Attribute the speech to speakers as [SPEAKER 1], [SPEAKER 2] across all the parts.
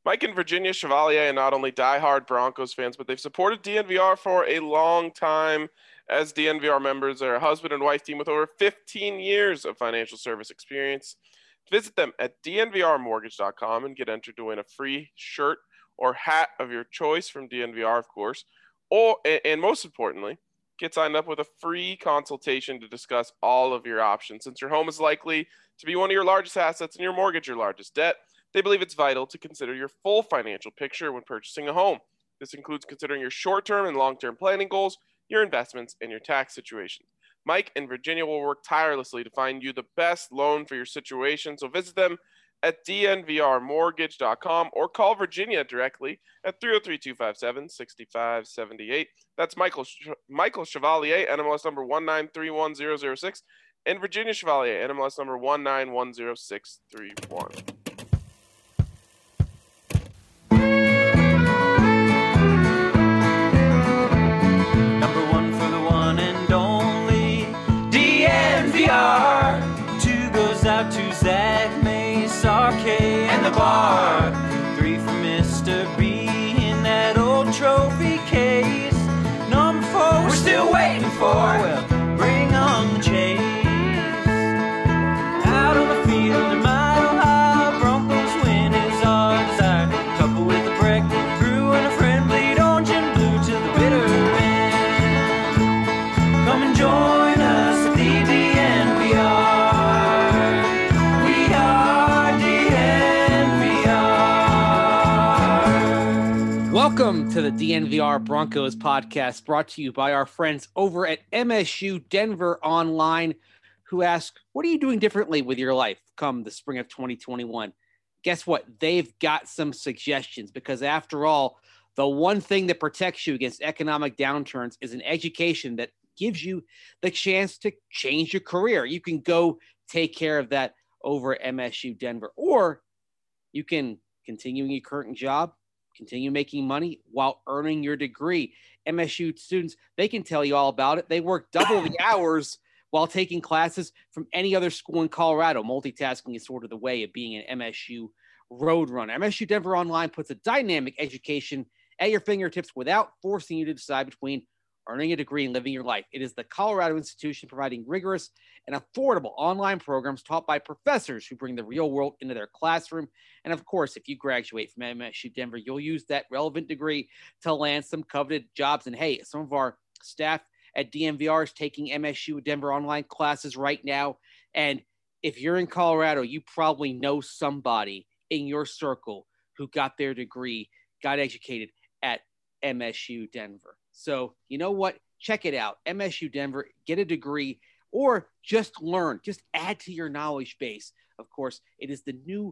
[SPEAKER 1] Mike and Virginia Chevalier are not only diehard Broncos fans, but they've supported DNVR for a long time. As DNVR members, they're a husband and wife team with over 15 years of financial service experience. Visit them at dnvrmortgage.com and get entered to win a free shirt or hat of your choice from DNVR, of course. And most importantly, get signed up with a free consultation to discuss all of your options. Since your home is likely to be one of your largest assets and your mortgage your largest debt, they believe it's vital to consider your full financial picture when purchasing a home. This includes considering your short-term and long-term planning goals, your investments, and your tax situation. Mike and Virginia will work tirelessly to find you the best loan for your situation, so visit them at dnvrmortgage.com or call Virginia directly at 303-257-6578. That's Michael Chevalier, NMLS number 1931006, and Virginia Chevalier, NMLS number 1910631.
[SPEAKER 2] Number one for the one and only DNVR. Two goes out to Zach Mace, RK, and the bar. Three for Mr. B in that old trophy case. Number four we're still waiting for. Well, bring on the chase. Out on the field in Mile High, Broncos win is our desire. Couple with a break, brew and a friend, bleed orange and blue to the bitter end. Come and join us at the DNVR. We are DNVR.
[SPEAKER 3] Welcome to the DNVR Broncos podcast, brought to you by our friends over at MSU Denver Online, who ask, what are you doing differently with your life come the spring of 2021? Guess what? They've got some suggestions, because after all, the one thing that protects you against economic downturns is an education that gives you the chance to change your career. You can go take care of that over at MSU Denver, or you can continue your current job, continue making money while earning your degree. MSU students, they can tell you all about it. They work double the hours while taking classes from any other school in Colorado. Multitasking is sort of the way of being an MSU Roadrunner. MSU Denver Online puts a dynamic education at your fingertips without forcing you to decide between earning a degree and living your life. It is the Colorado institution providing rigorous and affordable online programs taught by professors who bring the real world into their classroom. And of course, if you graduate from MSU Denver, you'll use that relevant degree to land some coveted jobs. And hey, some of our staff at DNVR is taking MSU Denver Online classes right now. And if you're in Colorado, you probably know somebody in your circle who got their degree, got educated at MSU Denver. So you know what? Check it out. MSU Denver, get a degree or just learn, just add to your knowledge base. Of course, it is the new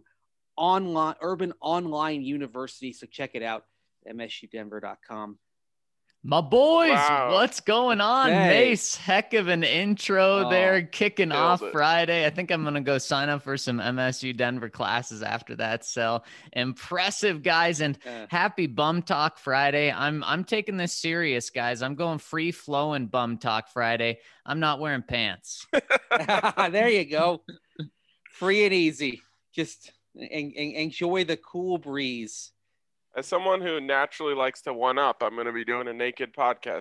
[SPEAKER 3] urban online university. So check it out, msudenver.com.
[SPEAKER 4] My boys,
[SPEAKER 1] Wow.
[SPEAKER 4] What's going on?
[SPEAKER 3] Hey.
[SPEAKER 4] Mace, heck of an intro there, kicking
[SPEAKER 1] killed
[SPEAKER 4] off
[SPEAKER 1] it.
[SPEAKER 4] Friday. I think I'm going to go sign up for some MSU Denver classes after that. So impressive, guys, and happy Bum Talk Friday. I'm taking this serious, guys. I'm going free flowing Bum Talk Friday. I'm not wearing pants.
[SPEAKER 3] There you go. Free and easy. Just enjoy the cool breeze.
[SPEAKER 1] As someone who naturally likes to one-up, I'm going to be doing a naked podcast.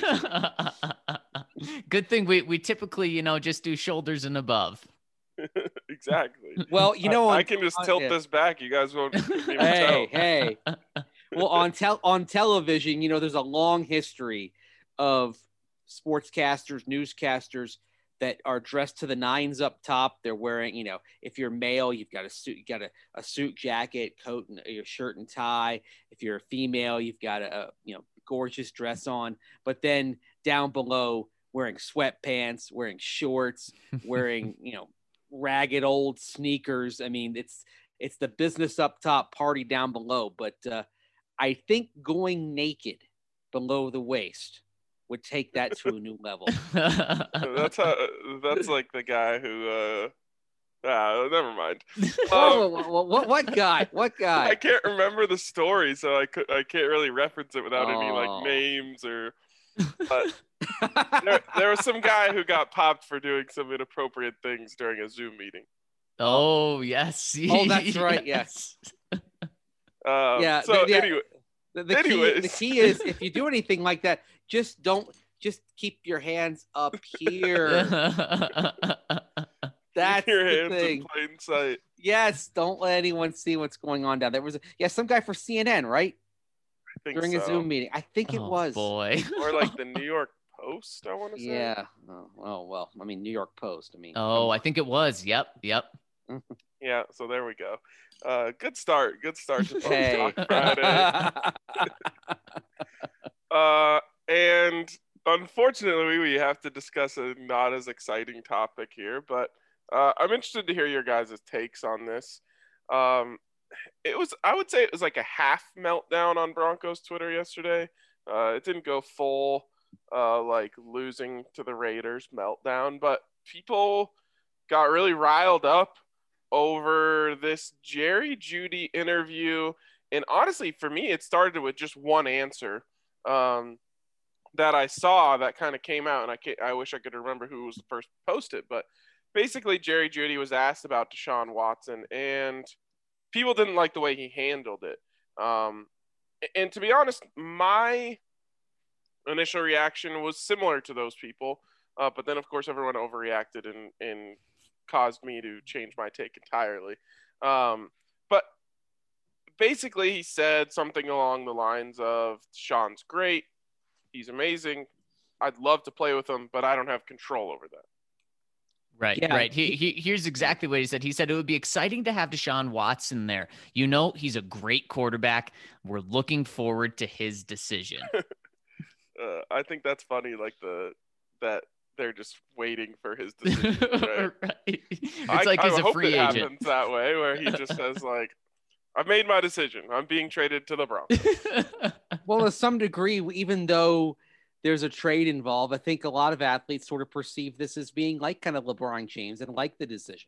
[SPEAKER 4] Good thing we typically, just do shoulders and above.
[SPEAKER 1] Exactly.
[SPEAKER 3] Well,
[SPEAKER 1] I can just tilt this back. You guys won't even tell.
[SPEAKER 3] Hey. Well, on television, there's a long history of sportscasters, newscasters that are dressed to the nines up top. They're wearing, if you're male, you've got a suit, you got a suit jacket, coat, and your shirt and tie. If you're a female, you've got a gorgeous dress on. But then down below, wearing sweatpants, wearing shorts, wearing ragged old sneakers. I mean, it's the business up top, party down below. But I think going naked below the waist would take that to a new level.
[SPEAKER 1] That's like the guy who never mind.
[SPEAKER 3] What guy?
[SPEAKER 1] I can't remember the story, so I can't really reference it without any names or. But there was some guy who got popped for doing some inappropriate things during a Zoom meeting.
[SPEAKER 4] Oh yes.
[SPEAKER 3] Oh, that's right. Yes. Yeah.
[SPEAKER 1] So
[SPEAKER 3] anyway,
[SPEAKER 1] anyways.
[SPEAKER 3] the key is if you do anything like that, just keep your hands up here. That's
[SPEAKER 1] your
[SPEAKER 3] the
[SPEAKER 1] hands
[SPEAKER 3] thing.
[SPEAKER 1] in plain sight.
[SPEAKER 3] Yes, don't let anyone see what's going on down there. Was some guy for CNN, right?
[SPEAKER 1] I think
[SPEAKER 3] During a
[SPEAKER 1] so.
[SPEAKER 3] Zoom meeting. I think it was.
[SPEAKER 4] Boy.
[SPEAKER 1] Or like the New York Post, I want to say.
[SPEAKER 3] Yeah. Oh, well, I mean, New York Post. I mean.
[SPEAKER 4] I think it was. Yep.
[SPEAKER 1] Yeah, so there we go. Good start. Good start to
[SPEAKER 3] Hey.
[SPEAKER 1] Talk Friday. And unfortunately, we have to discuss a not as exciting topic here, but I'm interested to hear your guys' takes on this. I would say it was like a half meltdown on Broncos Twitter yesterday. It didn't go full, like losing to the Raiders meltdown, but people got really riled up over this Jerry Jeudy interview. And honestly, for me, it started with just one answer that I saw that kind of came out, and I wish I could remember who was the first to post it, but basically Jerry Jeudy was asked about Deshaun Watson, and people didn't like the way he handled it. And to be honest, my initial reaction was similar to those people, but then of course everyone overreacted and caused me to change my take entirely. But basically he said something along the lines of, Sean's great, he's amazing, I'd love to play with him, but I don't have control over that.
[SPEAKER 4] Right,
[SPEAKER 3] Yeah.
[SPEAKER 4] right. Here's exactly what he said. He said it would be exciting to have Deshaun Watson there. You know, he's a great quarterback. We're looking forward to his decision.
[SPEAKER 1] I think that's funny, like that they're just waiting for his decision. Right?
[SPEAKER 4] Right. It's like he's a free agent.
[SPEAKER 1] Happens that way, where he just says like, "I've made my decision. I'm being traded to the Broncos."
[SPEAKER 3] Well, to some degree, even though there's a trade involved, I think a lot of athletes sort of perceive this as being like kind of LeBron James and like the decision.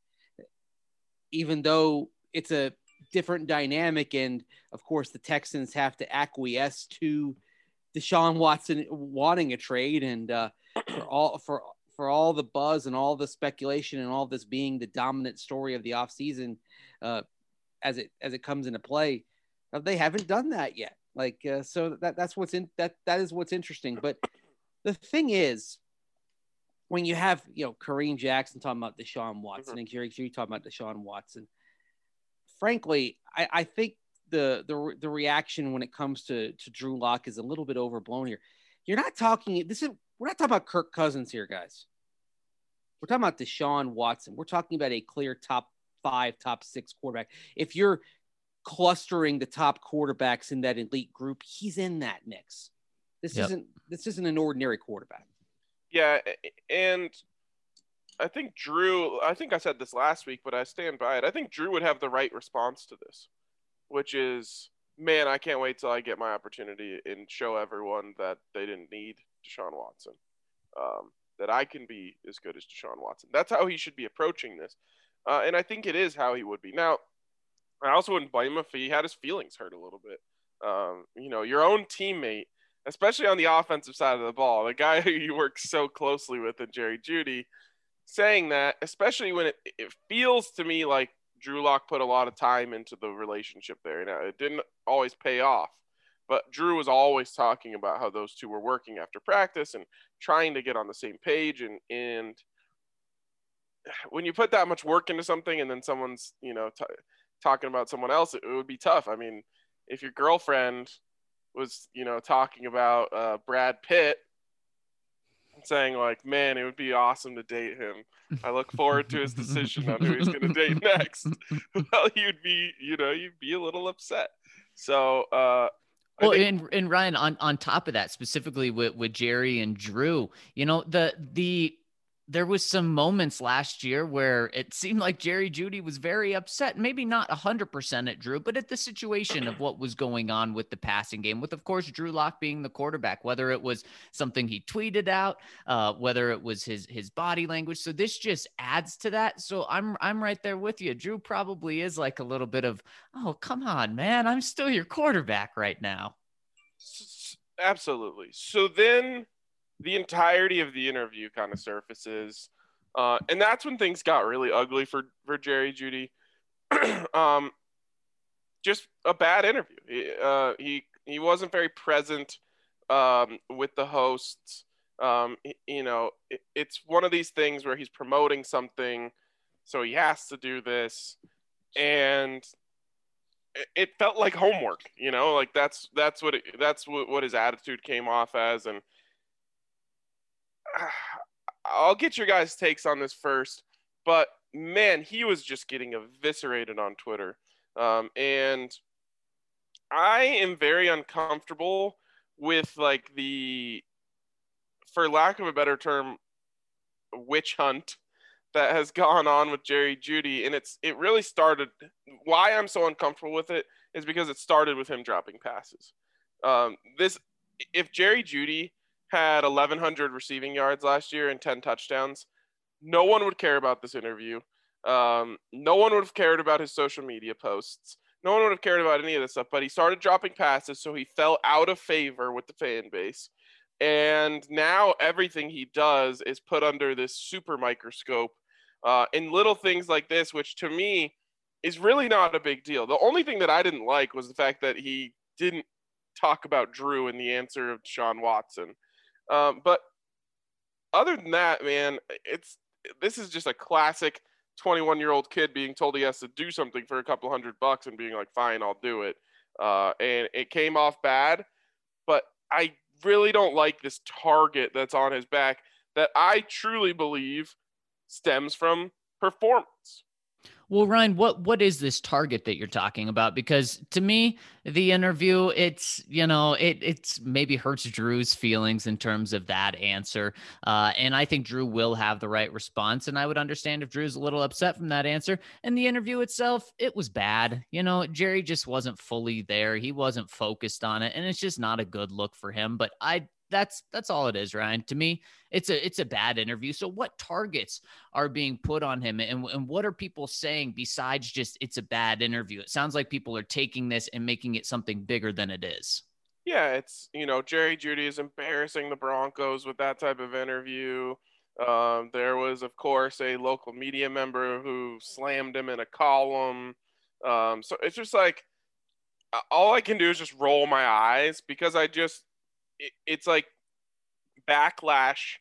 [SPEAKER 3] Even though it's a different dynamic, and of course the Texans have to acquiesce to Deshaun Watson wanting a trade, and for all the buzz and all the speculation and all this being the dominant story of the offseason as it comes into play, they haven't done that yet. So that's what's in that is what's interesting. But the thing is, when you have Kareem Jackson talking about Deshaun Watson and Jerry talking about Deshaun Watson, frankly, I think the reaction when it comes to Drew Lock is a little bit overblown here. We're not talking about Kirk Cousins here, guys. We're talking about Deshaun Watson. We're talking about a clear top 5, top 6 quarterback. If you're clustering the top quarterbacks in that elite group, he's in that mix. This isn't an ordinary quarterback.
[SPEAKER 1] Yeah, and I think I said this last week, but I stand by it. I think Drew would have the right response to this, which is, man, I can't wait till I get my opportunity and show everyone that they didn't need Deshaun Watson, that I can be as good as Deshaun Watson. That's how he should be approaching this. And I think it is how he would be. Now, I also wouldn't blame him if he had his feelings hurt a little bit. Your own teammate, especially on the offensive side of the ball, the guy who you work so closely with in Jerry Jeudy, saying that, especially when it feels to me like Drew Lock put a lot of time into the relationship there. Now, it didn't always pay off, but Drew was always talking about how those two were working after practice and trying to get on the same page. And when you put that much work into something and then someone's, talking about someone else, it would be tough. I mean, if your girlfriend was, talking about Brad Pitt, saying like, man, it would be awesome to date him, I look forward to his decision on who he's going to date next. Well, you'd be a little upset. So,
[SPEAKER 4] and Ryan, on top of that, specifically with Jerry and Drew, there was some moments last year where it seemed like Jerry Jeudy was very upset, maybe not 100% at Drew, but at the situation of what was going on with the passing game, with, of course, Drew Lock being the quarterback, whether it was something he tweeted out, whether it was his body language. So this just adds to that. So I'm right there with you. Drew probably is like a little bit of, oh, come on, man, I'm still your quarterback right now.
[SPEAKER 1] Absolutely. So then the entirety of the interview kind of surfaces. And that's when things got really ugly for Jerry Jeudy. just a bad interview. He wasn't very present with the hosts. It's one of these things where he's promoting something, so he has to do this, and it felt like homework. Like that's what his attitude came off as, and I'll get your guys' takes on this first, but man, he was just getting eviscerated on Twitter. And I am very uncomfortable with like for lack of a better term, witch hunt that has gone on with Jerry Jeudy. And it really started, why I'm so uncomfortable with it is because it started with him dropping passes. If Jerry Jeudy had 1,100 receiving yards last year and 10 touchdowns, no one would care about this interview. No one would have cared about his social media posts. No one would have cared about any of this stuff, but he started dropping passes, so he fell out of favor with the fan base. And now everything he does is put under this super microscope. And little things like this, which to me is really not a big deal. The only thing that I didn't like was the fact that he didn't talk about Drew in the answer of Deshaun Watson. But other than that, man, this is just a classic 21-year-old kid being told he has to do something for a couple $100 and being like, fine, I'll do it. And it came off bad, but I really don't like this target that's on his back that I truly believe stems from performance.
[SPEAKER 4] Well, Ryan, what is this target that you're talking about? Because to me, the interview, it's maybe hurts Drew's feelings in terms of that answer. And I think Drew will have the right response. And I would understand if Drew's a little upset from that answer. And the interview itself, it was bad. Jerry just wasn't fully there. He wasn't focused on it. And it's just not a good look for him. But that's all it is, Ryan. To me, it's a bad interview. So what targets are being put on him, and what are people saying besides just it's a bad interview? It sounds like people are taking this and making it something bigger than it is.
[SPEAKER 1] Yeah, it's, Jerry Jeudy is embarrassing the Broncos with that type of interview. There was, of course, a local media member who slammed him in a column. So it's just like, all I can do is just roll my eyes because it's like backlash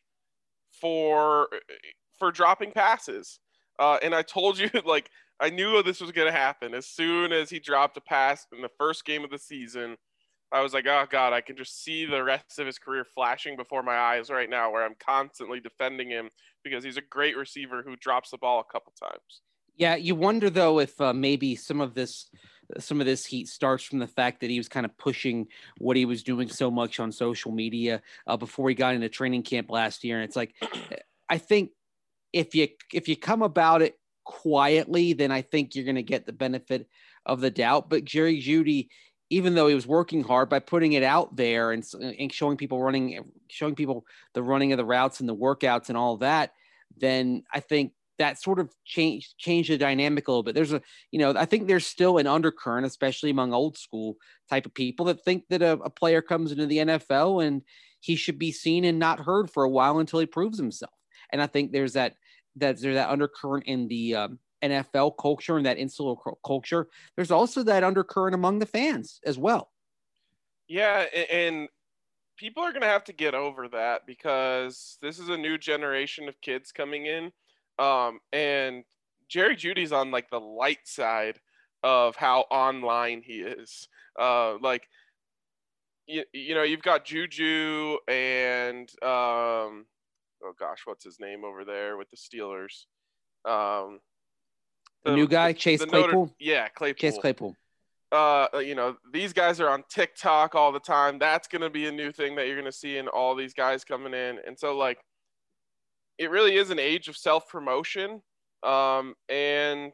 [SPEAKER 1] for dropping passes. And I told you, like, I knew this was going to happen. As soon as he dropped a pass in the first game of the season, I was like, oh God, I can just see the rest of his career flashing before my eyes right now, where I'm constantly defending him because he's a great receiver who drops the ball a couple times.
[SPEAKER 3] Yeah. You wonder though, if maybe some of this heat starts from the fact that he was kind of pushing what he was doing so much on social media before he got into training camp last year. And it's like, I think if you come about it quietly, then I think you're going to get the benefit of the doubt. But Jerry Jeudy, even though he was working hard by putting it out there and showing people the running of the routes and the workouts and all of that, then I think that sort of changed the dynamic a little bit. I think there's still an undercurrent, especially among old school type of people, that think that a player comes into the NFL and he should be seen and not heard for a while until he proves himself. And I think there's that undercurrent in the NFL culture and that insular culture. There's also that undercurrent among the fans as well.
[SPEAKER 1] Yeah, and people are going to have to get over that because this is a new generation of kids coming in. And Jerry Jeudy's on like the light side of how online he is. You've got Juju and oh gosh, what's his name over there with the Steelers?
[SPEAKER 3] The new guy, Chase Claypool.
[SPEAKER 1] Claypool.
[SPEAKER 3] Chase Claypool.
[SPEAKER 1] These guys are on TikTok all the time. That's going to be a new thing that you're going to see in all these guys coming in. And so like, it really is an age of self-promotion. And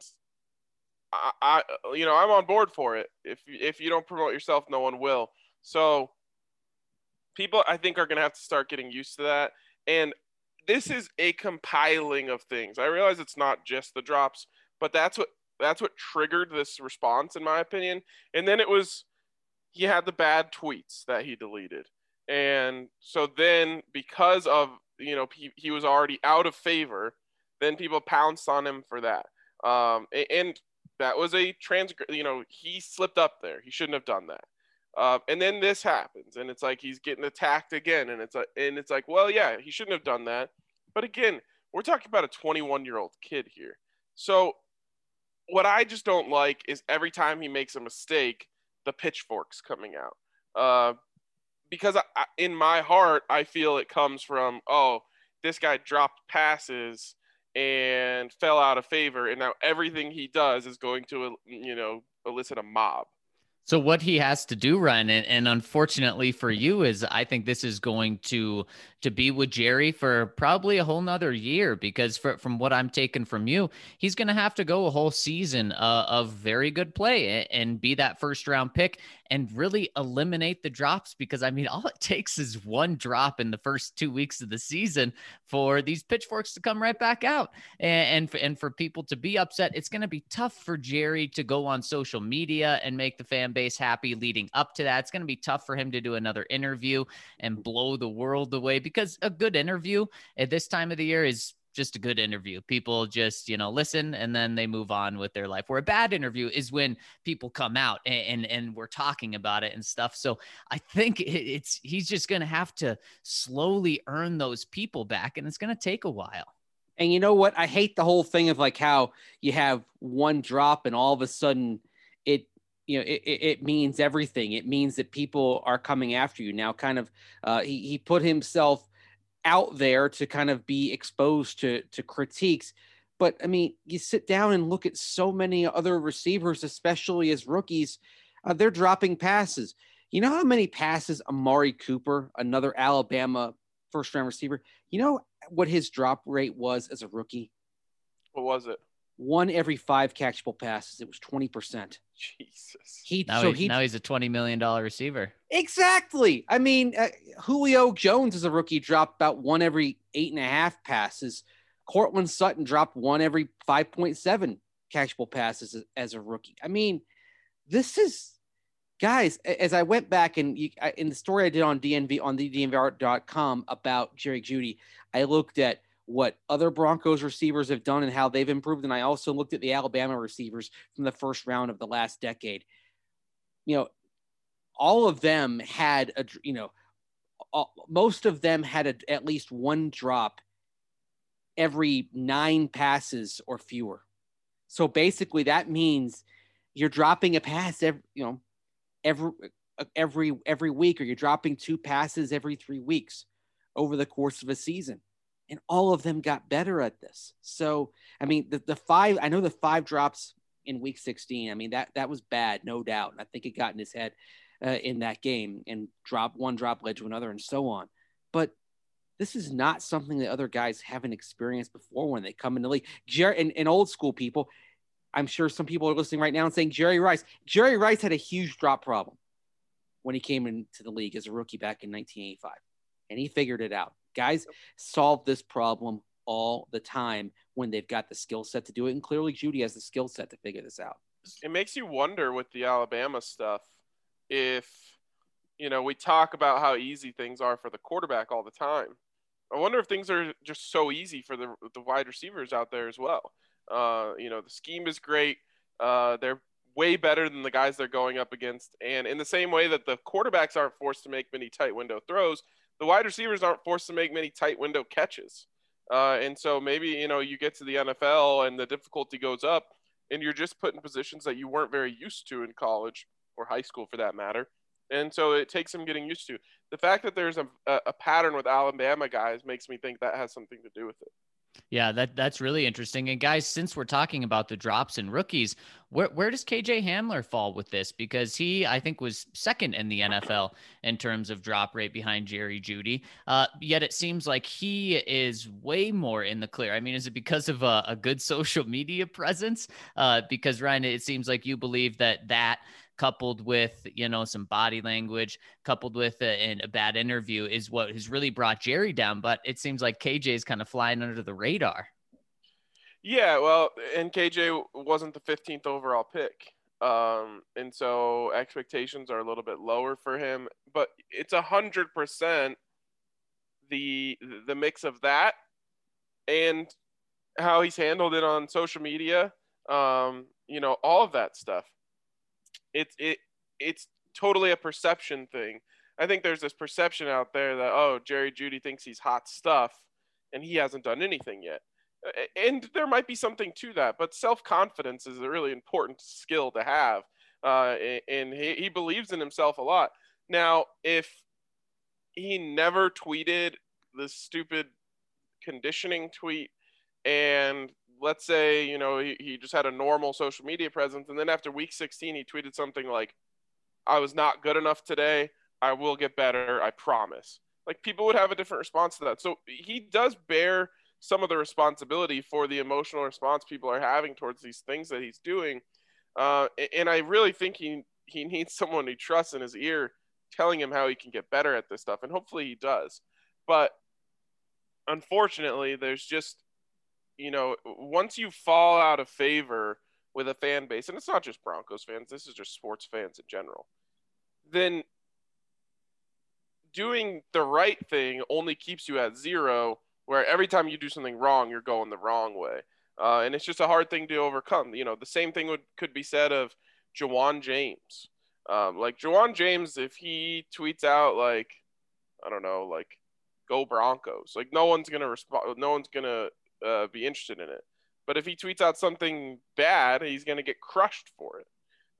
[SPEAKER 1] I'm on board for it. If you don't promote yourself, no one will. So people, I think, are going to have to start getting used to that. And this is a compiling of things. I realize it's not just the drops, but that's what triggered this response, in my opinion. And then he had the bad tweets that he deleted. And so then because of, he was already out of favor, then people pounced on him for that. And that was a he slipped up there. He shouldn't have done that. And then this happens, and it's like he's getting attacked again, and it's like, well, yeah, he shouldn't have done that. But again, we're talking about a 21-year-old kid here. So what I just don't like is every time he makes a mistake, the pitchforks coming out. Because in my heart, I feel it comes from, oh, this guy dropped passes and fell out of favor, and now everything he does is going to, elicit a mob.
[SPEAKER 4] So what he has to do, Ryan, and unfortunately for you, is I think this is going to be with Jerry for probably a whole nother year, because from what I'm taking from you, he's going to have to go a whole season of very good play and be that first round pick and really eliminate the drops, because I mean, all it takes is one drop in the first 2 weeks of the season for these pitchforks to come right back out and for people to be upset. It's going to be tough for Jerry to go on social media and make the fan base happy leading up to that. It's going to be tough for him to do another interview and blow the world away, because a good interview at this time of the year is just a good interview. People just, listen and then they move on with their life. Where a bad interview is when people come out and we're talking about it and stuff. So I think he's just going to have to slowly earn those people back, and it's going to take a while.
[SPEAKER 3] And you know what? I hate the whole thing of like how you have one drop and all of a sudden it means everything. It means that people are coming after you now. Kind of, he put himself out there to kind of be exposed to critiques. But I mean, you sit down and look at so many other receivers, especially as rookies, they're dropping passes. You know how many passes Amari Cooper, another Alabama first round receiver, you know what his drop rate was as a rookie?
[SPEAKER 1] What was it? 1
[SPEAKER 3] every 5 catchable passes. It was 20%.
[SPEAKER 1] Jesus.
[SPEAKER 4] Now he's a $20 million receiver.
[SPEAKER 3] Exactly. I mean, Julio Jones as a rookie dropped about 1 every 8.5 passes. Cortland Sutton dropped 1 every 5.7 catchable passes as a rookie. I mean, this is, guys, as I went back and in the story I did on DNVR.com about Jerry Jeudy, I looked at what other Broncos receivers have done and how they've improved. And I also looked at the Alabama receivers from the first round of the last decade. All of them had most of them had at least one drop every 9 passes or fewer. So basically that means you're dropping a pass every week, or you're dropping 2 passes every 3 weeks over the course of a season. And all of them got better at this. So, I mean, the 5 drops in week 16. I mean, that was bad, no doubt. And I think it got in his head in that game, and one drop led to another and so on. But this is not something that other guys haven't experienced before when they come in the league. And old school people, I'm sure some people are listening right now and saying Jerry Rice had a huge drop problem when he came into the league as a rookie back in 1985. And he figured it out. Guys solve this problem all the time when they've got the skill set to do it. And clearly Jeudy has the skill set to figure this out.
[SPEAKER 1] It makes you wonder with the Alabama stuff, if, we talk about how easy things are for the quarterback all the time. I wonder if things are just so easy for the wide receivers out there as well. The scheme is great. They're way better than the guys they're going up against. And in the same way that the quarterbacks aren't forced to make many tight window throws, the wide receivers aren't forced to make many tight window catches. And so maybe, you get to the NFL and the difficulty goes up and you're just put in positions that you weren't very used to in college or high school for that matter. And so it takes some getting used to. The fact that there's a pattern with Alabama guys makes me think that has something to do with it.
[SPEAKER 4] Yeah, that's really interesting. And guys, since we're talking about the drops and rookies, where does KJ Hamler fall with this? Because he, I think, was second in the NFL in terms of drop rate behind Jerry Jeudy. Yet it seems like he is way more in the clear. I mean, is it because of a good social media presence? Because Ryan, it seems like you believe that coupled with, some body language, coupled with a bad interview is what has really brought Jerry down. But it seems like KJ is kind of flying under the radar.
[SPEAKER 1] Yeah, well, and KJ wasn't the 15th overall pick. And so expectations are a little bit lower for him, but it's 100% the mix of that and how he's handled it on social media. all of that stuff. It's totally a perception thing. I think there's this perception out there that, oh, Jerry Jeudy thinks he's hot stuff and he hasn't done anything yet. And there might be something to that, but self-confidence is a really important skill to have. And he believes in himself a lot. Now, if he never tweeted the stupid conditioning tweet, and let's say, he just had a normal social media presence, and then after week 16, he tweeted something like, I was not good enough today. I will get better. I promise. Like, people would have a different response to that. So he does bear some of the responsibility for the emotional response people are having towards these things that he's doing. And I really think he needs someone he trusts in his ear telling him how he can get better at this stuff. And hopefully he does. But unfortunately, there's just, once you fall out of favor with a fan base, and it's not just Broncos fans, this is just sports fans in general, then doing the right thing only keeps you at zero, where every time you do something wrong, you're going the wrong way. And it's just a hard thing to overcome. The same thing could be said of Jawan James. Like Jawan James, if he tweets out like, I don't know, like go Broncos, like no one's going to respond. No one's going to be interested in it. But if he tweets out something bad, he's going to get crushed for it.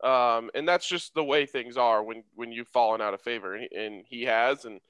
[SPEAKER 1] And that's just the way things are when you've fallen out of favor, and he has. And,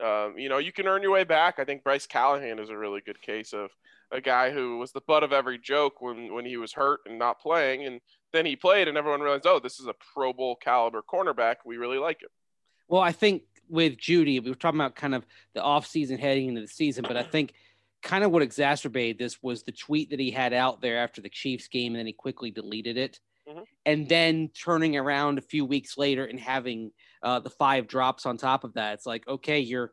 [SPEAKER 1] you can earn your way back. I think Bryce Callahan is a really good case of a guy who was the butt of every joke when he was hurt and not playing. And then he played and everyone realized, oh, this is a Pro Bowl caliber cornerback. We really like him.
[SPEAKER 3] Well, I think with Jeudy, we were talking about kind of the offseason heading into the season, but I think kind of what exacerbated this was the tweet that he had out there after the Chiefs game, and then he quickly deleted it. Mm-hmm. And then turning around a few weeks later and having the 5 drops on top of that. It's like, okay, you're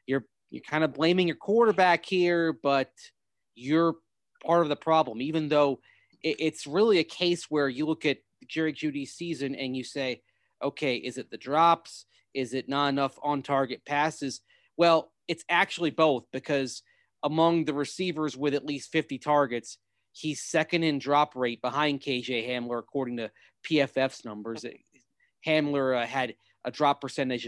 [SPEAKER 3] kind of blaming your quarterback here, but you're part of the problem, even though it's really a case where you look at Jerry Jeudy's season and you say, okay, is it the drops? Is it not enough on-target passes? Well, it's actually both, because among the receivers with at least 50 targets, he's second in drop rate behind KJ Hamler, according to PFF's numbers. Hamler had a drop percentage of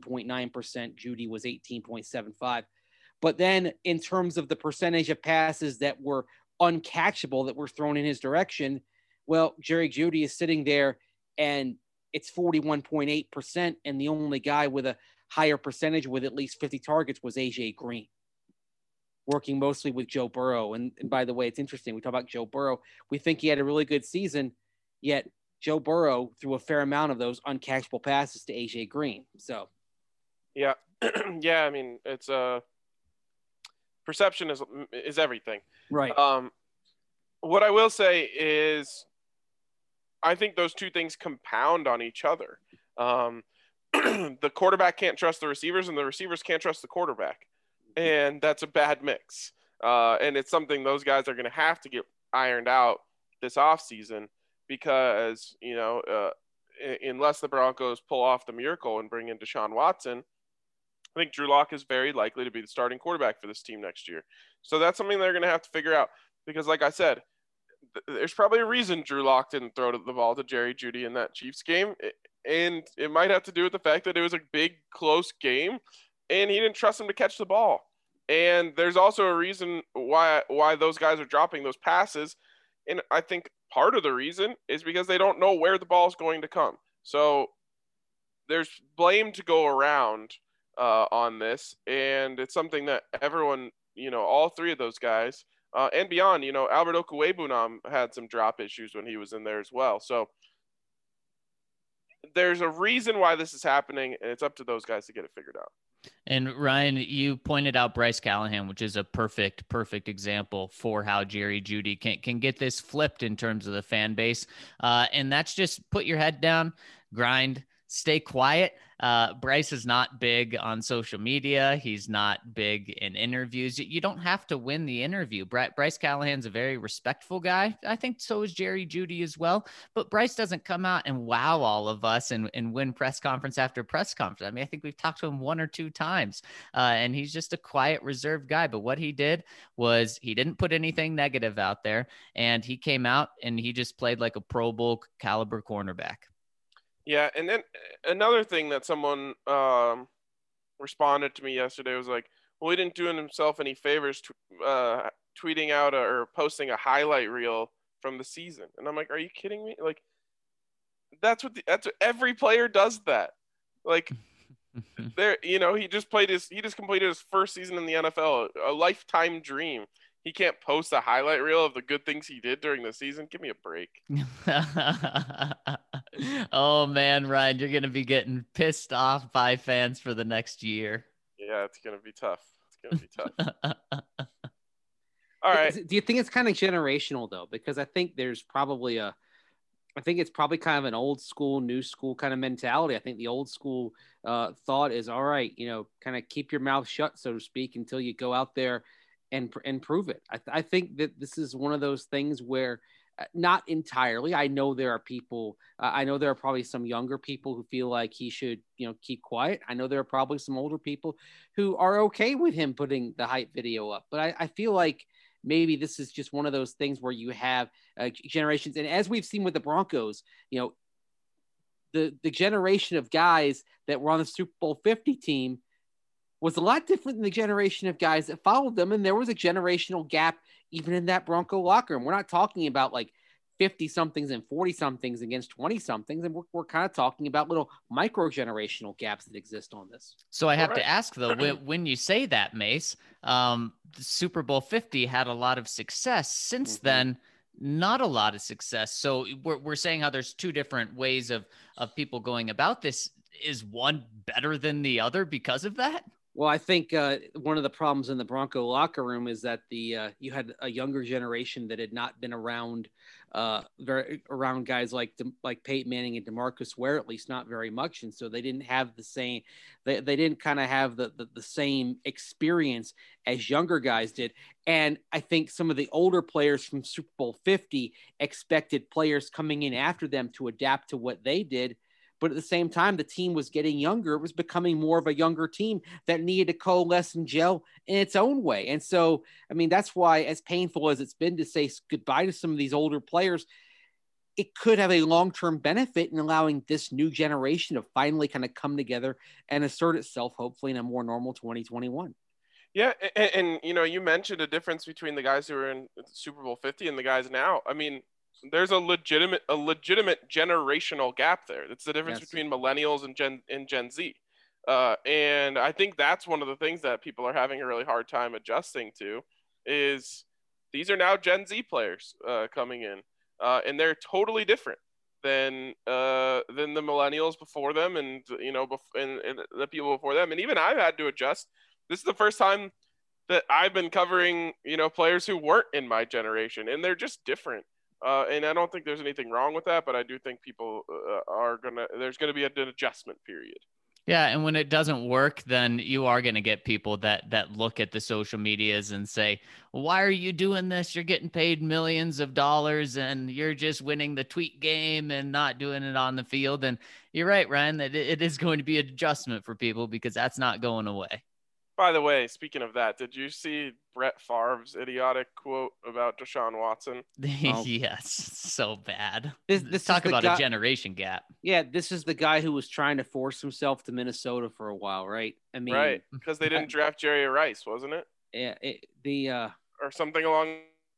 [SPEAKER 3] 18.9%. Jeudy was 18.75. But then in terms of the percentage of passes that were uncatchable that were thrown in his direction, well, Jerry Jeudy is sitting there and it's 41.8%. And the only guy with a higher percentage with at least 50 targets was AJ Green, working mostly with Joe Burrow. And by the way, it's interesting. We talk about Joe Burrow. We think he had a really good season, yet Joe Burrow threw a fair amount of those uncatchable passes to AJ Green. So,
[SPEAKER 1] yeah. Yeah. I mean, it's perception is everything.
[SPEAKER 3] Right.
[SPEAKER 1] What I will say is I think those two things compound on each other. The quarterback can't trust the receivers and the receivers can't trust the quarterback. And that's a bad mix. And it's something those guys are going to have to get ironed out this offseason because, unless the Broncos pull off the miracle and bring in Deshaun Watson, I think Drew Lock is very likely to be the starting quarterback for this team next year. So that's something they're going to have to figure out because, like I said, there's probably a reason Drew Lock didn't throw the ball to Jerry Jeudy in that Chiefs game. And it might have to do with the fact that it was a big, close game and he didn't trust him to catch the ball. And there's also a reason why those guys are dropping those passes. And I think part of the reason is because they don't know where the ball is going to come. So there's blame to go around on this. And it's something that everyone, all three of those guys and beyond, Albert Okwuegbunam had some drop issues when he was in there as well. So there's a reason why this is happening, and it's up to those guys to get it figured out.
[SPEAKER 4] And Ryan, you pointed out Bryce Callahan, which is a perfect example for how Jerry Jeudy can get this flipped in terms of the fan base. And that's just put your head down, grind, stay quiet. Bryce is not big on social media. He's not big in interviews. You don't have to win the interview. Bryce Callahan's a very respectful guy. I think so is Jerry Jeudy as well. But Bryce doesn't come out and wow all of us and win press conference after press conference. I mean, I think we've talked to him 1 or 2 times, and he's just a quiet, reserved guy. But what he did was he didn't put anything negative out there, and he came out and he just played like a Pro Bowl caliber cornerback.
[SPEAKER 1] Yeah, and then another thing that someone responded to me yesterday was like, well, he didn't do himself any favors tweeting out or posting a highlight reel from the season. And I'm like, are you kidding me? Like, that's what every player does that. Like, he just completed his first season in the NFL, a lifetime dream. He can't post a highlight reel of the good things he did during the season. Give me a break.
[SPEAKER 4] Oh man, Ryan, you're going to be getting pissed off by fans for the next year.
[SPEAKER 1] Yeah, it's going to be tough. All right.
[SPEAKER 3] Do you think it's kind of generational though? Because I think there's probably I think it's probably kind of an old school, new school kind of mentality. I think the old school thought is, all right, kind of keep your mouth shut, so to speak, until you go out there and prove it. I think that this is one of those things where not entirely. I know there are people, I know there are probably some younger people who feel like he should, keep quiet. I know there are probably some older people who are okay with him putting the hype video up, but I feel like maybe this is just one of those things where you have generations. And as we've seen with the Broncos, the generation of guys that were on the Super Bowl 50 team was a lot different than the generation of guys that followed them. And there was a generational gap even in that Bronco locker room. We're not talking about like 50 somethings and 40 somethings against 20 somethings. And we're kind of talking about little micro generational gaps that exist on this.
[SPEAKER 4] So I have to ask though, when you say that, Mace, the Super Bowl 50 had a lot of success. Since then, not a lot of success. So we're saying how there's 2 different ways of people going about this. Is one better than the other because of that?
[SPEAKER 3] Well, I think one of the problems in the Bronco locker room is that you had a younger generation that had not been around around guys like Peyton Manning and DeMarcus Ware, at least not very much, and so they didn't have the same. They didn't kind of have the same experience as younger guys did. And I think some of the older players from Super Bowl 50 expected players coming in after them to adapt to what they did. But at the same time, the team was getting younger. It was becoming more of a younger team that needed to coalesce and gel in its own way. And so, I mean, that's why, as painful as it's been to say goodbye to some of these older players, it could have a long-term benefit in allowing this new generation to finally kind of come together and assert itself, hopefully in a more normal 2021.
[SPEAKER 1] Yeah. And you mentioned a difference between the guys who were in Super Bowl 50 and the guys now. I mean, there's a legitimate generational gap there. That's the difference between millennials and Gen Z. And I think that's one of the things that people are having a really hard time adjusting to is these are now Gen Z players coming in, and they're totally different than the millennials before them, and and the people before them. And even I've had to adjust. This is the first time that I've been covering players who weren't in my generation, and they're just different. And I don't think there's anything wrong with that, but I do think people there's going to be an adjustment period.
[SPEAKER 4] Yeah. And when it doesn't work, then you are going to get people that look at the social medias and say, why are you doing this? You're getting paid millions of dollars and you're just winning the tweet game and not doing it on the field. And you're right, Ryan, that it is going to be an adjustment for people because that's not going away.
[SPEAKER 1] By the way, speaking of that, did you see Brett Favre's idiotic quote about Deshaun Watson?
[SPEAKER 4] Yes, so bad.
[SPEAKER 3] This
[SPEAKER 4] talk about a generation gap.
[SPEAKER 3] Yeah, this is the guy who was trying to force himself to Minnesota for a while, right? I mean,
[SPEAKER 1] right, because they didn't draft Jerry Rice, wasn't it?
[SPEAKER 3] Yeah,
[SPEAKER 1] or something along.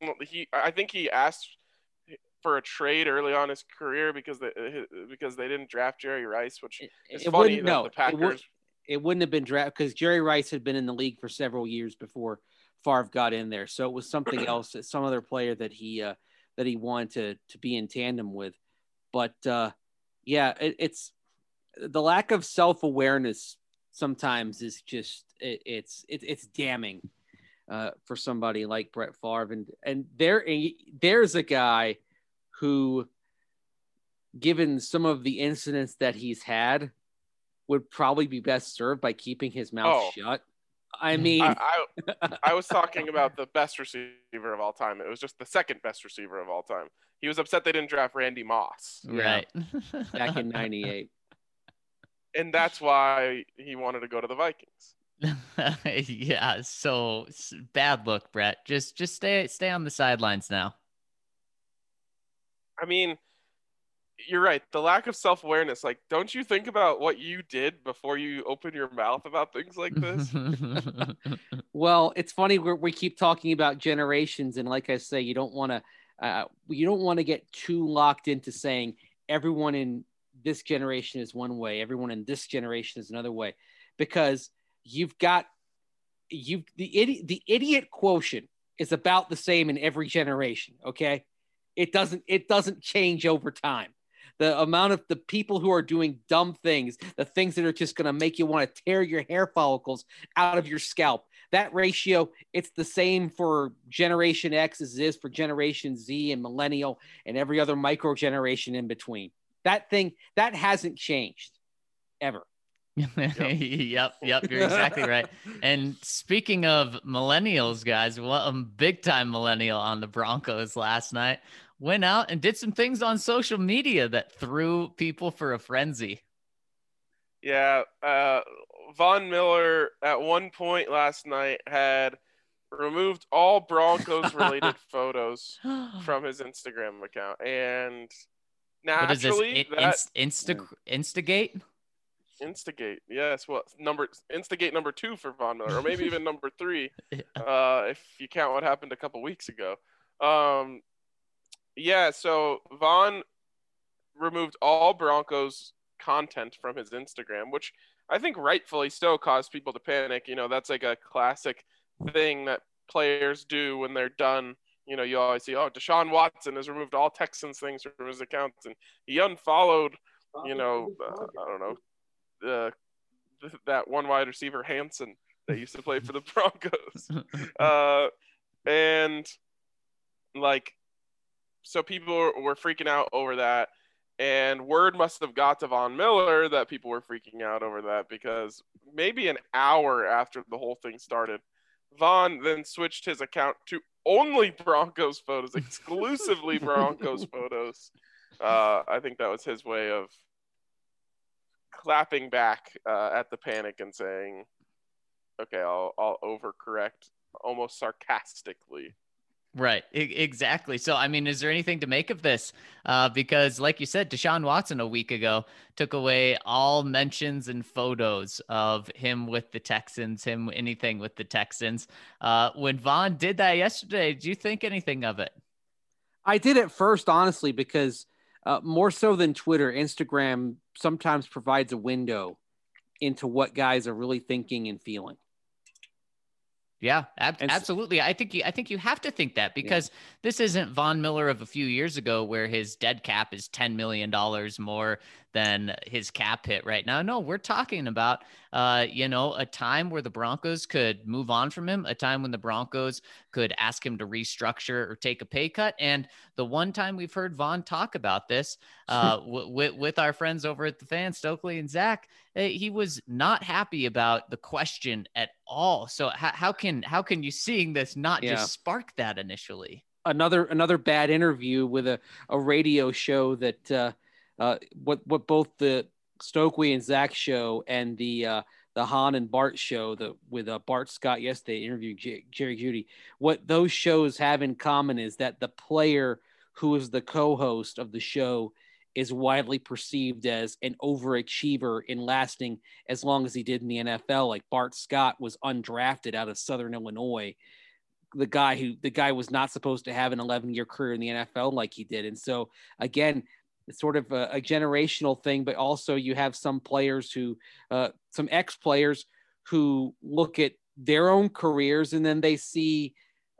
[SPEAKER 1] I think he asked for a trade early on in his career because they didn't draft Jerry Rice, which is funny that the Packers.
[SPEAKER 3] It wouldn't have been drafted because Jerry Rice had been in the league for several years before Favre got in there. So it was something else, some other player that he wanted to be in tandem with. But it's the lack of self-awareness sometimes is just it's damning for somebody like Brett Favre. And there's a guy who given some of the incidents that he's had, would probably be best served by keeping his mouth shut. I mean,
[SPEAKER 1] I was talking about the best receiver of all time. It was just the second best receiver of all time. He was upset they didn't draft Randy Moss.
[SPEAKER 4] Right.
[SPEAKER 3] Back in 98.
[SPEAKER 1] And that's why he wanted to go to the Vikings.
[SPEAKER 4] Yeah, so bad look, Brett. Just stay on the sidelines now.
[SPEAKER 1] I mean, you're right. The lack of self-awareness. Like, don't you think about what you did before you open your mouth about things like this?
[SPEAKER 3] Well, it's funny we keep talking about generations, and like I say, you don't want to get too locked into saying everyone in this generation is one way, everyone in this generation is another way, because the idiot quotient is about the same in every generation. Okay. It doesn't change over time. The amount of the people who are doing dumb things, the things that are just going to make you want to tear your hair follicles out of your scalp, that ratio, it's the same for Generation X as it is for Generation Z and Millennial and every other micro generation in between. That hasn't changed ever.
[SPEAKER 4] Yep, you're exactly right. And speaking of millennials, guys, big time millennial on the Broncos last night went out and did some things on social media that threw people for a frenzy.
[SPEAKER 1] Yeah, Von Miller at one point last night had removed all Broncos related photos from his Instagram account, and naturally,
[SPEAKER 4] Instigate?
[SPEAKER 1] Instigate, yes. Well, Instigate number 2 for Von Miller, or maybe even number 3, if you count what happened a couple weeks ago. Yeah, so Von removed all Broncos content from his Instagram, which I think rightfully so caused people to panic. You know, that's like a classic thing that players do when they're done. You know, you always see, Deshaun Watson has removed all Texans things from his accounts, and he unfollowed, I don't know, that one wide receiver, Hansen, that used to play for the Broncos. And like, so people were freaking out over that. And word must have got to Von Miller that people were freaking out over that, because maybe an hour after the whole thing started, Von then switched his account to only Broncos photos, exclusively Broncos photos. I think that was his way of clapping back at the panic and saying, okay, I'll overcorrect, almost sarcastically.
[SPEAKER 4] Right. Exactly. So, I mean, is there anything to make of this? Because like you said, Deshaun Watson a week ago took away all mentions and photos of him with the Texans, anything with the Texans. When Von did that yesterday, did you think anything of it?
[SPEAKER 3] I did at first, honestly, because more so than Twitter, Instagram sometimes provides a window into what guys are really thinking and feeling.
[SPEAKER 4] Yeah, absolutely. I think you have to think that, because this isn't Von Miller of a few years ago where his dead cap is $10 million more than his cap hit right now. No, we're talking about, a time where the Broncos could move on from him, a time when the Broncos could ask him to restructure or take a pay cut. And the one time we've heard Von talk about this with our friends over at the Fan, Stokely and Zach, he was not happy about the question at all. So how can you, seeing this, not just spark that initially?
[SPEAKER 3] Another bad interview with a radio show that what both the Stokely and Zach show and the Han and Bart show with Bart Scott yesterday interviewing Jerry Jeudy. What those shows have in common is that the player who is the co-host of the show is widely perceived as an overachiever in lasting as long as he did in the NFL. Like Bart Scott was undrafted out of Southern Illinois. The guy was not supposed to have an 11-year career in the NFL like he did. And so again, it's sort of a generational thing, but also you have some players some ex-players who look at their own careers and then they see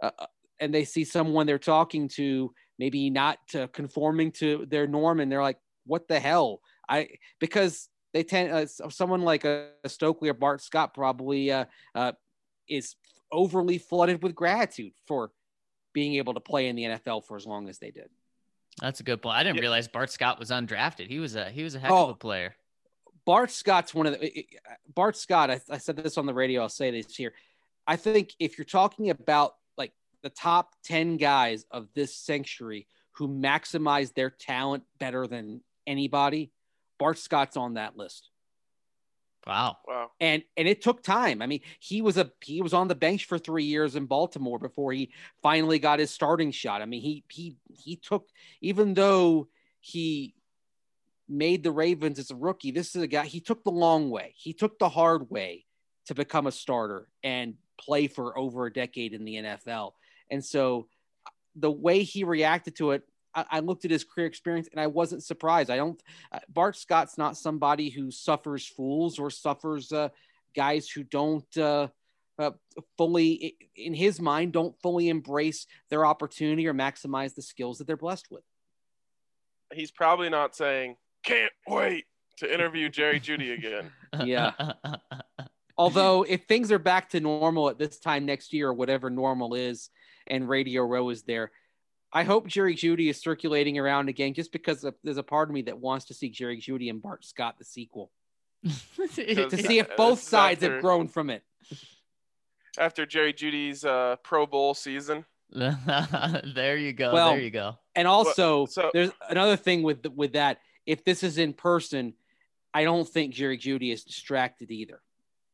[SPEAKER 3] someone they're talking to maybe not conforming to their norm, and they're like, what the hell? Because they tend someone like a Stokely or Bart Scott probably is overly flooded with gratitude for being able to play in the NFL for as long as they did.
[SPEAKER 4] That's a good point. I didn't realize Bart Scott was undrafted. He was a heck of a player.
[SPEAKER 3] Bart Scott's Bart Scott. I said this on the radio. I'll say this here. I think if you're talking about like the top 10 guys of this century who maximize their talent better than anybody, Bart Scott's on that list.
[SPEAKER 4] Wow.
[SPEAKER 3] And it took time. I mean, he was on the bench for 3 years in Baltimore before he finally got his starting shot. I mean, he took, even though he made the Ravens as a rookie, this is a guy, he took the long way. He took the hard way to become a starter and play for over a decade in the NFL. And so the way he reacted to it, I looked at his career experience and I wasn't surprised. Bart Scott's not somebody who suffers fools or suffers guys who don't fully, in his mind, don't fully embrace their opportunity or maximize the skills that they're blessed with.
[SPEAKER 1] He's probably not saying, can't wait to interview Jerry Jeudy again.
[SPEAKER 3] Yeah. Although if things are back to normal at this time next year or whatever normal is and Radio Row is there, I hope Jerry Jeudy is circulating around again just because there's a part of me that wants to see Jerry Jeudy and Bart Scott, the sequel, to see if both sides have grown from it.
[SPEAKER 1] After Jerry Judy's Pro Bowl season.
[SPEAKER 4] There you go.
[SPEAKER 3] Well,
[SPEAKER 4] there you go.
[SPEAKER 3] And also, there's another thing with that. If this is in person, I don't think Jerry Jeudy is distracted either.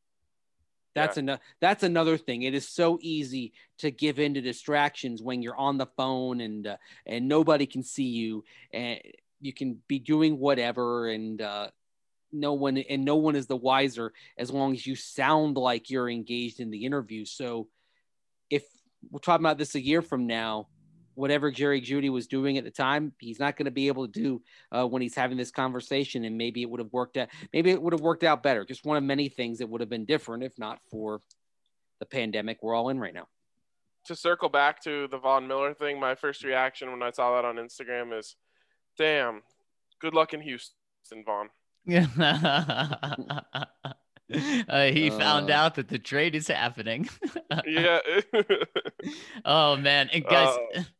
[SPEAKER 3] That's another thing. It is so easy to give in to distractions when you're on the phone and nobody can see you and you can be doing whatever and no one is the wiser as long as you sound like you're engaged in the interview. So if we're talking about this a year from now, whatever Jerry Jeudy was doing at the time, he's not going to be able to do when he's having this conversation. And maybe it would have worked out. Maybe it would have worked out better. Just one of many things that would have been different if not for the pandemic we're all in right now.
[SPEAKER 1] To circle back to the Von Miller thing, my first reaction when I saw that on Instagram is, damn, good luck in Houston, Von.
[SPEAKER 4] He found out that the trade is happening.
[SPEAKER 1] Yeah.
[SPEAKER 4] Oh, man. And guys...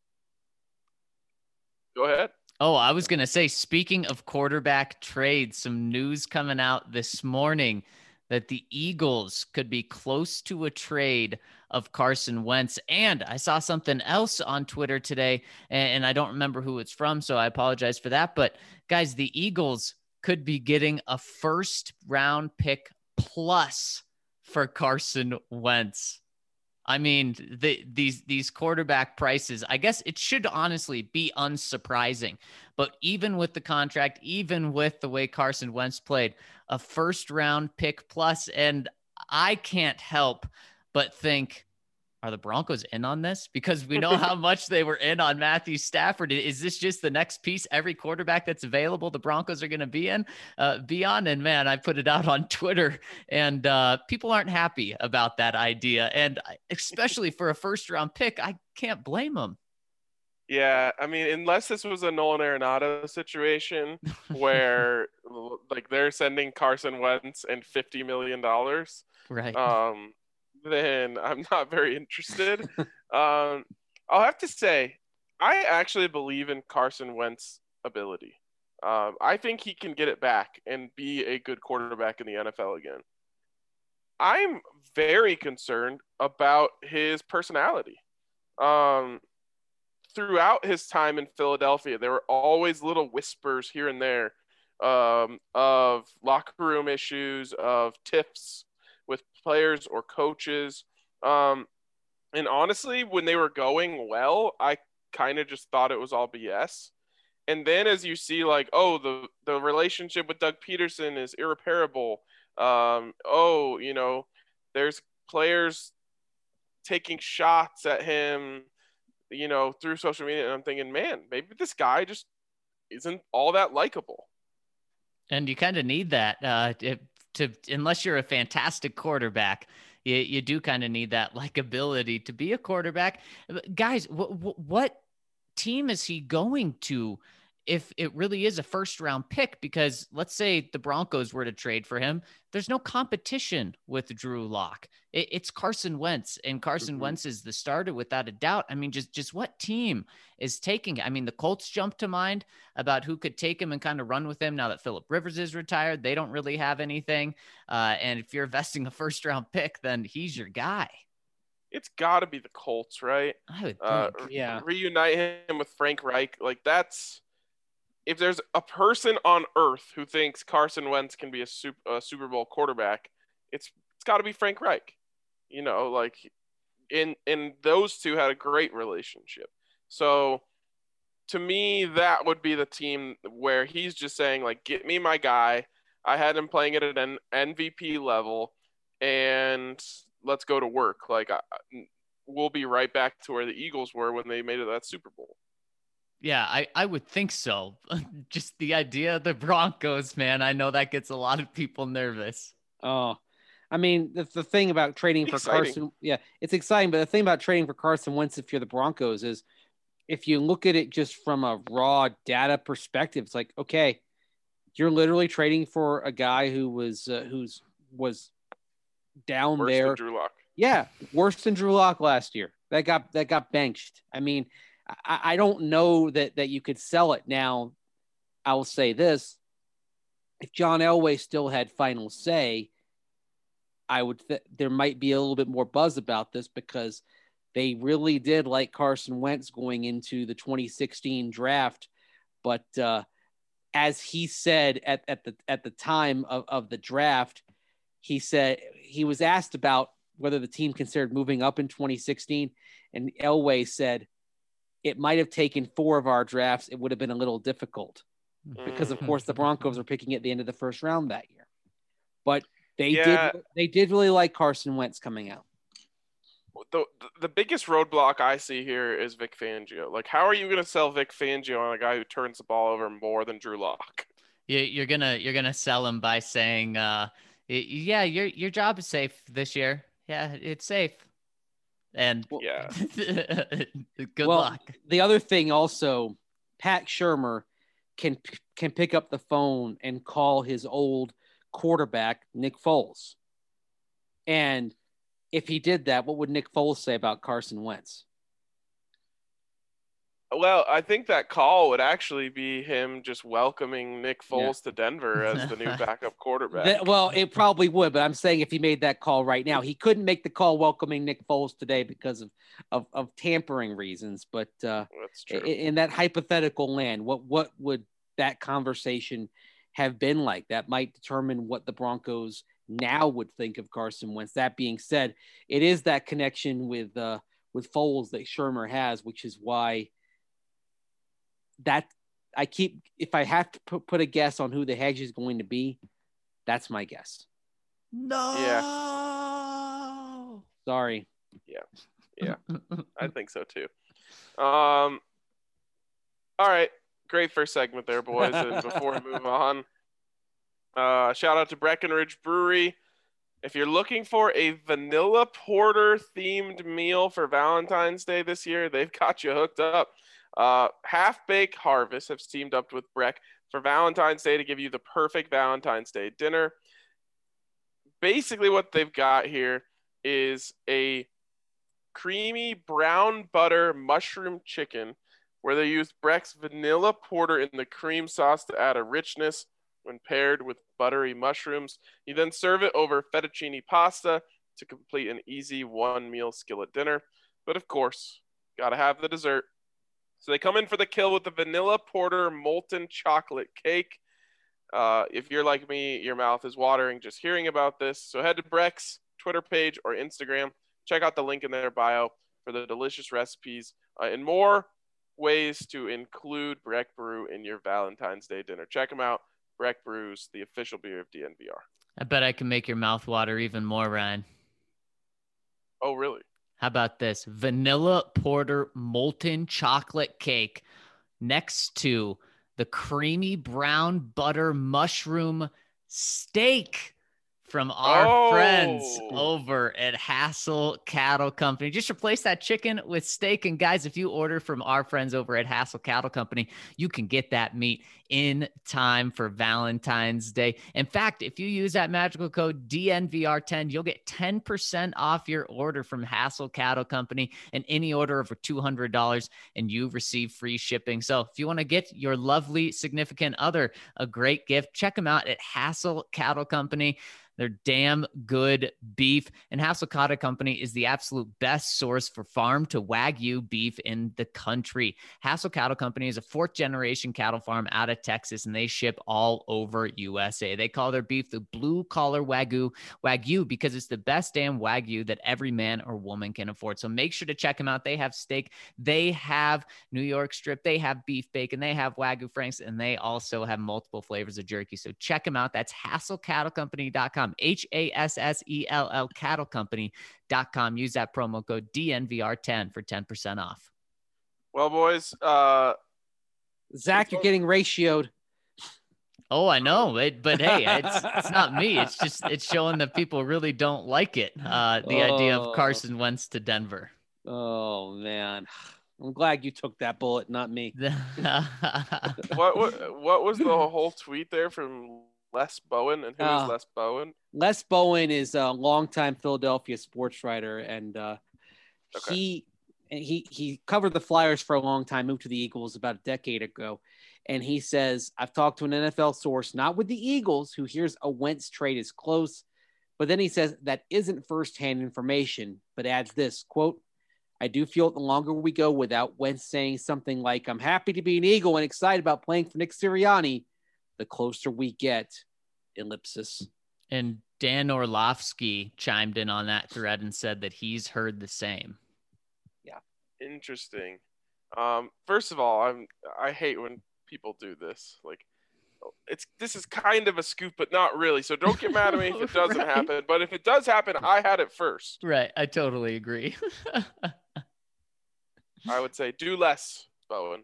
[SPEAKER 1] Go ahead.
[SPEAKER 4] Oh, I was going to say, speaking of quarterback trades, some news coming out this morning that the Eagles could be close to a trade of Carson Wentz. And I saw something else on Twitter today, and I don't remember who it's from, so I apologize for that. But guys, the Eagles could be getting a first-round pick plus for Carson Wentz. I mean, these quarterback prices, I guess it should honestly be unsurprising. But even with the contract, even with the way Carson Wentz played, a first-round pick plus, and I can't help but think, are the Broncos in on this? Because we know how much they were in on Matthew Stafford. Is this just the next piece every quarterback that's available the Broncos are going to be on? And man, I put it out on Twitter and people aren't happy about that idea. And especially for a first round pick, I can't blame them.
[SPEAKER 1] Yeah, I mean, unless this was a Nolan Arenado situation where like they're sending Carson Wentz and $50 million.
[SPEAKER 4] Right.
[SPEAKER 1] Then I'm not very interested. I'll have to say, I actually believe in Carson Wentz's ability. I think he can get it back and be a good quarterback in the NFL again. I'm very concerned about his personality. Throughout his time in Philadelphia, there were always little whispers here and there of locker room issues, of tiffs with players or coaches. And honestly, when they were going well, I kind of just thought it was all BS. And then as you see, like, oh, the relationship with Doug Peterson is irreparable. There's players taking shots at him, through social media. And I'm thinking, man, maybe this guy just isn't all that likable.
[SPEAKER 4] And you kind of need that to unless you're a fantastic quarterback, you do kind of need that likability to be a quarterback. Guys, what team is he going to? if it really is a first round pick, because let's say the Broncos were to trade for him, there's no competition with Drew Lock. It's Carson Wentz, and Carson Wentz is the starter without a doubt. I mean, just what team is taking? I mean, the Colts jump to mind about who could take him and kind of run with him now that Phillip Rivers is retired. They don't really have anything. And if you're investing a first round pick, then he's your guy.
[SPEAKER 1] It's got to be the Colts, right?
[SPEAKER 4] I would think.
[SPEAKER 3] Yeah.
[SPEAKER 1] Reunite him with Frank Reich. Like, that's, if there's a person on earth who thinks Carson Wentz can be a Super Bowl quarterback, it's got to be Frank Reich. You know, like, in those two had a great relationship. So to me, that would be the team where he's just saying, like, get me my guy. I had him playing it at an MVP level, and let's go to work. Like, we'll be right back to where the Eagles were when they made it that Super Bowl.
[SPEAKER 4] Yeah, I would think so. Just the idea of the Broncos, man. I know that gets a lot of people nervous.
[SPEAKER 3] Oh, I mean, the thing about trading for Carson, it's exciting. But the thing about trading for Carson Wentz, if you're the Broncos, is if you look at it just from a raw data perspective, it's like, okay, you're literally trading for a guy who was down
[SPEAKER 1] worse
[SPEAKER 3] there.
[SPEAKER 1] Than Drew Lock.
[SPEAKER 3] Yeah, worse than Drew Lock last year. That got benched. I mean, I don't know that you could sell it now. I will say this: if John Elway still had final say, there might be a little bit more buzz about this, because they really did like Carson Wentz going into the 2016 draft. But as he said at the time of the draft, he said he was asked about whether the team considered moving up in 2016, and Elway said, it might have taken 4 of our drafts. It would have been a little difficult because, of course, the Broncos were picking at the end of the first round that year. But they did really like Carson Wentz coming out.
[SPEAKER 1] The biggest roadblock I see here is Vic Fangio. Like, how are you going to sell Vic Fangio on a guy who turns the ball over more than Drew Lock?
[SPEAKER 4] You're gonna sell him by saying, yeah, your job is safe this year. Yeah, it's safe. And good luck.
[SPEAKER 3] The other thing also, Pat Shurmur can pick up the phone and call his old quarterback, Nick Foles. And if he did that, what would Nick Foles say about Carson Wentz?
[SPEAKER 1] Well, I think that call would actually be him just welcoming Nick Foles to Denver as the new backup quarterback.
[SPEAKER 3] Well, it probably would, but I'm saying if he made that call right now, he couldn't make the call welcoming Nick Foles today because of tampering reasons. But
[SPEAKER 1] that's true.
[SPEAKER 3] In that hypothetical land, what would that conversation have been like? That might determine what the Broncos now would think of Carson Wentz. That being said, it is that connection with Foles that Shurmur has, which is why that if I have to put a guess on who the hedge is going to be, that's my guess.
[SPEAKER 4] No.
[SPEAKER 1] Yeah.
[SPEAKER 3] Sorry.
[SPEAKER 1] Yeah. I think so too. All right. Great first segment there, boys. And before we move on, shout out to Breckenridge Brewery. If you're looking for a vanilla porter themed meal for Valentine's Day this year, they've got you hooked up. Half Baked Harvest have teamed up with Breck for Valentine's Day to give you the perfect Valentine's Day dinner. Basically, what they've got here is a creamy brown butter mushroom chicken where they use Breck's vanilla porter in the cream sauce to add a richness when paired with buttery mushrooms. You then serve it over fettuccine pasta to complete an easy one-meal skillet dinner. But of course, gotta have the dessert. So they come in for the kill with the vanilla porter molten chocolate cake. If you're like me, your mouth is watering just hearing about this. So head to Breck's Twitter page or Instagram. Check out the link in their bio for the delicious recipes and more ways to include Breck Brew in your Valentine's Day dinner. Check them out. Breck Brews, the official beer of DNVR.
[SPEAKER 4] I bet I can make your mouth water even more, Ryan.
[SPEAKER 1] Oh, really?
[SPEAKER 4] How about this? Vanilla porter molten chocolate cake next to the creamy brown butter mushroom steak from our friends
[SPEAKER 1] Oh.
[SPEAKER 4] over at Hassel Cattle Company. Just replace that chicken with steak. And guys, if you order from our friends over at Hassel Cattle Company, you can get that meat in time for Valentine's Day. In fact, if you use that magical code DNVR10, you'll get 10% off your order from Hassel Cattle Company and any order over $200, and you receive free shipping. So if you want to get your lovely significant other a great gift, check them out at Hassel Cattle Company. They're damn good beef. And Hassel Cattle Company is the absolute best source for farm to Wagyu beef in the country. Hassel Cattle Company is a 4th-generation cattle farm out of Texas, and they ship all over USA. They call their beef the blue-collar Wagyu because it's the best damn Wagyu that every man or woman can afford. So make sure to check them out. They have steak. They have New York strip. They have beef bacon. They have Wagyu Franks, and they also have multiple flavors of jerky. So check them out. That's HassellCattleCompany.com. HASSELL cattlecompany.com. Use that promo code DNVR10 for 10% off.
[SPEAKER 1] Well, boys,
[SPEAKER 3] Zach, you're getting ratioed.
[SPEAKER 4] Oh, I know, but hey, it's not me. It's showing that people really don't like it. The idea of Carson Wentz to Denver.
[SPEAKER 3] Oh man, I'm glad you took that bullet, not me.
[SPEAKER 1] what was the whole tweet there from Les Bowen? And who is Les Bowen?
[SPEAKER 3] Les Bowen is a longtime Philadelphia sports writer, and he covered the Flyers for a long time, moved to the Eagles about a decade ago. And he says, I've talked to an NFL source, not with the Eagles, who hears a Wentz trade is close. But then he says that isn't firsthand information, but adds this, quote, I do feel the longer we go without Wentz saying something like, I'm happy to be an Eagle and excited about playing for Nick Sirianni, the closer we get, ellipsis.
[SPEAKER 4] And Dan Orlovsky chimed in on that thread and said that he's heard the same.
[SPEAKER 3] Yeah.
[SPEAKER 1] Interesting. First of all, I hate when people do this. Like, this is kind of a scoop, but not really. So don't get mad at me if it doesn't happen. But if it does happen, I had it first.
[SPEAKER 4] Right. I totally agree.
[SPEAKER 1] I would say do less, Bowen.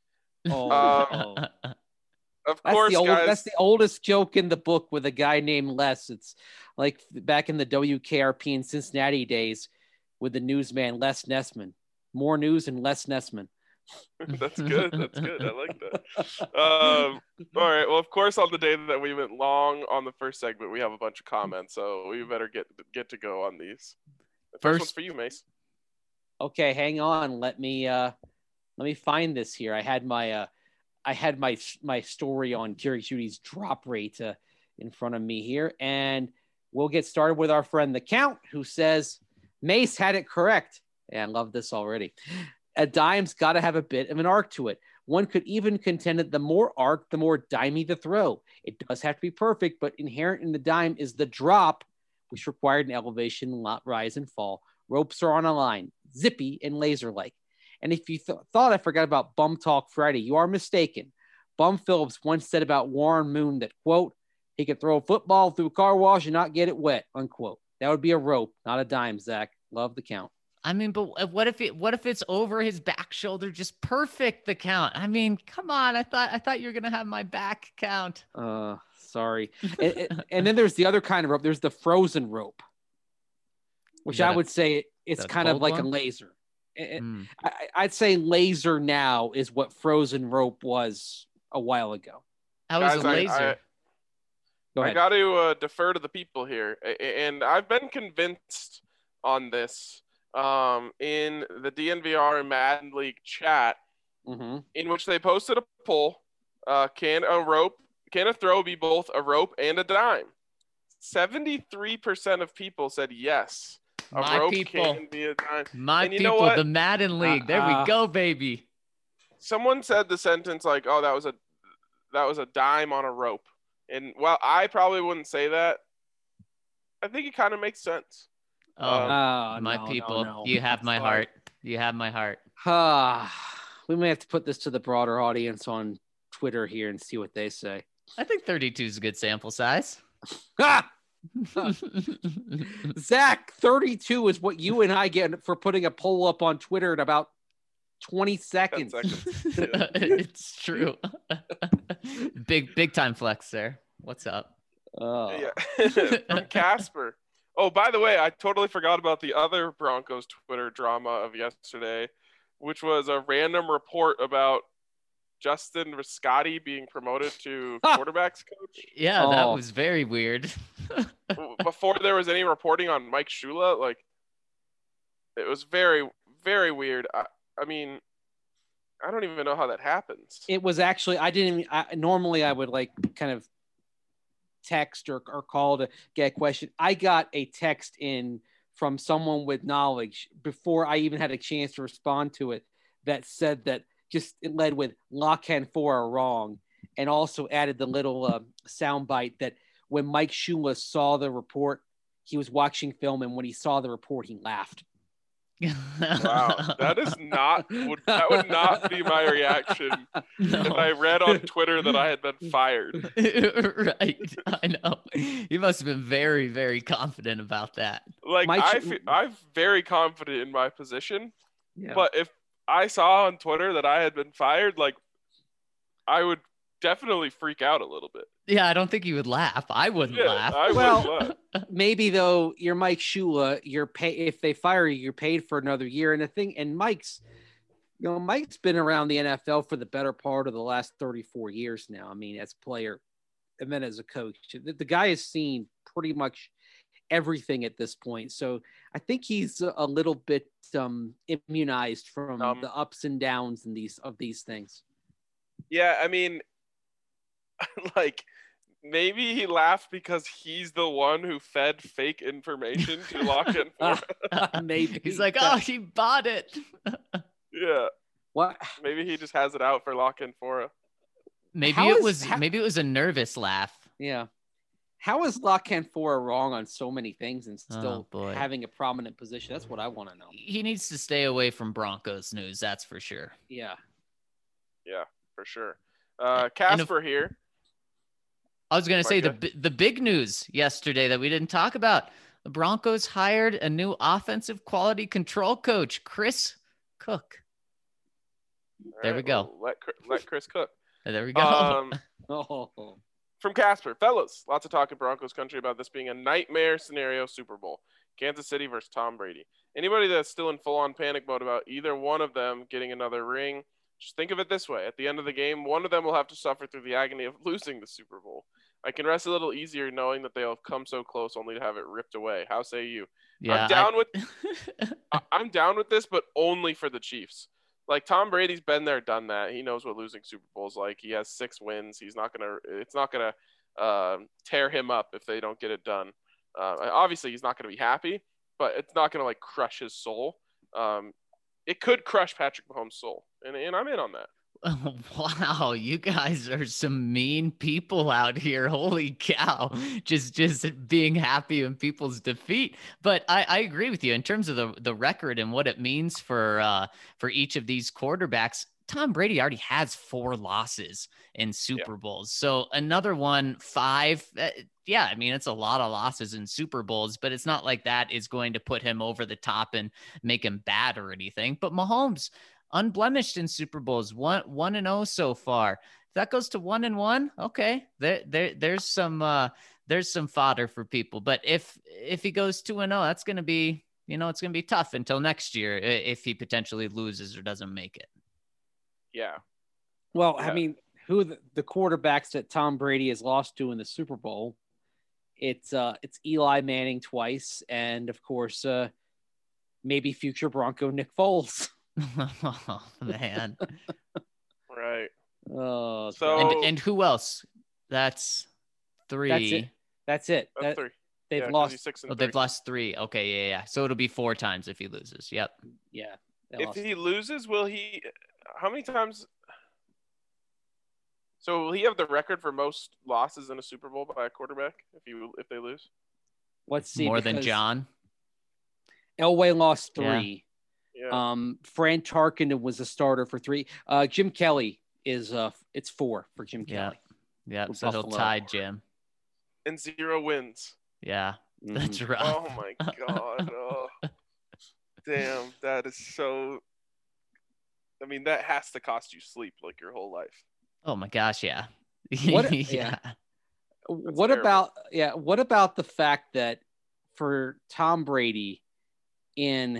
[SPEAKER 1] Of course, guys.
[SPEAKER 3] That's the oldest joke in the book with a guy named Les. It's like back in the WKRP in Cincinnati days with the newsman Les Nessman. More news and less Nessman.
[SPEAKER 1] That's good. That's good. I like that. All right. Well, of course, on the day that we went long on the first segment, we have a bunch of comments, so we better get to go on these. The first one's for you, Mace.
[SPEAKER 3] Okay, hang on. Let me find this here. I had my story on Jerry Judy's drop rate in front of me here, and we'll get started with our friend the Count, who says Mace had it correct. Yeah, I love this already. A dime's got to have a bit of an arc to it. One could even contend that the more arc, the more dimey the throw. It does have to be perfect, but inherent in the dime is the drop, which required an elevation, rise, and fall. Ropes are on a line, zippy and laser-like. And if you thought I forgot about Bum Talk Friday, you are mistaken. Bum Phillips once said about Warren Moon that, quote, he could throw a football through a car wash and not get it wet, unquote. That would be a rope, not a dime, Zach. Love the Count.
[SPEAKER 4] I mean, but what if it's over his back shoulder, just perfect, the Count? I mean, come on. I thought you were gonna have my back, Count.
[SPEAKER 3] Sorry. and then there's the other kind of rope. There's the frozen rope, which I would say it's kind of like a laser. I'd say laser now is what frozen rope was a while ago.
[SPEAKER 4] How is a laser?
[SPEAKER 1] I got to defer to the people here, and I've been convinced on this. In the DNVR and Madden League chat, in which they posted a poll, can a throw be both a rope and a dime? 73% of people said yes. A rope can be a dime.
[SPEAKER 4] My people, the Madden League. There we go, baby.
[SPEAKER 1] Someone said the sentence like, "Oh, that was a dime on a rope," and while I probably wouldn't say that, I think it kind of makes sense.
[SPEAKER 4] My people, you have my heart. You have my heart.
[SPEAKER 3] We may have to put this to the broader audience on Twitter here and see what they say.
[SPEAKER 4] I think 32 is a good sample size.
[SPEAKER 3] Zach, 32 is what you and I get for putting a poll up on Twitter in about 20 seconds.
[SPEAKER 4] It's true. Big time flex there. What's up?
[SPEAKER 1] Yeah. From Casper. Oh, by the way, I totally forgot about the other Broncos Twitter drama of yesterday, which was a random report about Justin Riscotti being promoted to quarterbacks coach.
[SPEAKER 4] Yeah, that was very weird.
[SPEAKER 1] Before there was any reporting on Mike Shula, like, it was very, very weird. I mean, I don't even know how that happens.
[SPEAKER 3] It was actually, normally I would like kind of text or call to get a question. I got a text in from someone with knowledge before I even had a chance to respond to it that said that it led with Lock and Four are wrong, and also added the little soundbite that when Mike Shula saw the report, he was watching film, and when he saw the report, he laughed.
[SPEAKER 1] Wow, that would not be my reaction if I read on Twitter that I had been fired.
[SPEAKER 4] Right, I know. You must have been very, very confident about that.
[SPEAKER 1] Like, I'm very confident in my position, but if I saw on Twitter that I had been fired, like, I would definitely freak out a little bit.
[SPEAKER 4] Yeah, I don't think you would laugh. I wouldn't laugh.
[SPEAKER 3] Maybe though, you're Mike Shula. If they fire you, you're paid for another year. And Mike's been around the NFL for the better part of the last 34 years now. I mean, as a player and then as a coach, the guy has seen pretty much everything at this point. So I think he's a little bit immunized from the ups and downs and these things.
[SPEAKER 1] Yeah, I mean, like, maybe he laughed because he's the one who fed fake information to Lock and Four.
[SPEAKER 4] Maybe he's like, oh, he bought it.
[SPEAKER 1] Yeah.
[SPEAKER 3] What?
[SPEAKER 1] Maybe he just has it out for Lock and Four.
[SPEAKER 4] Maybe it was a nervous laugh.
[SPEAKER 3] Yeah. How is Lock and Four wrong on so many things and still having a prominent position? That's what I want to know.
[SPEAKER 4] He needs to stay away from Broncos news. That's for sure.
[SPEAKER 3] Yeah.
[SPEAKER 1] Yeah, for sure. Casper here.
[SPEAKER 4] I was going to say the big news yesterday that we didn't talk about. The Broncos hired a new offensive quality control coach, Chris Cook. There we go.
[SPEAKER 1] Well, let Chris cook.
[SPEAKER 4] There we go.
[SPEAKER 1] From Casper, fellas, lots of talk in Broncos country about this being a nightmare scenario Super Bowl. Kansas City versus Tom Brady. Anybody that's still in full-on panic mode about either one of them getting another ring, just think of it this way. At the end of the game, one of them will have to suffer through the agony of losing the Super Bowl. I can rest a little easier knowing that they'll have come so close only to have it ripped away. How say you? Yeah, I'm down with this, but only for the Chiefs. Like, Tom Brady's been there, done that. He knows what losing Super Bowl's like. He has 6 wins. It's not gonna tear him up if they don't get it done. Obviously, he's not gonna be happy, but it's not gonna like crush his soul. It could crush Patrick Mahomes' soul, and I'm in on that.
[SPEAKER 4] Wow, you guys are some mean people out here. Holy cow. Just being happy in people's defeat. But I agree with you in terms of the record and what it means for each of these quarterbacks. Tom Brady already has 4 losses in Super Bowls. So another one, 5. Yeah, I mean, it's a lot of losses in Super Bowls, but it's not like that is going to put him over the top and make him bad or anything. But Mahomes, unblemished in Super Bowls, 1-0 so far. If that goes to 1-1, okay, there's some fodder for people. But if he goes 2-0, that's going to be, it's going to be tough until next year if he potentially loses or doesn't make it.
[SPEAKER 1] Yeah.
[SPEAKER 3] Well, I mean, who the quarterbacks that Tom Brady has lost to in the Super Bowl? It's Eli Manning twice, and of course, maybe future Bronco Nick Foles.
[SPEAKER 4] Oh, man.
[SPEAKER 1] Right.
[SPEAKER 3] Oh,
[SPEAKER 1] so
[SPEAKER 4] and who else? That's 3.
[SPEAKER 3] That's it.
[SPEAKER 1] That's 3.
[SPEAKER 3] They've lost
[SPEAKER 1] 6 and 3.
[SPEAKER 4] They've lost 3. Okay, yeah. So it'll be 4 times if he loses. Yep.
[SPEAKER 3] Yeah.
[SPEAKER 1] If he loses, will he? How many times? So will he have the record for most losses in a Super Bowl by a quarterback if they lose?
[SPEAKER 3] Let's see.
[SPEAKER 4] More than John.
[SPEAKER 3] Elway lost 3.
[SPEAKER 1] Yeah.
[SPEAKER 3] Fran Tarkenton was a starter for 3. Jim Kelly is it's 4 for Jim Kelly.
[SPEAKER 4] Yeah. So he'll tie Jim.
[SPEAKER 1] And 0 wins.
[SPEAKER 4] Yeah, that's right.
[SPEAKER 1] Oh my God. Oh. Damn, that is so. I mean, that has to cost you sleep like your whole life.
[SPEAKER 4] Oh my gosh, yeah.
[SPEAKER 3] What?
[SPEAKER 4] Yeah.
[SPEAKER 3] What
[SPEAKER 1] terrible.
[SPEAKER 3] about the fact that for Tom Brady in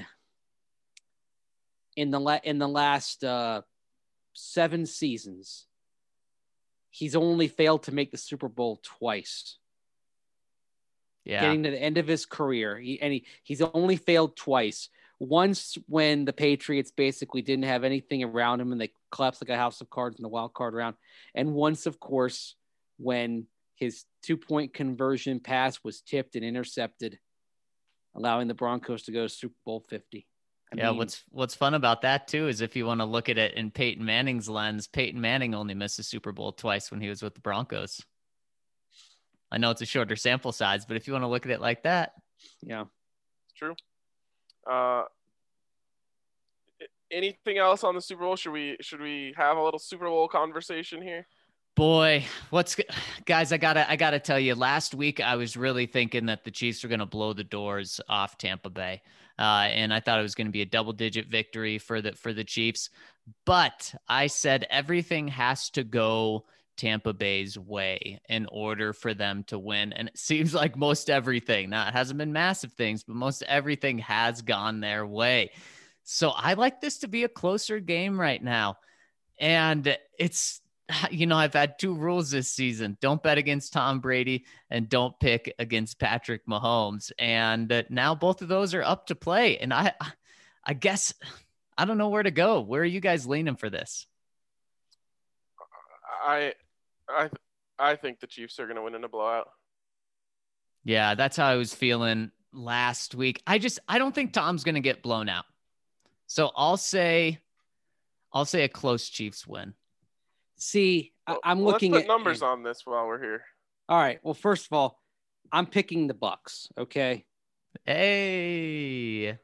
[SPEAKER 3] the last 7 seasons, he's only failed to make the Super Bowl twice.
[SPEAKER 4] Yeah.
[SPEAKER 3] Getting to the end of his career, he's only failed twice. Once when the Patriots basically didn't have anything around him and they collapsed like a house of cards in the wild card round, and once, of course, when his 2-point conversion pass was tipped and intercepted, allowing the Broncos to go to Super Bowl 50.
[SPEAKER 4] I mean, what's fun about that too is if you want to look at it in Peyton Manning's lens, Peyton Manning only missed the Super Bowl twice when he was with the Broncos. I know it's a shorter sample size, but if you want to look at it like that,
[SPEAKER 3] yeah,
[SPEAKER 1] it's true. Anything else on the Super Bowl? Should we have a little Super Bowl conversation here?
[SPEAKER 4] Boy, guys, I gotta tell you, last week I was really thinking that the Chiefs were going to blow the doors off Tampa Bay. And I thought it was going to be a double-digit victory for the Chiefs. But I said everything has to go Tampa Bay's way in order for them to win. And it seems like most everything, now it hasn't been massive things, but most everything has gone their way. So I like this to be a closer game right now. And it's, I've had 2 rules this season. Don't bet against Tom Brady and don't pick against Patrick Mahomes. And now both of those are up to play. And I guess I don't know where to go. Where are you guys leaning for this?
[SPEAKER 1] I think the Chiefs are going to win in a blowout.
[SPEAKER 4] Yeah, that's how I was feeling last week. I don't think Tom's going to get blown out. So I'll say a close Chiefs win.
[SPEAKER 3] See, I'm looking
[SPEAKER 1] at numbers on this while we're here.
[SPEAKER 3] All right. Well, first of all, I'm picking the Bucks. Okay.
[SPEAKER 4] Hey.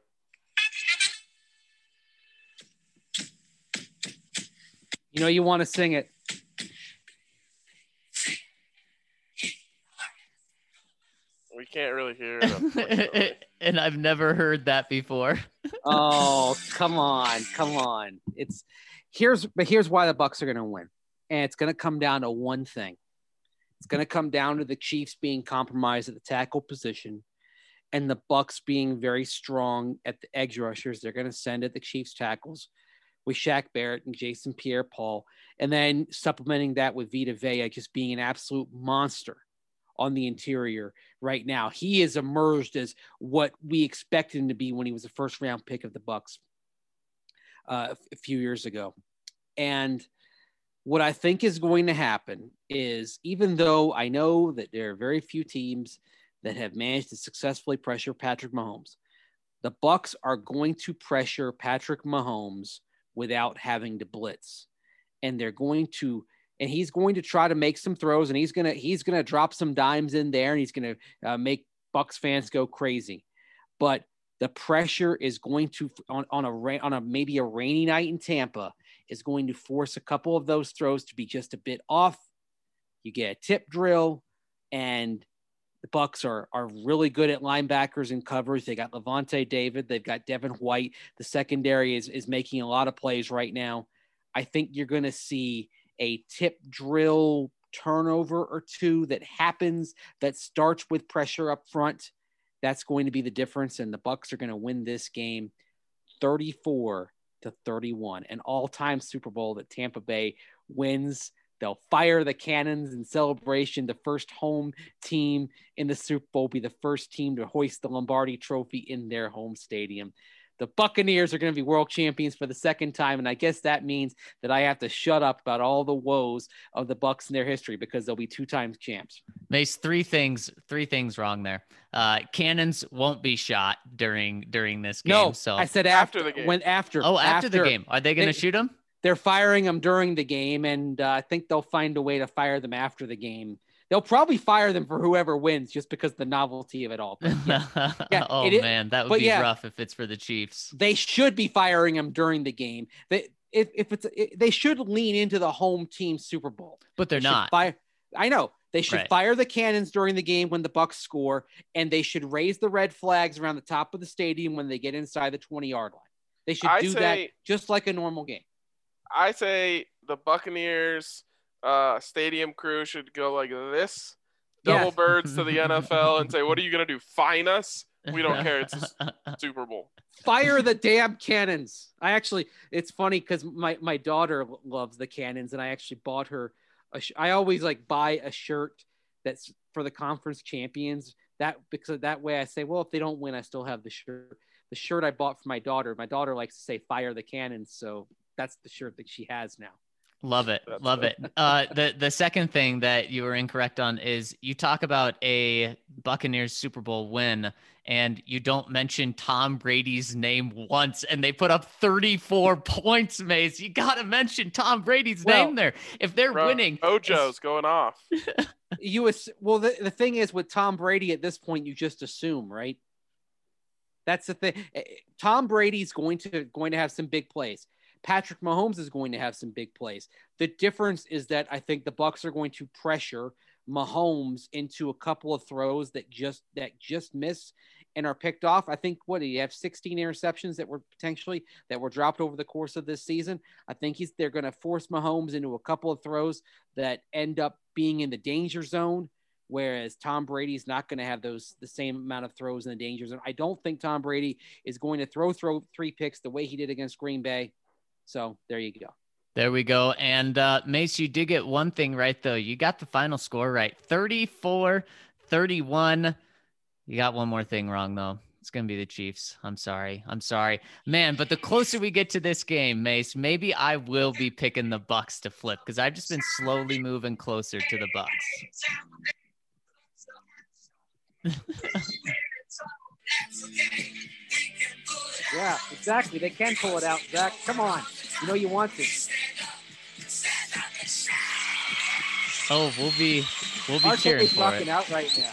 [SPEAKER 3] You want to sing it.
[SPEAKER 1] We can't really hear it.
[SPEAKER 4] And I've never heard that before.
[SPEAKER 3] Oh, come on. Here's why the Bucks are going to win. And it's going to come down to one thing. It's going to come down to the Chiefs being compromised at the tackle position and the Bucks being very strong at the edge rushers. They're going to send at the Chiefs tackles with Shaq Barrett and Jason Pierre-Paul, and then supplementing that with Vita Vea just being an absolute monster on the interior right now. He has emerged as what we expected him to be when he was a first-round pick of the Bucks a few years ago. And what I think is going to happen is, even though I know that there are very few teams that have managed to successfully pressure Patrick Mahomes, the Bucks are going to pressure Patrick Mahomes without having to blitz. And he's going to try to make some throws, and he's going to drop some dimes in there, and he's going to make Bucks fans go crazy. But the pressure is going to, on a maybe a rainy night in Tampa, is going to force a couple of those throws to be just a bit off. You get a tip drill, and the Bucks are really good at linebackers and coverage. They got Levante David. They've got Devin White. The secondary is making a lot of plays right now. I think you're going to see a tip drill turnover or two that happens that starts with pressure up front. That's going to be the difference. And the Bucks are going to win this game 34-31, an all-time Super Bowl that Tampa Bay wins. They'll fire the cannons in celebration. The first home team in the Super Bowl will be the first team to hoist the Lombardi Trophy in their home stadium. The Buccaneers are going to be world champions for the second time, and I guess that means that I have to shut up about all the woes of the Bucks in their history because they'll be 2-time champs.
[SPEAKER 4] Mace, three things wrong there. Cannons won't be shot during this game.
[SPEAKER 3] No,
[SPEAKER 4] so
[SPEAKER 3] I said
[SPEAKER 1] after the game.
[SPEAKER 4] After the game. Are they going to shoot them?
[SPEAKER 3] They're firing them during the game, and I think they'll find a way to fire them after the game. They'll probably fire them for whoever wins just because of the novelty of it all. But yeah,
[SPEAKER 4] man, that would be rough if it's for the Chiefs.
[SPEAKER 3] They should be firing them during the game. They should lean into the home team Super Bowl.
[SPEAKER 4] But they're not.
[SPEAKER 3] I know. They should fire the cannons during the game when the Bucks score, and they should raise the red flags around the top of the stadium when they get inside the 20-yard line. They should do that just like a normal game.
[SPEAKER 1] I say the Buccaneers stadium crew should go like this double
[SPEAKER 3] Yeah.
[SPEAKER 1] birds to the NFL and say, "What are you gonna do? Fine us? We don't care. It's a Super Bowl."
[SPEAKER 3] Fire the damn cannons. It's funny because my daughter loves the cannons, and I actually bought her I always like buy a shirt that's for the conference champions. Because that way I say, well, if they don't win, I still have the shirt. The shirt I bought for my daughter likes to say "Fire the cannons," so that's the shirt that she has now.
[SPEAKER 4] Love it. Love it. The second thing that you were incorrect on is you talk about a Buccaneers Super Bowl win and you don't mention Tom Brady's name once, and they put up 34 points, Mace. You got to mention Tom Brady's name there. If they're winning.
[SPEAKER 1] Ojo's going off.
[SPEAKER 3] The thing is with Tom Brady at this point, you just assume, right? That's the thing. Tom Brady's going to have some big plays. Patrick Mahomes is going to have some big plays. The difference is that I think the Bucs are going to pressure Mahomes into a couple of throws that just miss and are picked off. I think do you have 16 interceptions that were dropped over the course of this season. I think they're going to force Mahomes into a couple of throws that end up being in the danger zone, whereas Tom Brady's not going to have the same amount of throws in the danger zone. I don't think Tom Brady is going to throw 3 picks the way he did against Green Bay. So there you go.
[SPEAKER 4] There we go. And Mace, you did get one thing right, though. You got the final score right. 34-31. You got one more thing wrong, though. It's going to be the Chiefs. I'm sorry. Man, but the closer we get to this game, Mace, maybe I will be picking the Bucs to flip because I've just been slowly moving closer to the Bucs.
[SPEAKER 3] Yeah, exactly. They can pull it out, Zach. Come on. You know you want this.
[SPEAKER 4] Oh, we'll be
[SPEAKER 3] Our
[SPEAKER 4] cheering for
[SPEAKER 3] rocking
[SPEAKER 4] it.
[SPEAKER 3] Out right now.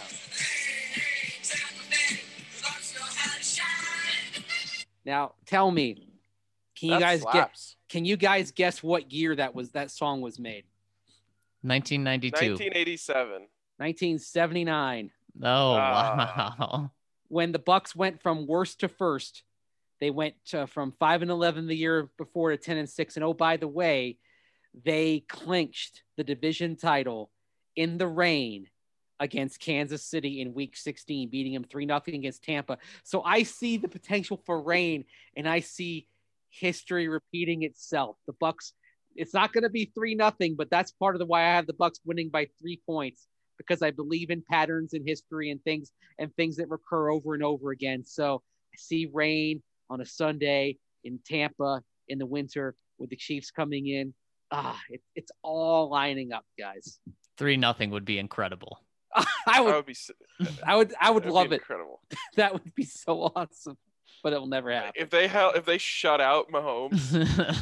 [SPEAKER 3] Now, tell me, can you guys guess what year that song was made?
[SPEAKER 4] 1992.
[SPEAKER 1] 1987.
[SPEAKER 3] 1979.
[SPEAKER 4] Oh, wow.
[SPEAKER 3] When the Bucs went from worst to first, they went from 5-11 the year before to 10-6. And oh, by the way, they clinched the division title in the rain against Kansas City in week 16, beating them 3-0 against Tampa. So I see the potential for rain, and I see history repeating itself. The Bucs, it's not going to be 3-0, but that's part of the why I have the Bucs winning by 3 points, because I believe in patterns in history and things that recur over and over again. So I see rain on a Sunday in Tampa in the winter with the Chiefs coming in. It's all lining up, guys.
[SPEAKER 4] 3-0 would be incredible.
[SPEAKER 3] I would love it.
[SPEAKER 1] Incredible.
[SPEAKER 3] That would be so awesome, but it will never happen.
[SPEAKER 1] If they shut out Mahomes.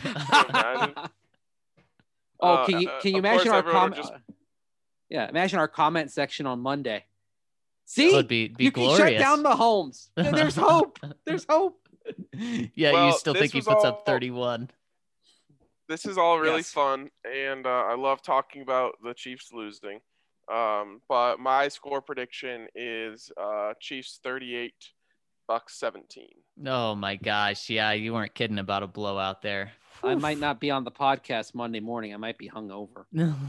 [SPEAKER 3] Can you imagine our comment? Yeah, imagine our comment section on Monday. See,
[SPEAKER 4] would be
[SPEAKER 3] you
[SPEAKER 4] glorious.
[SPEAKER 3] can shut down Mahomes. There's hope. There's hope.
[SPEAKER 4] Yeah, you still think he puts up 31.
[SPEAKER 1] This is all really fun, and I love talking about the Chiefs losing. But my score prediction is Chiefs 38, Bucs 17.
[SPEAKER 4] Oh my gosh, yeah, you weren't kidding about a blowout there.
[SPEAKER 3] I might not be on the podcast Monday morning. I might be hungover.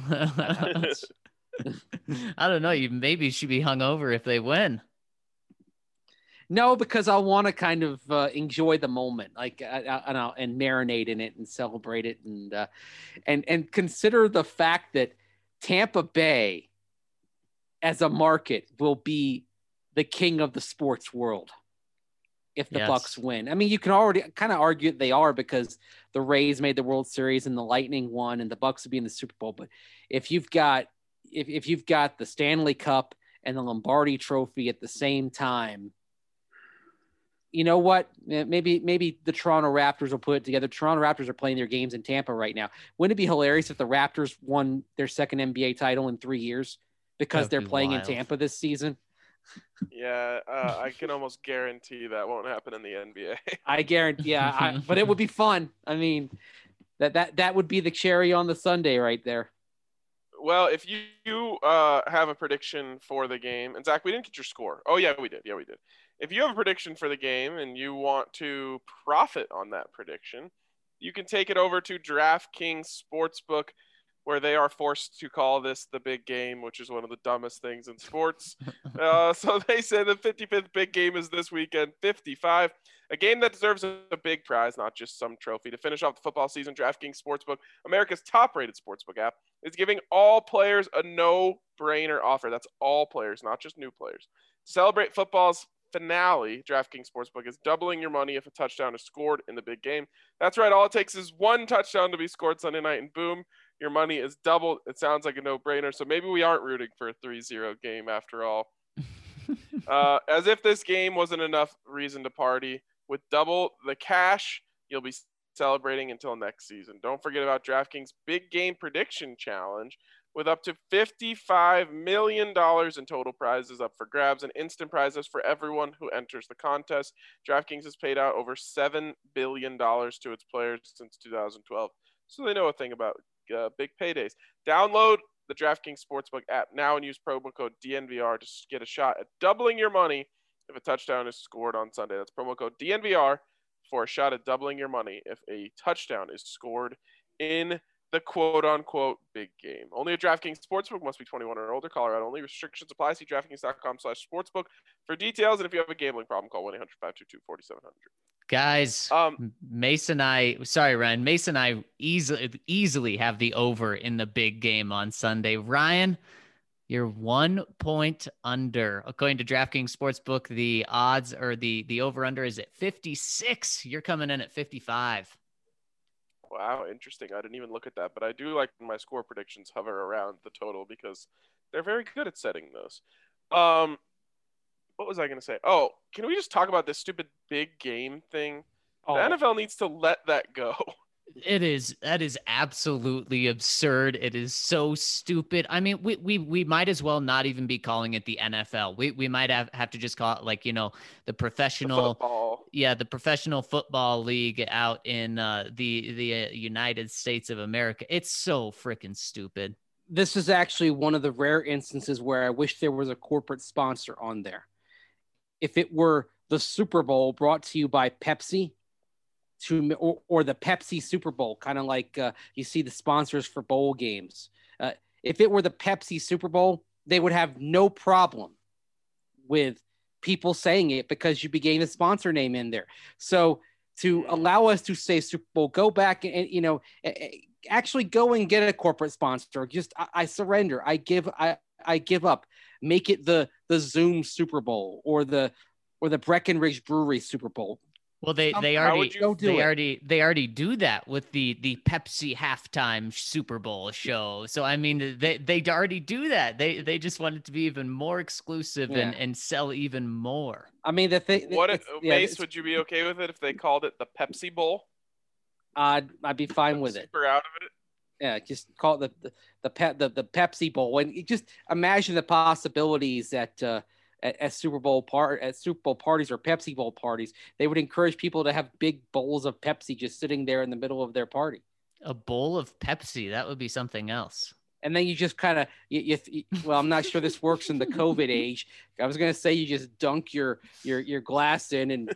[SPEAKER 4] I don't know. You maybe should be hungover if they win.
[SPEAKER 3] No, because I want to kind of enjoy the moment, like and marinate in it and celebrate it, and consider the fact that Tampa Bay, as a market, will be the king of the sports world if the Bucs win. I mean, you can already kind of argue that they are, because the Rays made the World Series and the Lightning won, and the Bucs would be in the Super Bowl. But if you've got the Stanley Cup and the Lombardi Trophy at the same time, you know what? Maybe the Toronto Raptors will put it together. Toronto Raptors are playing their games in Tampa right now. Wouldn't it be hilarious if the Raptors won their second NBA title in 3 years because they're playing in Tampa this season?
[SPEAKER 1] Yeah, I can almost guarantee that won't happen in the NBA.
[SPEAKER 3] I guarantee, but it would be fun. I mean, that would be the cherry on the sundae right there.
[SPEAKER 1] Well, if you have a prediction for the game, and Zach, we didn't get your score. Oh yeah, we did. If you have a prediction for the game and you want to profit on that prediction, you can take it over to DraftKings Sportsbook. where they are forced to call this the big game, which is one of the dumbest things in sports. So they say the 55th big game is this weekend, 55. A game that deserves a big prize, not just some trophy. To finish off the football season, DraftKings Sportsbook, America's top-rated sportsbook app, is giving all players a no-brainer offer. That's all players, not just new players. To celebrate football's finale, DraftKings Sportsbook is doubling your money if a touchdown is scored in the big game. That's right. All it takes is one touchdown to be scored Sunday night, and boom, your money is doubled. It sounds like a no-brainer. So maybe we aren't rooting for a 3-0 game after all. As if this game wasn't enough reason to party. With double the cash, you'll be celebrating until next season. Don't forget about DraftKings Big Game Prediction Challenge, with up to $55 million in total prizes up for grabs and instant prizes for everyone who enters the contest. DraftKings has paid out over $7 billion to its players since 2012, so they know a thing about big paydays. Download the DraftKings Sportsbook app now and use promo code DNVR to get a shot at doubling your money if a touchdown is scored on Sunday. That's promo code DNVR for a shot at doubling your money if a touchdown is scored in the quote-unquote big game. Only a DraftKings Sportsbook, must be 21 or older. Colorado only. Restrictions apply. See DraftKings.com/sportsbook for details. And if you have a gambling problem, call 1-800-522-4700.
[SPEAKER 4] Guys, Mason and I easily have the over in the big game on Sunday. Ryan, you're 1 point under. According to DraftKings Sportsbook, the odds or the over-under is at 56. You're coming in at 55.
[SPEAKER 1] Wow, interesting. I didn't even look at that, but I do like when my score predictions hover around the total because they're very good at setting those. What was I going to say? Oh, can we just talk about this stupid big game thing? The NFL needs to let that go.
[SPEAKER 4] That is absolutely absurd. It is so stupid. I mean, we might as well not even be calling it the NFL. We might have to just call it like, the professional football. Yeah, the professional football league out in the United States of America. It's so freaking stupid.
[SPEAKER 3] This is actually one of the rare instances where I wish there was a corporate sponsor on there. If it were the Super Bowl brought to you by Pepsi, or the Pepsi Super Bowl, kind of like you see the sponsors for bowl games. If it were the Pepsi Super Bowl, they would have no problem with people saying it because you began the sponsor name in there. So to allow us to say Super Bowl, go back and actually go and get a corporate sponsor. Just I surrender. I give up. Make it the Zoom Super Bowl or the Breckenridge Brewery Super Bowl.
[SPEAKER 4] Well, they already do that with the Pepsi halftime Super Bowl show. So I mean, they already do that. They just want it to be even more exclusive and sell even more.
[SPEAKER 3] I mean, the thing.
[SPEAKER 1] Mace, would you be okay with it if they called it the Pepsi Bowl?
[SPEAKER 3] I'd be fine with it.
[SPEAKER 1] Super out of it.
[SPEAKER 3] Yeah, just call it the Pepsi Bowl, and you just imagine the possibilities that at Super Bowl parties or Pepsi Bowl parties, they would encourage people to have big bowls of Pepsi just sitting there in the middle of their party.
[SPEAKER 4] A bowl of Pepsi, that would be something else.
[SPEAKER 3] And then you just kind of, well, I'm not sure this works in the COVID age. I was going to say you just dunk your glass in and.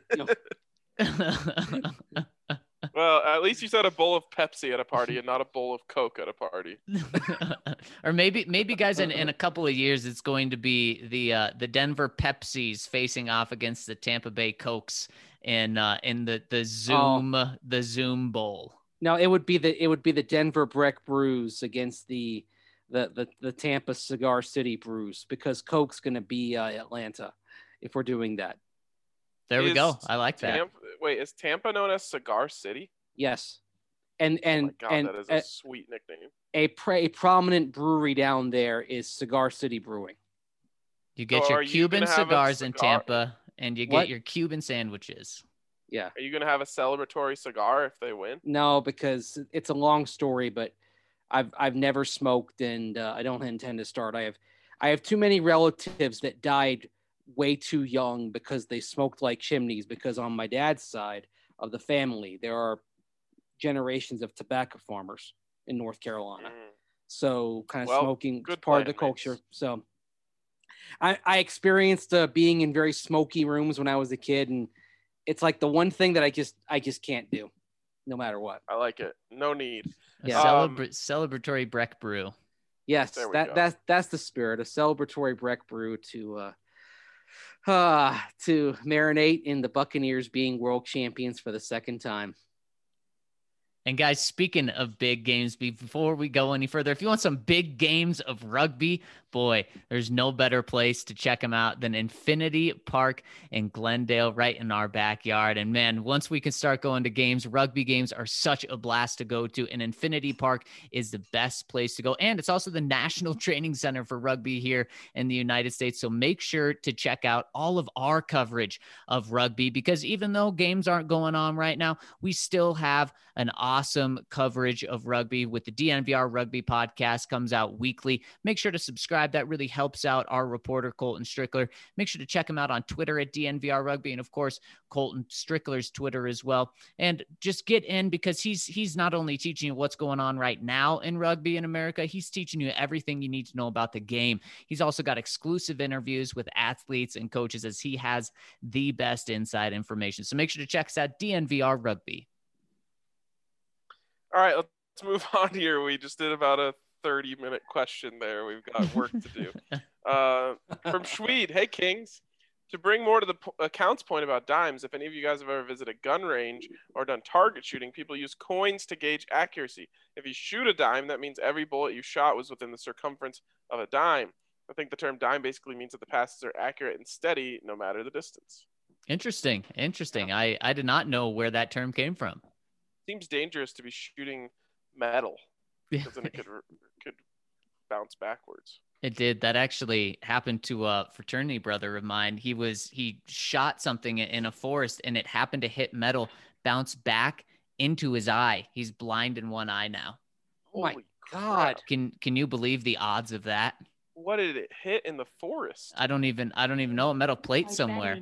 [SPEAKER 1] Well, at least you said a bowl of Pepsi at a party and not a bowl of Coke at a party.
[SPEAKER 4] Or maybe guys, in a couple of years, it's going to be the Denver Pepsis facing off against the Tampa Bay Cokes in the Zoom Bowl.
[SPEAKER 3] No, it would be the Denver Breck Brews against the Tampa Cigar City Brews, because Coke's going to be Atlanta if we're doing that.
[SPEAKER 4] There we go. I like that.
[SPEAKER 1] Wait, is Tampa known as Cigar City?
[SPEAKER 3] Yes. And
[SPEAKER 1] oh my God, that is a sweet nickname.
[SPEAKER 3] A prominent brewery down there is Cigar City Brewing.
[SPEAKER 4] You get your Cuban cigars in Tampa, and you get your Cuban sandwiches.
[SPEAKER 3] Yeah.
[SPEAKER 1] Are you going to have a celebratory cigar if they win?
[SPEAKER 3] No, because it's a long story, but I've never smoked, and I don't intend to start. I have too many relatives that died way too young because they smoked like chimneys, because on my dad's side of the family there are generations of tobacco farmers in North Carolina. So kind of smoking is part of the culture. So I experienced being in very smoky rooms when I was a kid, and it's like the one thing that I just can't do. no matter what.
[SPEAKER 1] I like it. No need.
[SPEAKER 4] Celebratory Breck Brew.
[SPEAKER 3] Yes, that's the spirit. A celebratory Breck Brew to marinate in the Buccaneers being world champions for the second time.
[SPEAKER 4] And guys, speaking of big games, before we go any further, if you want some big games of rugby, boy, there's no better place to check them out than Infinity Park in Glendale, right in our backyard. And man, once we can start going to games, rugby games are such a blast to go to. And Infinity Park is the best place to go. And it's also the National Training Center for rugby here in the United States. So make sure to check out all of our coverage of rugby, because even though games aren't going on right now, we still have an awesome coverage of rugby with the DNVR Rugby Podcast. Comes out weekly. Make sure to subscribe. That really helps out our reporter, Colton Strickler. Make sure to check him out on Twitter at DNVR Rugby. And of course, Colton Strickler's Twitter as well. And just get in, because he's not only teaching you what's going on right now in rugby in America, he's teaching you everything you need to know about the game. He's also got exclusive interviews with athletes and coaches, as he has the best inside information. So make sure to check us out, DNVR Rugby.
[SPEAKER 1] All right, let's move on here. We just did about a 30-minute question there. We've got work to do. From Schweed, hey, Kings. To bring more to the account's point about dimes, if any of you guys have ever visited a gun range or done target shooting, people use coins to gauge accuracy. If you shoot a dime, that means every bullet you shot was within the circumference of a dime. I think the term dime basically means that the passes are accurate and steady no matter the distance.
[SPEAKER 4] Interesting. Yeah. I did not know where that term came from.
[SPEAKER 1] Seems dangerous to be shooting metal, because then it could bounce backwards.
[SPEAKER 4] It did. That actually happened to a fraternity brother of mine. He shot something in a forest, and it happened to hit metal, bounce back into his eye. He's blind in one eye now.
[SPEAKER 3] Oh my God.
[SPEAKER 4] Can you believe the odds of that?
[SPEAKER 1] What did it hit in the forest?
[SPEAKER 4] I don't even know. A metal plate somewhere.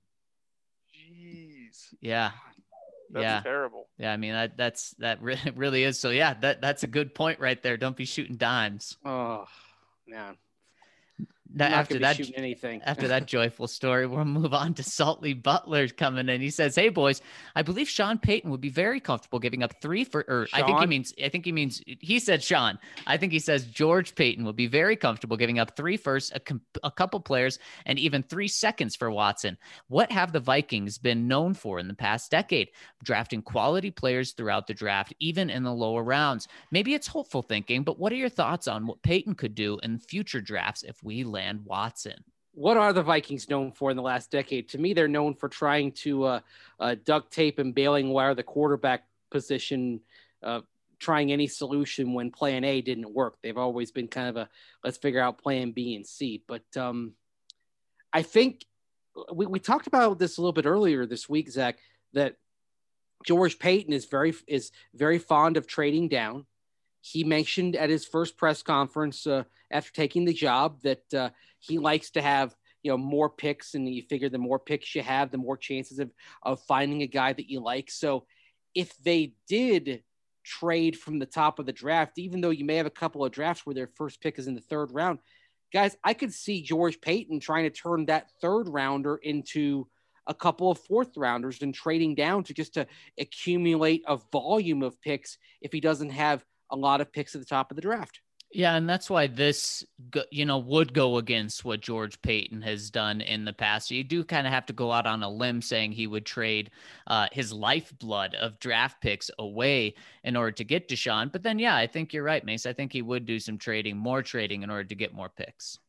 [SPEAKER 1] Jeez.
[SPEAKER 4] Yeah.
[SPEAKER 1] That's terrible.
[SPEAKER 4] Yeah, I mean that really is. So yeah, that's a good point right there. Don't be shooting dimes.
[SPEAKER 3] Oh, man.
[SPEAKER 4] After that
[SPEAKER 3] anything.
[SPEAKER 4] After that joyful story, we'll move on to Saltley Butler coming in. He says, "Hey boys, I believe Sean Payton would be very comfortable giving up 3 for." Or Sean? I think he means. He said Sean. I think he says George Payton would be very comfortable giving up 3 firsts, a couple players, and even 3 seconds for Watson. What have the Vikings been known for in the past decade? Drafting quality players throughout the draft, even in the lower rounds. Maybe it's hopeful thinking, but what are your thoughts on what Payton could do in future drafts if we land Watson?
[SPEAKER 3] What are the Vikings known for in the last decade? To me, they're known for trying to duct tape and bailing wire the quarterback position, trying any solution when plan A didn't work. They've always been kind of let's figure out plan B and C. But I think we talked about this a little bit earlier this week, Zach, that George Payton is very fond of trading down. He mentioned at his first press conference after taking the job that he likes to have, more picks, and you figure the more picks you have, the more chances of finding a guy that you like. So if they did trade from the top of the draft, even though you may have a couple of drafts where their first pick is in the 3rd round, guys, I could see George Payton trying to turn that 3rd rounder into a couple of 4th rounders and trading down to accumulate a volume of picks if he doesn't have a lot of picks at the top of the draft.
[SPEAKER 4] Yeah, and that's why this, would go against what George Payton has done in the past. So you do kind of have to go out on a limb saying he would trade his lifeblood of draft picks away in order to get Deshaun. But then, yeah, I think you're right, Mace. I think he would do some more trading in order to get more picks.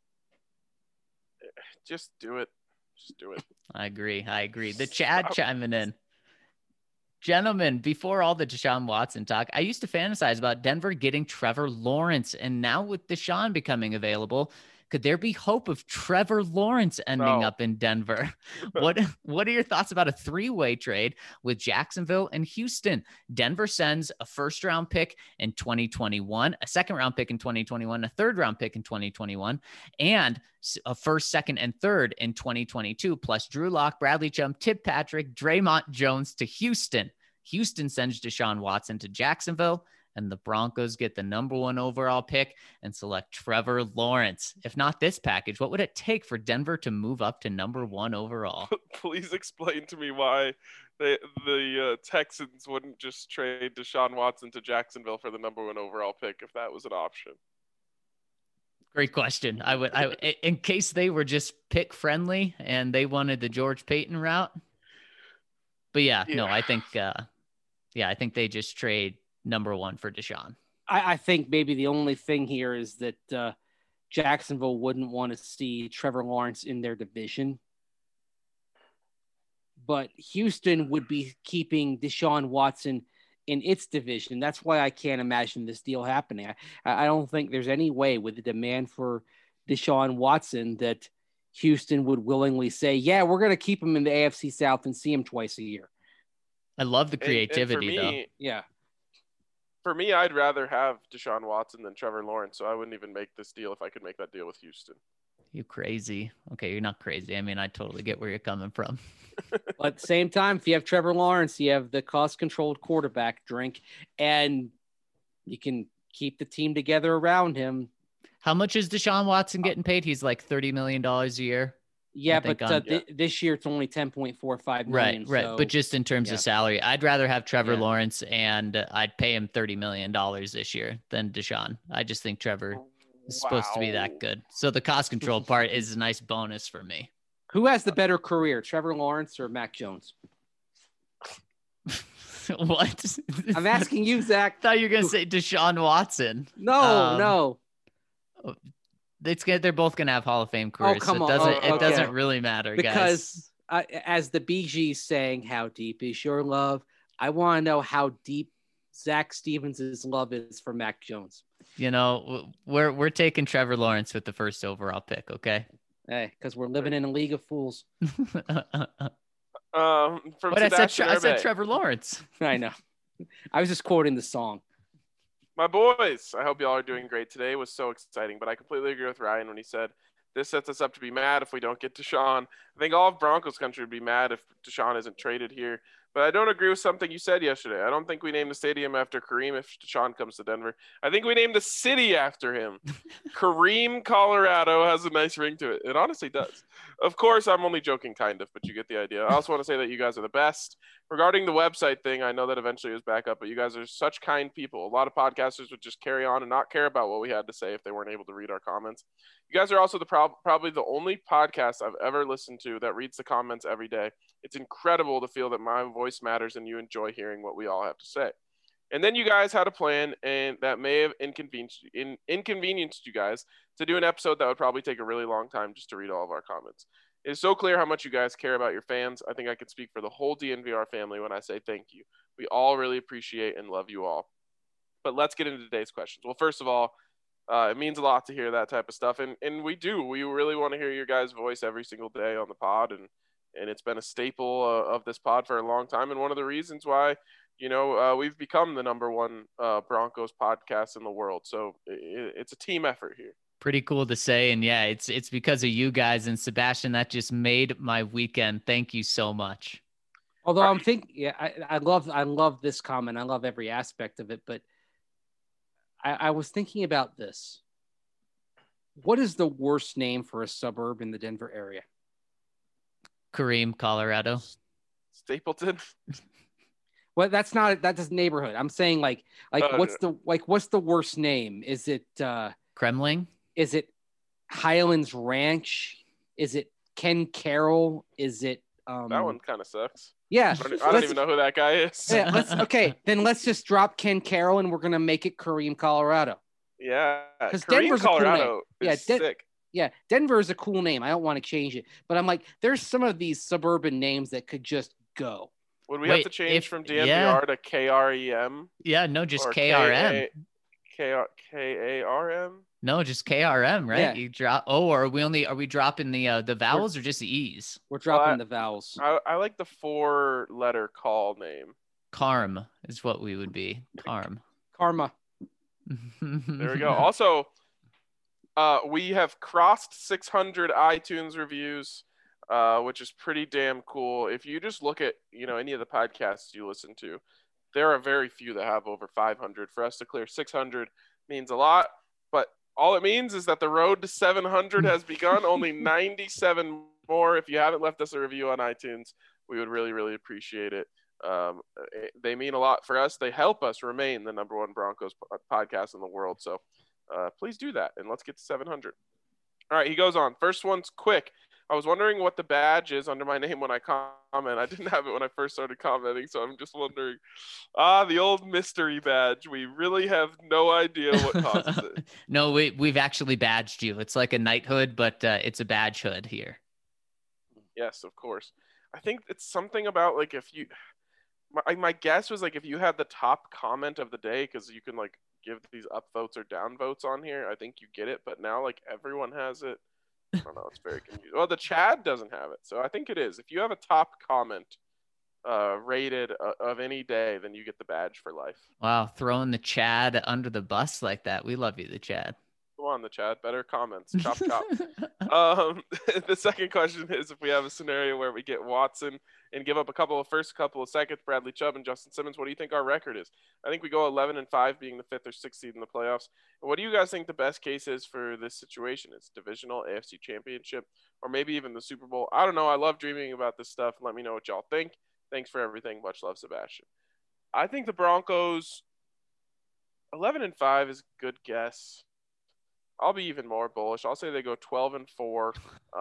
[SPEAKER 1] Just do it.
[SPEAKER 4] I agree. The Chad chiming in. Gentlemen, before all the Deshaun Watson talk, I used to fantasize about Denver getting Trevor Lawrence. And now with Deshaun becoming available, could there be hope of Trevor Lawrence ending up in Denver? What are your thoughts about a 3-way trade with Jacksonville and Houston? Denver sends a 1st-round pick in 2021, a 2nd-round pick in 2021, a 3rd-round pick in 2021, and a 1st, 2nd, and 3rd in 2022, plus Drew Lock, Bradley Chubb, Tim Patrick, Draymond Jones to Houston. Houston sends Deshaun Watson to Jacksonville, and the Broncos get the number 1 overall pick and select Trevor Lawrence. If not this package, what would it take for Denver to move up to number 1 overall?
[SPEAKER 1] Please explain to me why the Texans wouldn't just trade Deshaun Watson to Jacksonville for the number 1 overall pick if that was an option.
[SPEAKER 4] Great question. I would, in case they were just pick friendly and they wanted the George Payton route. But no, I think, I think they just trade number 1 for Deshaun.
[SPEAKER 3] I think maybe the only thing here is that Jacksonville wouldn't want to see Trevor Lawrence in their division. But Houston would be keeping Deshaun Watson in its division. That's why I can't imagine this deal happening. I don't think there's any way with the demand for Deshaun Watson that Houston would willingly say, yeah, we're going to keep him in the AFC South and see him twice a year.
[SPEAKER 4] I love the creativity,
[SPEAKER 1] and
[SPEAKER 4] though.
[SPEAKER 3] Yeah.
[SPEAKER 1] For me, I'd rather have Deshaun Watson than Trevor Lawrence, so I wouldn't even make this deal if I could make that deal with Houston.
[SPEAKER 4] You crazy. Okay, you're not crazy. I mean, I totally get where you're coming from.
[SPEAKER 3] But at the same time, if you have Trevor Lawrence, you have the cost-controlled quarterback drink, and you can keep the team together around him.
[SPEAKER 4] How much is Deshaun Watson getting paid? He's like $30 million a year.
[SPEAKER 3] Yeah, but this year it's only $10.45 million.
[SPEAKER 4] Right.
[SPEAKER 3] So,
[SPEAKER 4] but just in terms of salary, I'd rather have Trevor Lawrence, and I'd pay him $30 million this year than Deshaun. I just think Trevor is supposed to be that good. So the cost control part is a nice bonus for me.
[SPEAKER 3] Who has the better career, Trevor Lawrence or Mac Jones?
[SPEAKER 4] What?
[SPEAKER 3] I'm asking you, Zach.
[SPEAKER 4] I thought you were going to say Deshaun Watson.
[SPEAKER 3] No.
[SPEAKER 4] They're both going to have Hall of Fame careers.
[SPEAKER 3] Oh, come on.
[SPEAKER 4] It doesn't really matter,
[SPEAKER 3] because,
[SPEAKER 4] guys.
[SPEAKER 3] As the Bee Gees sang, how deep is your love? I want to know how deep Zach Stevens' love is for Mac Jones.
[SPEAKER 4] You know, we're taking Trevor Lawrence with the first overall pick, okay?
[SPEAKER 3] Hey, because we're living in a league of fools.
[SPEAKER 4] I said Trevor Lawrence.
[SPEAKER 3] I know. I was just quoting the song.
[SPEAKER 1] My boys, I hope y'all are doing great today. It was so exciting, but I completely agree with Ryan when he said this sets us up to be mad if we don't get Deshaun. I think all of Broncos country would be mad if Deshaun isn't traded here. But I don't agree with something you said yesterday. I don't think we name the stadium after Kareem if Deshaun comes to Denver. I think we name the city after him. Kareem, Colorado has a nice ring to it. It honestly does. Of course, I'm only joking, kind of, but you get the idea. I also want to say that you guys are the best. Regarding the website thing, I know that eventually it was back up, but you guys are such kind people. A lot of podcasters would just carry on and not care about what we had to say if they weren't able to read our comments. You guys are also probably the only podcast I've ever listened to that reads the comments every day. It's incredible to feel that my voice matters and you enjoy hearing what we all have to say. And then you guys had a plan, and that may have inconvenienced you guys to do an episode that would probably take a really long time just to read all of our comments. It is so clear how much you guys care about your fans. I think I could speak for the whole DNVR family when I say thank you. We all really appreciate and love you all. But let's get into today's questions. Well, first of all, it means a lot to hear that type of stuff. And we do. We really want to hear your guys' voice every single day on the pod. And it's been a staple of this pod for a long time. And one of the reasons why, we've become the number one Broncos podcast in the world. So it's a team effort here.
[SPEAKER 4] Pretty cool to say. And yeah, it's because of you guys and Sebastian that just made my weekend. Thank you so much.
[SPEAKER 3] Although I'm thinking, I love this comment. I love every aspect of it, but I was thinking about this. What is the worst name for a suburb in the Denver area?
[SPEAKER 4] Kareem, Colorado.
[SPEAKER 1] Stapleton.
[SPEAKER 3] Well, that's a neighborhood. I'm saying what's the worst name? Is it
[SPEAKER 4] Kremling?
[SPEAKER 3] Is it Highlands Ranch? Is it Ken Carroll? Is it
[SPEAKER 1] that one kind of sucks.
[SPEAKER 3] Yeah.
[SPEAKER 1] I don't even know who that guy is.
[SPEAKER 3] Yeah, then let's just drop Ken Carroll and we're gonna make it Kareem, Colorado.
[SPEAKER 1] Yeah.
[SPEAKER 3] Because Denver's
[SPEAKER 1] Colorado
[SPEAKER 3] a cool name.
[SPEAKER 1] Sick.
[SPEAKER 3] Yeah, Denver is a cool name. I don't want to change it. But I'm like, there's some of these suburban names that could just go.
[SPEAKER 1] Would we have to change from DNVR to KREM?
[SPEAKER 4] Yeah, no, just KRM.
[SPEAKER 1] KARM?
[SPEAKER 4] No, just KRM, right?
[SPEAKER 3] Yeah.
[SPEAKER 4] You drop. Oh, are we dropping the vowels or just the E's?
[SPEAKER 3] We're dropping the vowels.
[SPEAKER 1] I like the 4-letter call name.
[SPEAKER 4] Carm is what we would be.
[SPEAKER 3] Karma.
[SPEAKER 1] There we go. Also, we have crossed 600 iTunes reviews, which is pretty damn cool. If you just look at any of the podcasts you listen to, there are very few that have over 500. For us to clear 600 means a lot, but all it means is that the road to 700 has begun. Only 97 more. If you haven't left us a review on iTunes, we would really, really appreciate it. They mean a lot for us. They help us remain the number one Broncos podcast in the world. So please do that, and let's get to 700. All right, he goes on. First one's quick. I was wondering what the badge is under my name when I comment. I didn't have it when I first started commenting, so I'm just wondering. The old mystery badge. We really have no idea what causes it.
[SPEAKER 4] No, we've actually badged you. It's like a knighthood, but it's a badge hood here.
[SPEAKER 1] Yes, of course. I think it's something about like if you – my guess was like if you had the top comment of the day, because you can like give these up votes or down votes on here, I think you get it. But now like everyone has it. I don't know. It's very confusing. Well, the Chad doesn't have it. So I think it is. If you have a top comment rated of any day, then you get the badge for life.
[SPEAKER 4] Wow. Throwing the Chad under the bus like that. We love you, the Chad.
[SPEAKER 1] Go on, the Chad. Better comments. Chop, chop. The second question is if we have a scenario where we get Watson and give up a couple of seconds, Bradley Chubb and Justin Simmons, what do you think our record is? I think we go 11-5, being the 5th or 6th seed in the playoffs. And what do you guys think the best case is for this situation? It's divisional, AFC Championship, or maybe even the Super Bowl. I don't know. I love dreaming about this stuff. Let me know what y'all think. Thanks for everything. Much love, Sebastian. I think the Broncos 11-5 is a good guess. I'll be even more bullish. I'll say they go 12-4.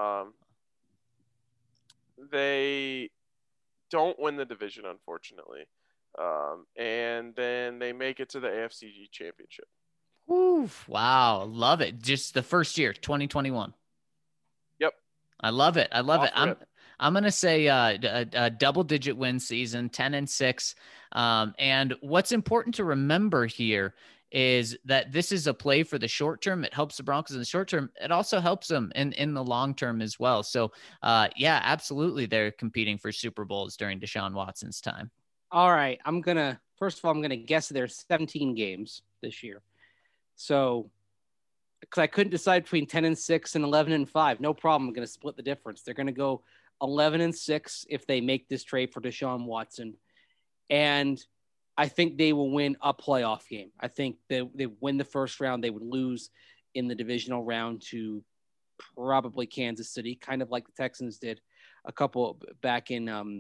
[SPEAKER 1] They don't win the division, unfortunately. And then they make it to the AFC Championship.
[SPEAKER 4] Oof, wow. Love it. Just the first year, 2021.
[SPEAKER 1] Yep.
[SPEAKER 4] I love it. I love it. I'm going to say a double-digit win season, 10-6. And what's important to remember here is that this is a play for the short term. It helps the Broncos in the short term. It also helps them in the long term as well. So, yeah, absolutely. They're competing for Super Bowls during Deshaun Watson's time.
[SPEAKER 3] All right. First of all, I'm going to guess there's 17 games this year. So, because I couldn't decide between 10-6 and 11-5, no problem. I'm going to split the difference. They're going to go 11-6 if they make this trade for Deshaun Watson. And I think they will win a playoff game. I think they win the first round. They would lose in the divisional round to probably Kansas City, kind of like the Texans did a couple back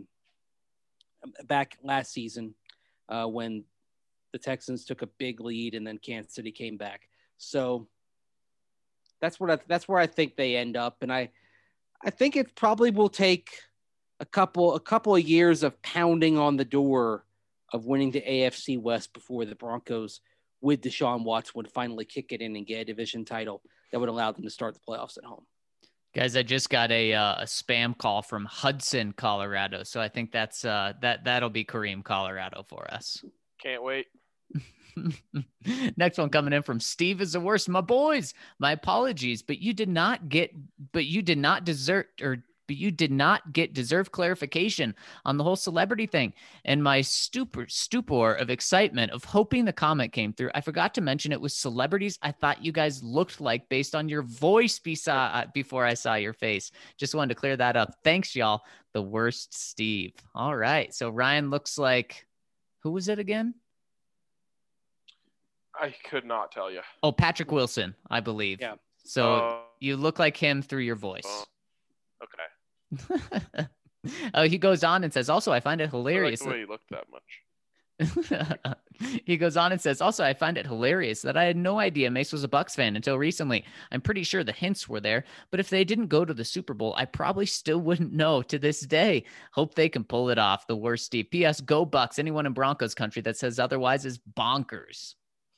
[SPEAKER 3] last season when the Texans took a big lead and then Kansas City came back. So that's where I think they end up. And I think it probably will take a couple of years of pounding on the door of winning the AFC West before the Broncos with Deshaun Watson would finally kick it in and get a division title that would allow them to start the playoffs at home.
[SPEAKER 4] Guys, I just got a spam call from Hudson, Colorado. So I think that'll be Kareem, Colorado for us.
[SPEAKER 1] Can't wait.
[SPEAKER 4] Next one coming in from Steve is the worst. My boys, my apologies, but you did not get deserved clarification on the whole celebrity thing. And my stupor of excitement of hoping the comment came through, I forgot to mention it was celebrities I thought you guys looked like based on your voice before I saw your face. Just wanted to clear that up. Thanks, y'all. The worst Steve. All right. So Ryan looks like, who was it again?
[SPEAKER 1] I could not tell you.
[SPEAKER 4] Oh, Patrick Wilson, I believe.
[SPEAKER 3] Yeah.
[SPEAKER 4] So you look like him through your voice.
[SPEAKER 1] Okay.
[SPEAKER 4] He goes on and says, also, I find it hilarious.
[SPEAKER 1] I like the way you look that much.
[SPEAKER 4] He goes on and says, also, I find it hilarious that I had no idea Mace was a Bucs fan until recently. I'm pretty sure the hints were there, but if they didn't go to the Super Bowl, I probably still wouldn't know to this day. Hope they can pull it off. The worst Steve. P.S. Go Bucs. Anyone in Broncos country that says otherwise is bonkers.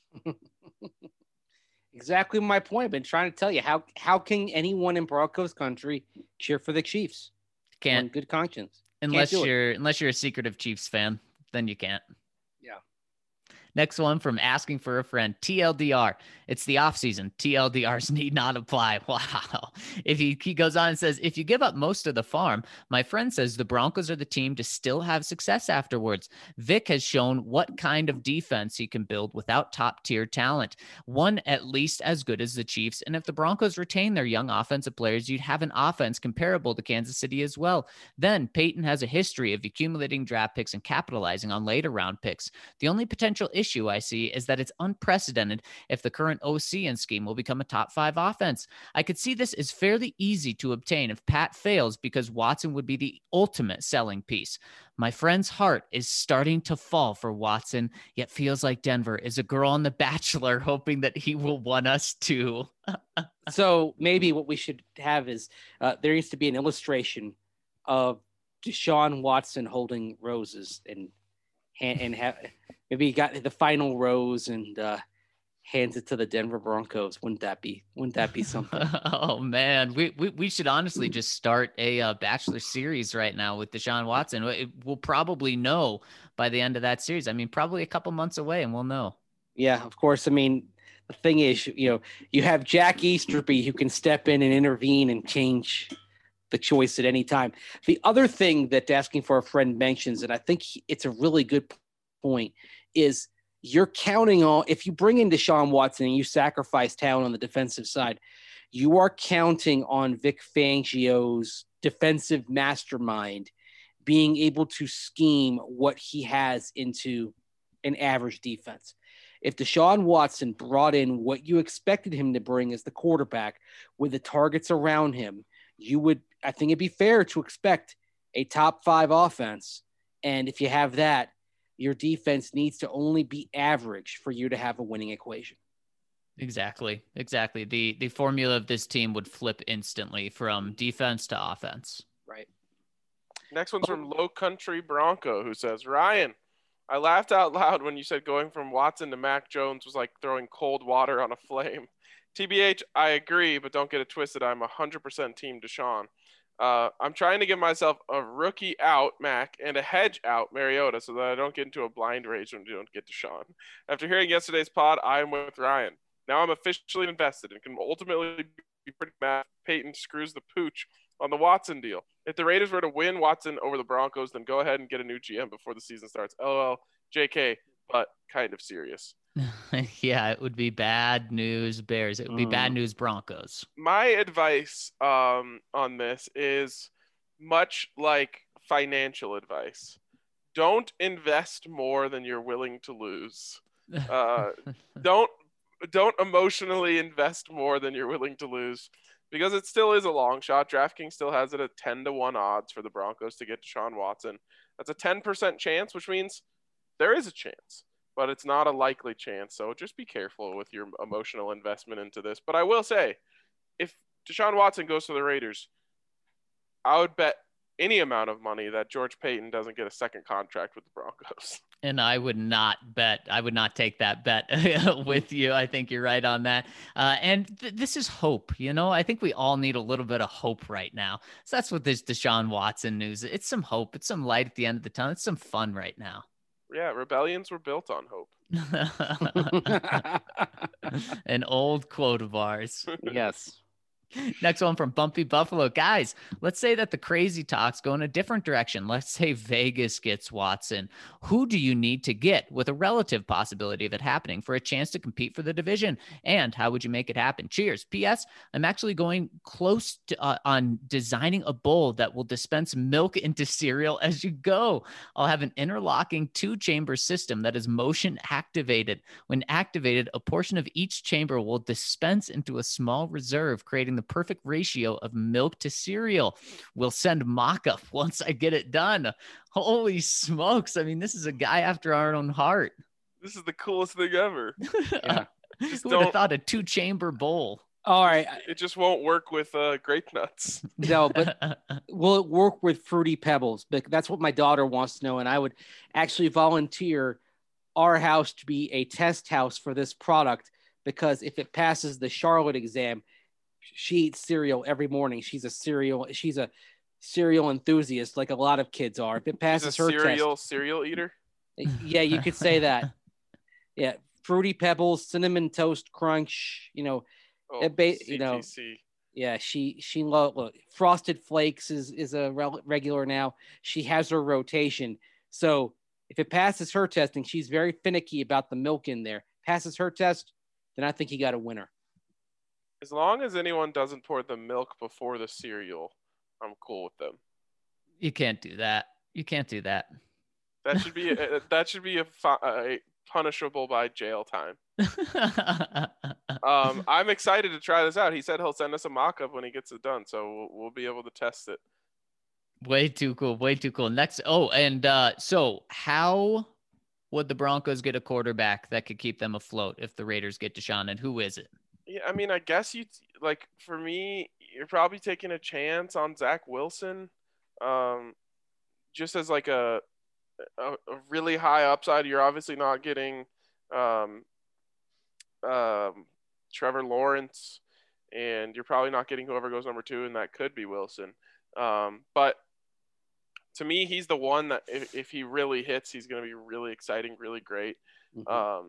[SPEAKER 3] Exactly my point. I've been trying to tell you how can anyone in Broncos country cheer for the Chiefs?
[SPEAKER 4] Can't.
[SPEAKER 3] On good conscience.
[SPEAKER 4] Unless you're a secretive Chiefs fan, then you can't.
[SPEAKER 3] Yeah.
[SPEAKER 4] Next one from asking for a friend, TLDR. It's the off season. TLDRs need not apply. Wow. If he goes on and says, if you give up most of the farm, my friend says the Broncos are the team to still have success afterwards. Vic has shown what kind of defense he can build without top tier talent, one at least as good as the Chiefs. And if the Broncos retain their young offensive players, you'd have an offense comparable to Kansas City as well. Then Peyton has a history of accumulating draft picks and capitalizing on later round picks. The only potential issue I see is that it's unprecedented if the current OC and scheme will become a top 5 offense. I could see this as fairly easy to obtain if Pat fails because Watson would be the ultimate selling piece. My friend's heart is starting to fall for Watson, yet feels like Denver is a girl on The Bachelor hoping that he will want us to.
[SPEAKER 3] So maybe what we should have is there needs to be an illustration of Deshaun Watson holding roses and have maybe he got the final rose and hands it to the Denver Broncos. Wouldn't that be something?
[SPEAKER 4] Oh man, we should honestly just start a Bachelor series right now with Deshaun Watson. We'll probably know by the end of that series. I mean, probably a couple months away, and we'll know.
[SPEAKER 3] Yeah, of course. I mean, the thing is, you have Jack Easterby who can step in and intervene and change the choice at any time. The other thing that asking for a friend mentions, and I think it's a really good point, is you're counting on, if you bring in Deshaun Watson and you sacrifice talent on the defensive side, you are counting on Vic Fangio's defensive mastermind being able to scheme what he has into an average defense. If Deshaun Watson brought in what you expected him to bring as the quarterback with the targets around him, I think it'd be fair to expect a top 5 offense. And if you have that, your defense needs to only be average for you to have a winning equation.
[SPEAKER 4] Exactly. The formula of this team would flip instantly from defense to offense.
[SPEAKER 3] Right.
[SPEAKER 1] Next one's from Low Country Bronco, who says, Ryan, I laughed out loud when you said going from Watson to Mac Jones was like throwing cold water on a flame. TBH, I agree, but don't get it twisted. I'm 100% team Deshaun. I'm trying to give myself a rookie out, Mac, and a hedge out, Mariota, so that I don't get into a blind rage when we don't get Deshaun. After hearing yesterday's pod, I am with Ryan. Now I'm officially invested and can ultimately be pretty mad if Peyton screws the pooch on the Watson deal. If the Raiders were to win Watson over the Broncos, then go ahead and get a new GM before the season starts. LOL, JK, but kind of serious.
[SPEAKER 4] Yeah, it would be bad news Bears. It would be bad news Broncos.
[SPEAKER 1] My advice on this is much like financial advice. Don't invest more than you're willing to lose. Don't emotionally invest more than you're willing to lose, because it still is a long shot. DraftKings still has it at 10-1 odds for the Broncos to get Deshaun Watson. That's a 10% chance, which means there is a chance, but it's not a likely chance. So just be careful with your emotional investment into this. But I will say, if Deshaun Watson goes to the Raiders, I would bet any amount of money that George Payton doesn't get a second contract with the Broncos.
[SPEAKER 4] And I would not take that bet with you. I think you're right on that. And this is hope. I think we all need a little bit of hope right now. So that's what this Deshaun Watson news. It's some hope. It's some light at the end of the tunnel. It's some fun right now.
[SPEAKER 1] Yeah, rebellions were built on hope.
[SPEAKER 4] An old quote of ours.
[SPEAKER 3] Yes.
[SPEAKER 4] Next one from Bumpy Buffalo. Guys, let's say that the crazy talks go in a different direction. Let's say Vegas gets Watson. Who do you need to get with a relative possibility of it happening for a chance to compete for the division? And how would you make it happen? Cheers. P.S. I'm actually going close to, on designing a bowl that will dispense milk into cereal as you go. I'll have an interlocking 2-chamber system that is motion activated. When activated, a portion of each chamber will dispense into a small reserve, creating the perfect ratio of milk to cereal. We'll send mock-up once I get it done. Holy smokes. I mean, this is a guy after our own heart.
[SPEAKER 1] This is the coolest thing ever.
[SPEAKER 3] Yeah.
[SPEAKER 4] Who would have thought a 2-chamber bowl?
[SPEAKER 3] All right.
[SPEAKER 1] It just won't work with grape nuts.
[SPEAKER 3] No, but will it work with Fruity Pebbles? That's what my daughter wants to know. And I would actually volunteer our house to be a test house for this product, because if it passes the Charlotte exam, she eats cereal every morning. She's a cereal enthusiast, like a lot of kids are. If it passes her test,
[SPEAKER 1] cereal eater.
[SPEAKER 3] Yeah, you could say that. Yeah, Fruity Pebbles, Cinnamon Toast Crunch.
[SPEAKER 1] CTC.
[SPEAKER 3] Yeah, she look, Frosted Flakes is a regular now. She has her rotation. So if it passes her testing, she's very finicky about the milk in there. Passes her test, then I think you got a winner.
[SPEAKER 1] As long as anyone doesn't pour the milk before the cereal, I'm cool with them.
[SPEAKER 4] You can't do that. You can't do that.
[SPEAKER 1] That should be a punishable by jail time. I'm excited to try this out. He said he'll send us a mock-up when he gets it done, so we'll be able to test it.
[SPEAKER 4] Way too cool. Way too cool. Next. Oh, and so how would the Broncos get a quarterback that could keep them afloat if the Raiders get Deshaun, and who is it?
[SPEAKER 1] Yeah, I mean, I guess for me, you're probably taking a chance on Zach Wilson, just as like a really high upside. You're obviously not getting Trevor Lawrence, and you're probably not getting whoever goes number 2, and that could be Wilson. But to me, he's the one that if he really hits, he's going to be really exciting, really great. Mm-hmm.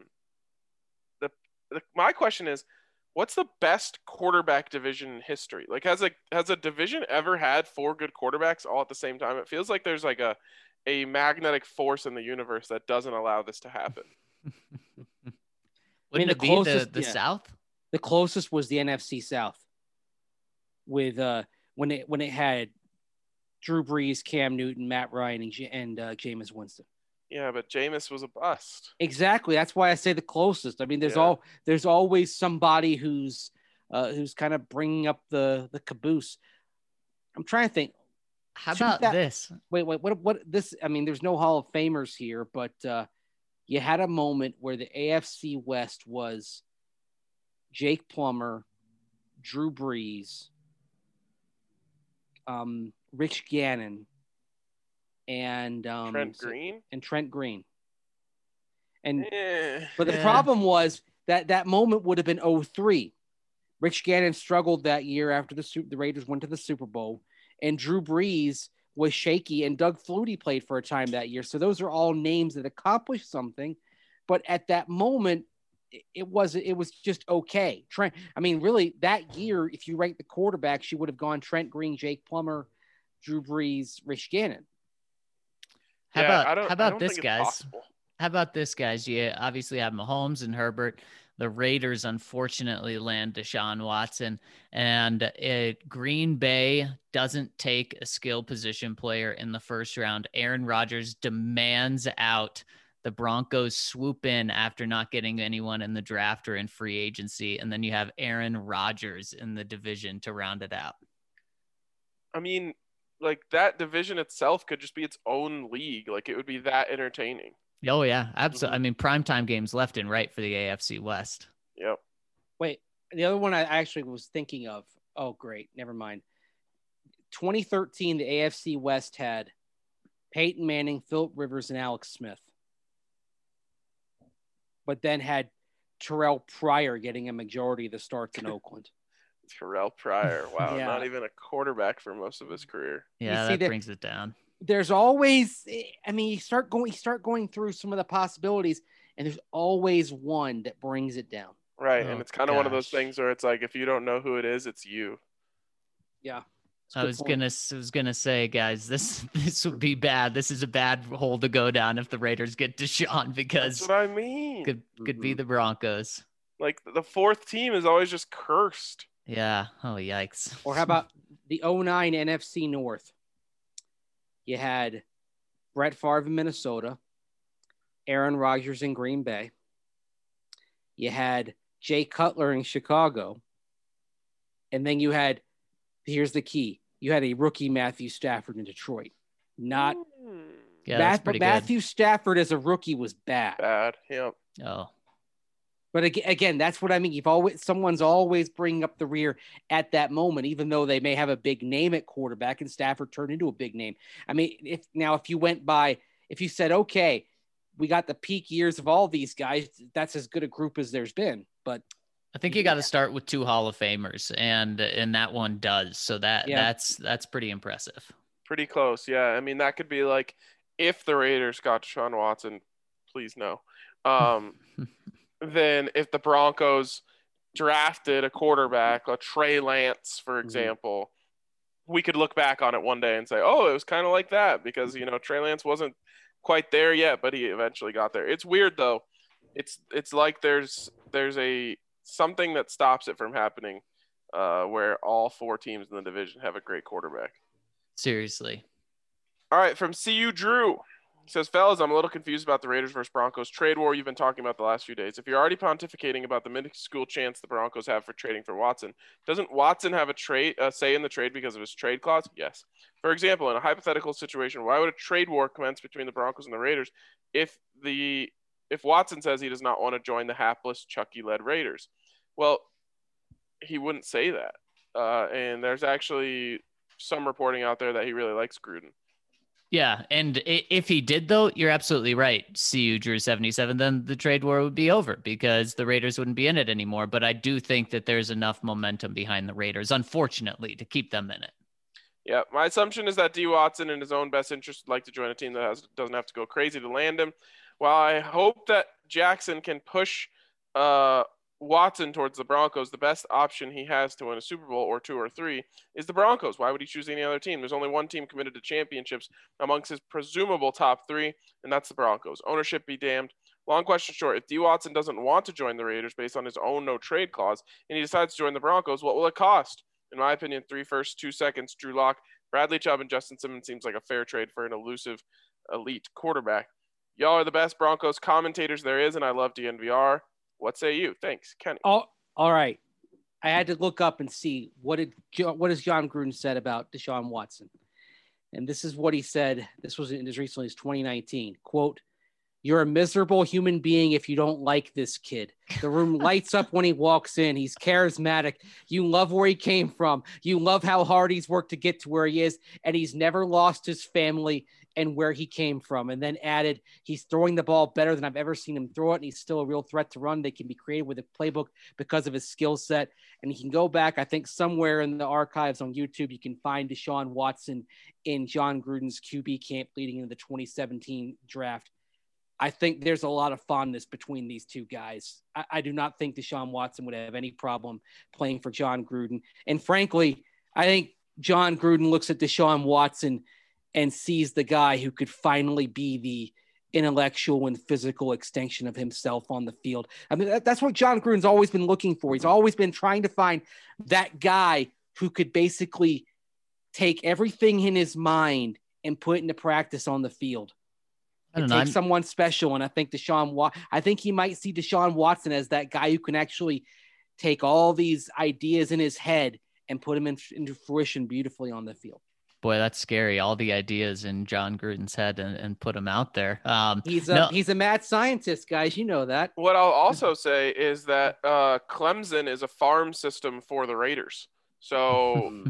[SPEAKER 1] My question is, what's the best quarterback division in history? Like, has a division ever had 4 good quarterbacks all at the same time? It feels like there's like a magnetic force in the universe that doesn't allow this to happen.
[SPEAKER 4] Wouldn't it be the South?
[SPEAKER 3] The closest was the NFC South with when it had Drew Brees, Cam Newton, Matt Ryan, and Jameis Winston.
[SPEAKER 1] Yeah, but Jameis was a bust.
[SPEAKER 3] Exactly. That's why I say the closest. I mean, there's always somebody who's kind of bringing up the caboose. I'm trying to think.
[SPEAKER 4] How about this?
[SPEAKER 3] Wait, what this? I mean, there's no Hall of Famers here, but you had a moment where the AFC West was Jake Plummer, Drew Brees, Rich Gannon, and Trent Green. But the problem was that moment would have been 2003. Rich Gannon struggled that year after the Raiders went to the Super Bowl, and Drew Brees was shaky, and Doug Flutie played for a time that year. So those are all names that accomplished something, but at that moment, it was just okay. Trent, I mean, really, that year, if you rank the quarterbacks, you would have gone Trent Green, Jake Plummer, Drew Brees, Rich Gannon.
[SPEAKER 4] How about this, guys? How about this, guys? You obviously have Mahomes and Herbert. The Raiders, unfortunately, land Deshaun Watson, and Green Bay doesn't take a skill position player in the first round. Aaron Rodgers demands out. The Broncos swoop in after not getting anyone in the draft or in free agency, and then you have Aaron Rodgers in the division to round it out.
[SPEAKER 1] I mean, like, that division itself could just be its own league. Like, it would be that entertaining.
[SPEAKER 4] Oh, yeah, absolutely. Mm-hmm. I mean, primetime games left and right for the AFC West.
[SPEAKER 1] Yep.
[SPEAKER 3] Wait, the other one I actually was thinking of. Oh, great. Never mind. 2013, the AFC West had Peyton Manning, Philip Rivers, and Alex Smith. But then had Terrell Pryor getting a majority of the starts in Oakland.
[SPEAKER 1] Terrell Pryor. Wow. Yeah. Not even a quarterback for most of his career.
[SPEAKER 4] Yeah, that brings it down.
[SPEAKER 3] There's always, I mean, you start going through some of the possibilities, and there's always one that brings it down.
[SPEAKER 1] Right. And it's kind of one of those things where it's like, if you don't know who it is, it's you.
[SPEAKER 3] Yeah.
[SPEAKER 4] I was gonna say, guys, this would be bad. This is a bad hole to go down if the Raiders get Deshaun, because
[SPEAKER 1] that's what I mean.
[SPEAKER 4] Could be the Broncos.
[SPEAKER 1] Like, the fourth team is always just cursed.
[SPEAKER 4] Yeah. Oh, yikes.
[SPEAKER 3] Or how about the 2009 NFC North? You had Brett Favre in Minnesota, Aaron Rodgers in Green Bay. You had Jay Cutler in Chicago. And then you had, here's the key, you had a rookie Matthew Stafford in Detroit. Not but Matthew Stafford as a rookie was bad.
[SPEAKER 1] Bad, yep.
[SPEAKER 4] Oh.
[SPEAKER 3] But again, that's what I mean. Someone's always bringing up the rear at that moment, even though they may have a big name at quarterback, and Stafford turned into a big name. I mean, if you said, okay, we got the peak years of all these guys, that's as good a group as there's been. But
[SPEAKER 4] I think you got to start with 2 Hall of Famers, and that one does. So that's pretty impressive.
[SPEAKER 1] Pretty close, yeah. I mean, that could be like, if the Raiders got Deshaun Watson, please no. Then if the Broncos drafted a quarterback, a Trey Lance, for example, we could look back on it one day and say, oh, it was kind of like that because, Trey Lance wasn't quite there yet, but he eventually got there. It's weird though. It's like there's a something that stops it from happening where all 4 teams in the division have a great quarterback.
[SPEAKER 4] Seriously.
[SPEAKER 1] All right, from CU Drew. He says, fellas, I'm a little confused about the Raiders versus Broncos trade war you've been talking about the last few days. If you're already pontificating about the minuscule chance the Broncos have for trading for Watson, doesn't Watson have a trade say in the trade because of his trade clause? Yes. For example, in a hypothetical situation, why would a trade war commence between the Broncos and the Raiders if Watson says he does not want to join the hapless Chucky-led Raiders? Well, he wouldn't say that. And there's actually some reporting out there that he really likes Gruden.
[SPEAKER 4] Yeah, and if he did, though, you're absolutely right. CU Drew 77, then the trade war would be over because the Raiders wouldn't be in it anymore. But I do think that there's enough momentum behind the Raiders, unfortunately, to keep them in it.
[SPEAKER 1] Yeah, my assumption is that D. Watson, in his own best interest, would like to join a team that doesn't have to go crazy to land him. While I hope that Jackson can push Watson towards the Broncos, the best option he has to win a Super Bowl or 2 or 3 is the Broncos. Why would he choose any other team? There's only one team committed to championships amongst his presumable top 3, and that's the Broncos. Ownership be damned. Long question short, if D. Watson doesn't want to join the Raiders based on his own no-trade clause, and he decides to join the Broncos, what will it cost? In my opinion, 3 firsts, 2 seconds, Drew Lock, Bradley Chubb, and Justin Simmons seems like a fair trade for an elusive elite quarterback. Y'all are the best Broncos commentators there is, and I love DNVR. What say you? Thanks, Kenny.
[SPEAKER 3] Oh, all right. I had to look up and see what has John Gruden said about Deshaun Watson. And this is what he said. This was as recently as 2019. Quote, "You're a miserable human being if you don't like this kid. The room lights up when he walks in. He's charismatic. You love where he came from. You love how hard he's worked to get to where he is. And he's never lost his family and where he came from." And then added, "He's throwing the ball better than I've ever seen him throw it. And he's still a real threat to run. They can be creative with a playbook because of his skill set." And he can go back, I think somewhere in the archives on YouTube, you can find Deshaun Watson in John Gruden's QB camp leading into the 2017 draft. I think there's a lot of fondness between these two guys. I do not think Deshaun Watson would have any problem playing for John Gruden. And frankly, I think John Gruden looks at Deshaun Watson and sees the guy who could finally be the intellectual and physical extension of himself on the field. I mean, that's what John Gruden's always been looking for. He's always been trying to find that guy who could basically take everything in his mind and put it into practice on the field. It takes someone special, and I think I think he might see Deshaun Watson as that guy who can actually take all these ideas in his head and put them into fruition beautifully on the field.
[SPEAKER 4] Boy, that's scary. All the ideas in John Gruden's head and put them out there.
[SPEAKER 3] He's a mad scientist, guys. You know that.
[SPEAKER 1] What I'll also say is that Clemson is a farm system for the Raiders. So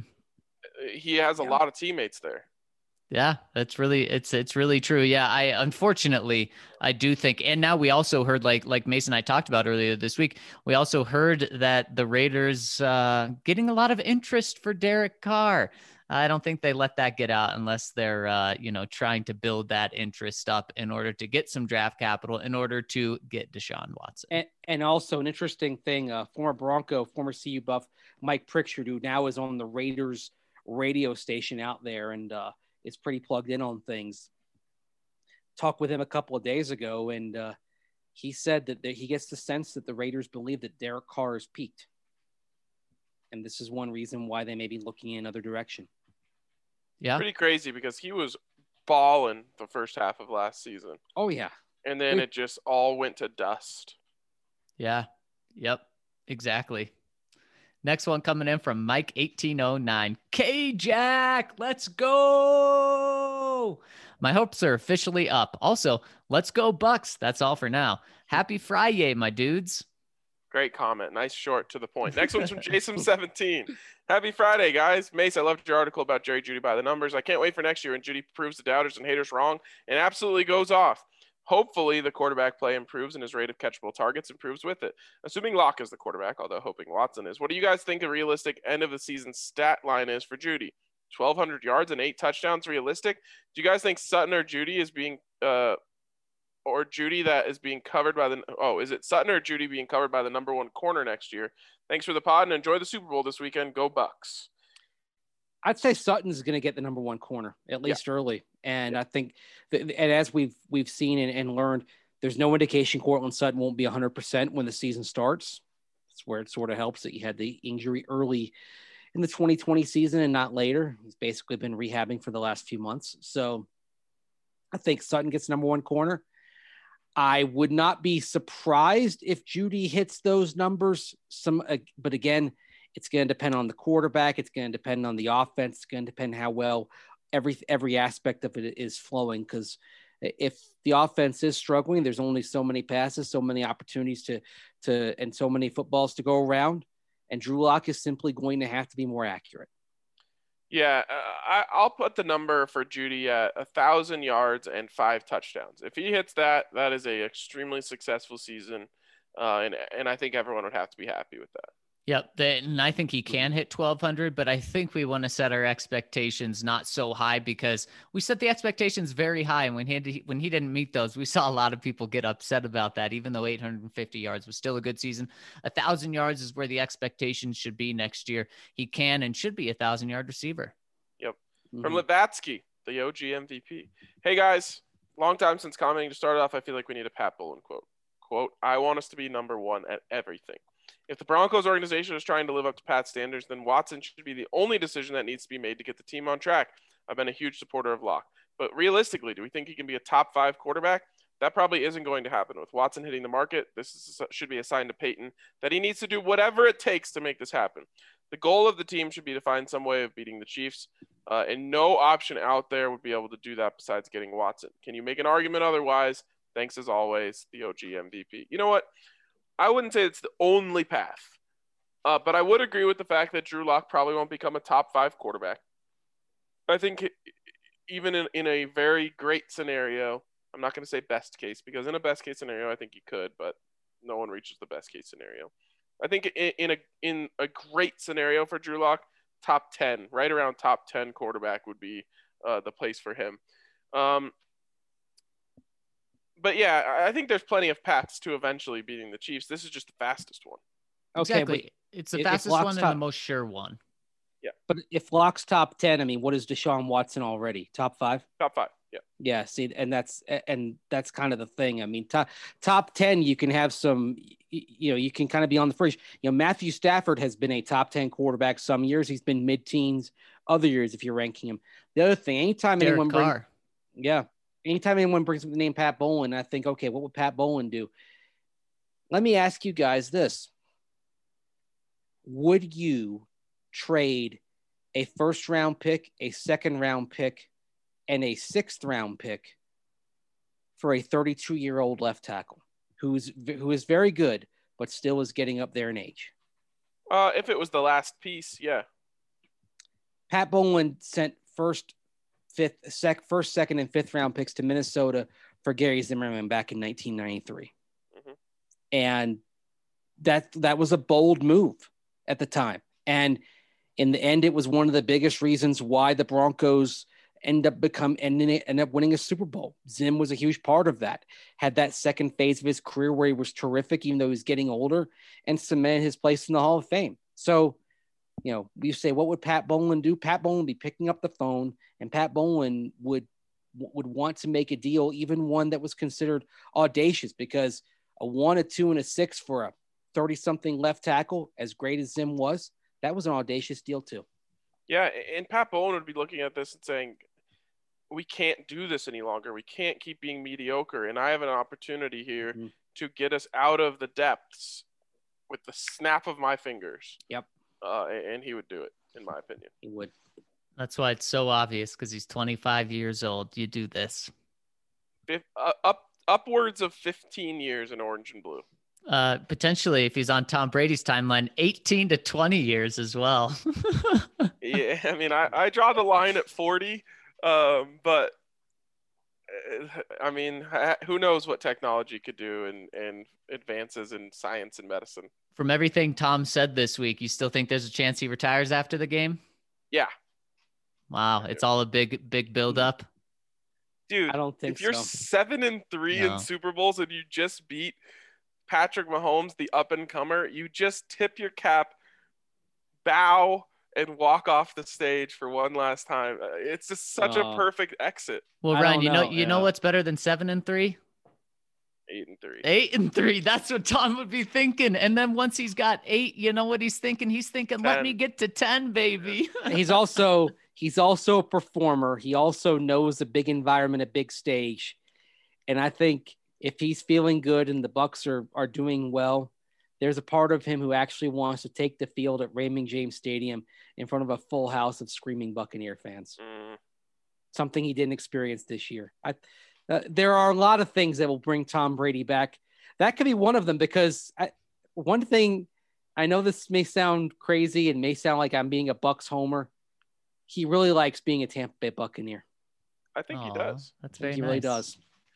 [SPEAKER 1] he has a lot of teammates there.
[SPEAKER 4] Yeah, that's really, it's really true. Yeah. Unfortunately, I do think, and now we also heard like Mason and I talked about earlier this week, we also heard that the Raiders getting a lot of interest for Derek Carr. I don't think they let that get out unless they're, trying to build that interest up in order to get some draft capital in order to get Deshaun Watson.
[SPEAKER 3] And also an interesting thing, former Bronco, former CU Buff, Mike Pritchard, who now is on the Raiders radio station out there and is pretty plugged in on things. Talked with him a couple of days ago, and he said that he gets the sense that the Raiders believe that Derek Carr has peaked. And this is one reason why they may be looking in another direction.
[SPEAKER 4] Yeah.
[SPEAKER 1] Pretty crazy because he was balling the first half of last season.
[SPEAKER 3] Oh, yeah.
[SPEAKER 1] And then it just all went to dust.
[SPEAKER 4] Yeah. Yep. Exactly. Next one coming in from Mike 1809. K-Jack, let's go. My hopes are officially up. Also, let's go Bucks. That's all for now. Happy Friday, my dudes.
[SPEAKER 1] Great comment. Nice, short, to the point. Next one's from Jason17. Happy Friday, guys. Mace, I loved your article about Jerry Jeudy by the numbers. I can't wait for next year when Jeudy proves the doubters and haters wrong and absolutely goes off. Hopefully, the quarterback play improves and his rate of catchable targets improves with it. Assuming Locke is the quarterback, although hoping Watson is. What do you guys think a realistic end-of-the-season stat line is for Jeudy? 1,200 yards and 8 touchdowns realistic? Do you guys think Sutton or Jeudy is being or Jeudy that is being covered by is it Sutton or Jeudy being covered by the number 1 corner next year? Thanks for the pod and enjoy the Super Bowl this weekend. Go Bucks.
[SPEAKER 3] I'd say Sutton's going to get the number 1 corner, at least early. And I think and as we've seen and learned, there's no indication Courtland Sutton won't be 100% when the season starts. That's where it sort of helps that you had the injury early in the 2020 season and not later. He's basically been rehabbing for the last few months. So I think Sutton gets number 1 corner. I would not be surprised if Jeudy hits those numbers. But again, it's going to depend on the quarterback. It's going to depend on the offense. It's going to depend how well every aspect of it is flowing. Because if the offense is struggling, there's only so many passes, so many opportunities and so many footballs to go around. And Drew Lock is simply going to have to be more accurate.
[SPEAKER 1] Yeah, I'll put the number for Jeudy at 1,000 yards and 5 touchdowns. If he hits that, that is a extremely successful season, and I think everyone would have to be happy with that.
[SPEAKER 4] Yep, and I think he can hit 1,200, but I think we want to set our expectations not so high because we set the expectations very high, and when he didn't meet those, we saw a lot of people get upset about that. Even though 850 yards was still a good season, 1,000 yards is where the expectations should be next year. He can and should be a 1,000-yard receiver.
[SPEAKER 1] Yep, from Lavatsky, the OG MVP. Hey guys, long time since commenting. To start off, I feel like we need a Pat Bowlen quote. Quote: "I want us to be number 1 at everything." If the Broncos organization is trying to live up to Pat's standards, then Watson should be the only decision that needs to be made to get the team on track. I've been a huge supporter of Locke. But realistically, do we think he can be a top 5 quarterback? That probably isn't going to happen. With Watson hitting the market, should be a sign to Peyton that he needs to do whatever it takes to make this happen. The goal of the team should be to find some way of beating the Chiefs, and no option out there would be able to do that besides getting Watson. Can you make an argument otherwise? Thanks as always, the OG MVP. You know what? I wouldn't say it's the only path, but I would agree with the fact that Drew Lock probably won't become a top 5 quarterback. I think even in a very great scenario, I'm not going to say best case, because in a best case scenario, I think he could, but no one reaches the best case scenario. I think in a great scenario for Drew Lock, top 10, right around top 10 quarterback would be the place for him. But yeah, I think there's plenty of paths to eventually beating the Chiefs. This is just the fastest one.
[SPEAKER 3] Okay,
[SPEAKER 4] exactly. It's the fastest one and the most sure one.
[SPEAKER 1] Yeah.
[SPEAKER 3] But if Lock's top 10, I mean, what is Deshaun Watson already? Top 5?
[SPEAKER 1] Top 5, yeah.
[SPEAKER 3] Yeah, see, and that's kind of the thing. I mean, top 10, you can have some, you can kind of be on the fringe. Matthew Stafford has been a top 10 quarterback some years. He's been mid-teens other years if you're ranking him. The other thing, anytime anyone brings up the name Pat Bowlen, I think, okay, what would Pat Bowlen do? Let me ask you guys this. Would you trade a first-round pick, a second-round pick, and a sixth-round pick for a 32-year-old left tackle who is very good, but still is getting up there in age?
[SPEAKER 1] If it was the last piece, yeah.
[SPEAKER 3] Pat Bowlen sent first, second, and fifth round picks to Minnesota for Gary Zimmerman back in 1993. Mm-hmm. And that was a bold move at the time. And in the end, it was one of the biggest reasons why the Broncos end up winning a Super Bowl. Zim was a huge part of that. Had that second phase of his career where he was terrific, even though he was getting older, and cemented his place in the Hall of Fame. So, we say, what would Pat Bowlen do? Pat Bowlen would be picking up the phone, and Pat Bowlen would want to make a deal, even one that was considered audacious, because a 1, a 2, and a 6 for a 30-something left tackle, as great as Zim was, that was an audacious deal too. Yeah,
[SPEAKER 1] and Pat Bowlen would be looking at this and saying, we can't do this any longer. We can't keep being mediocre, and I have an opportunity here to get us out of the depths with the snap of my fingers.
[SPEAKER 3] Yep.
[SPEAKER 1] And he would do it, in my opinion.
[SPEAKER 3] He would.
[SPEAKER 4] That's why it's so obvious, because he's 25 years old. You do this.
[SPEAKER 1] Upwards of 15 years in orange and blue.
[SPEAKER 4] Potentially, if he's on Tom Brady's timeline, 18 to 20 years as well.
[SPEAKER 1] Yeah, I mean, I draw the line at 40, but I mean, who knows what technology could do and advances in science and medicine.
[SPEAKER 4] From everything Tom said this week, you still think there's a chance he retires after the game?
[SPEAKER 1] Yeah.
[SPEAKER 4] Wow, it's all a big build up.
[SPEAKER 1] Dude,
[SPEAKER 3] I don't think
[SPEAKER 1] if you're
[SPEAKER 3] so.
[SPEAKER 1] 7-3 in
[SPEAKER 4] No.
[SPEAKER 1] Super Bowls and you just beat Patrick Mahomes, the up-and-comer, you just tip your cap, bow, and walk off the stage for one last time. It's just such a perfect exit.
[SPEAKER 4] Well,
[SPEAKER 3] I
[SPEAKER 4] Ryan,
[SPEAKER 3] don't
[SPEAKER 4] you know,
[SPEAKER 3] know,
[SPEAKER 4] you know
[SPEAKER 3] yeah.
[SPEAKER 4] what's better than 7-3?
[SPEAKER 1] 8-3.
[SPEAKER 4] 8-3. That's what Tom would be thinking. And then once he's got 8, you know what he's thinking? He's thinking, let
[SPEAKER 1] 10.
[SPEAKER 4] me get to 10, baby.
[SPEAKER 3] He's also a performer. He also knows a big environment, a big stage. And I think if he's feeling good and the Bucks are doing well, there's a part of him who actually wants to take the field at Raymond James Stadium in front of a full house of screaming Buccaneer fans. Something he didn't experience this year. There are a lot of things that will bring Tom Brady back. That could be one of them, because one thing, I know this may sound crazy and may sound like I'm being a Bucks homer. He really likes being a Tampa Bay Buccaneer.
[SPEAKER 1] I think he does.
[SPEAKER 4] That's very
[SPEAKER 3] He
[SPEAKER 4] nice.
[SPEAKER 3] really does.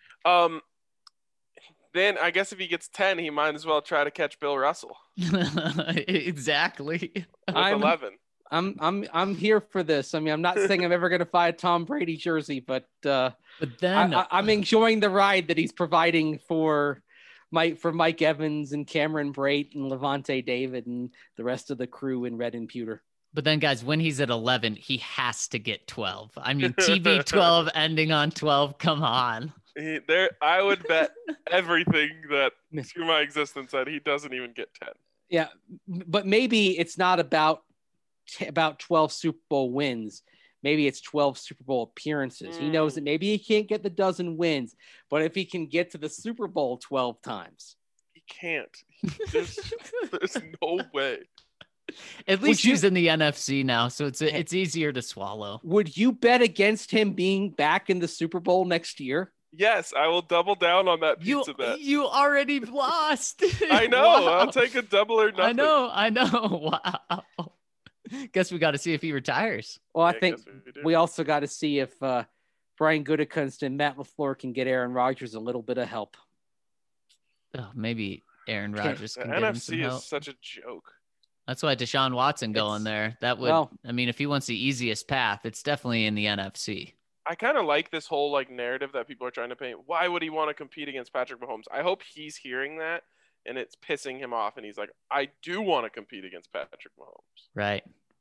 [SPEAKER 1] Then I guess if he gets 10, he might as well try to catch Bill Russell
[SPEAKER 4] Exactly.
[SPEAKER 1] with 11.
[SPEAKER 3] I'm here for this. I mean, I'm not saying I'm ever going to buy a Tom Brady jersey, but
[SPEAKER 4] then
[SPEAKER 3] I'm enjoying the ride that he's providing for Mike Evans and Cameron Brate and Levante David and the rest of the crew in red and pewter.
[SPEAKER 4] But then, guys, when he's at 11, he has to get 12. I mean, TB12 ending on 12. Come on.
[SPEAKER 1] I would bet everything that through my existence that he doesn't even get 10.
[SPEAKER 3] Yeah, but maybe it's not about 12 Super Bowl wins. Maybe it's 12 Super Bowl appearances. He knows that maybe he can't get the dozen wins, but if he can get to the Super Bowl 12 times.
[SPEAKER 1] He can't. There's no way.
[SPEAKER 4] At least he's in the NFC now, so it's easier to swallow.
[SPEAKER 3] Would you bet against him being back in the Super Bowl next year?
[SPEAKER 1] Yes, I will double down on that pizza bet.
[SPEAKER 4] You already lost.
[SPEAKER 1] I know.
[SPEAKER 4] Wow.
[SPEAKER 1] I'll take a double or nothing.
[SPEAKER 4] I know. Wow. Guess we got to see if he retires.
[SPEAKER 3] Well, I think we also got to see if Brian Gutekunst and Matt LaFleur can get Aaron Rodgers a little bit of help.
[SPEAKER 4] Oh, maybe Aaron Rodgers can
[SPEAKER 1] the
[SPEAKER 4] get him some
[SPEAKER 1] NFC
[SPEAKER 4] help.
[SPEAKER 1] is such a joke.
[SPEAKER 4] That's why Deshaun Watson going there. That would, I mean, if he wants the easiest path, it's definitely in the NFC.
[SPEAKER 1] I kind of like this whole narrative that people are trying to paint. Why would he want to compete against Patrick Mahomes? I hope he's hearing that and it's pissing him off. And he's like, I do want to compete against Patrick Mahomes.
[SPEAKER 4] Right.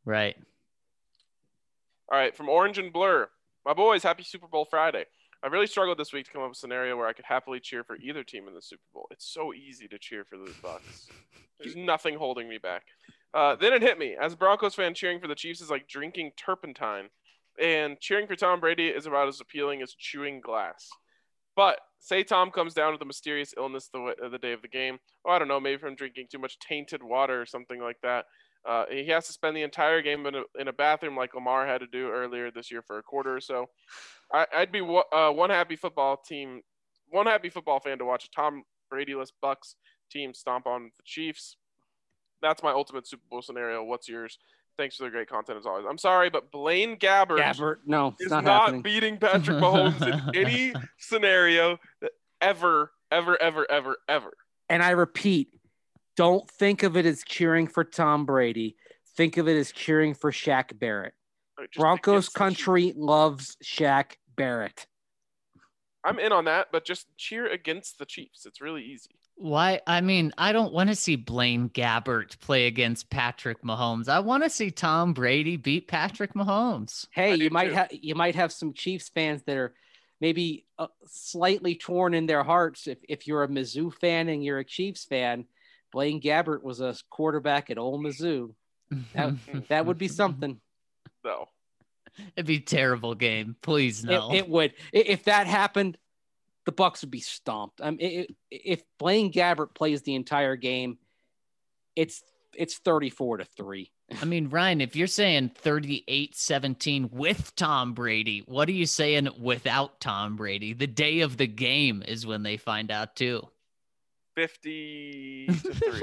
[SPEAKER 1] All right. From Orange and Blur, my boys, happy Super Bowl Friday. I've really struggled this week to come up with a scenario where I could happily cheer for either team in the Super Bowl. It's so easy to cheer for the Bucs. There's nothing holding me back. Then it hit me. As a Broncos fan, cheering for the Chiefs is like drinking turpentine. And cheering for Tom Brady is about as appealing as chewing glass. But say Tom comes down with a mysterious illness the day of the game. Oh, I don't know, maybe from drinking too much tainted water or something like that. He has to spend the entire game in a bathroom like Lamar had to do earlier this year for a quarter or so. I'd be one happy football fan to watch a Tom Brady-less Bucs team stomp on the Chiefs. That's my ultimate Super Bowl scenario. What's yours? Thanks for the great content as always. I'm sorry, but Blaine Gabbert
[SPEAKER 3] is
[SPEAKER 1] not beating Patrick Mahomes in any scenario that ever.
[SPEAKER 3] And I repeat, don't think of it as cheering for Tom Brady. Think of it as cheering for Shaq Barrett. Broncos country loves Shaq Barrett.
[SPEAKER 1] I'm in on that, but just cheer against the Chiefs. It's really easy.
[SPEAKER 4] Why? I mean, I don't want to see Blaine Gabbert play against Patrick Mahomes. I want to see Tom Brady beat Patrick Mahomes.
[SPEAKER 3] Hey, you might have some Chiefs fans that are maybe slightly torn in their hearts. If you're a Mizzou fan and you're a Chiefs fan, Blaine Gabbert was a quarterback at Ole Mizzou. That would be something.
[SPEAKER 1] No.
[SPEAKER 4] It'd be a terrible game. Please no.
[SPEAKER 3] It would. If that happened, the Bucs would be stomped. If Blaine Gabbert plays the entire game, it's 34-3.
[SPEAKER 4] I mean, Ryan, if you're saying 38-17 with Tom Brady, what are you saying without Tom Brady? The day of the game is when they find out too.
[SPEAKER 1] 50-3.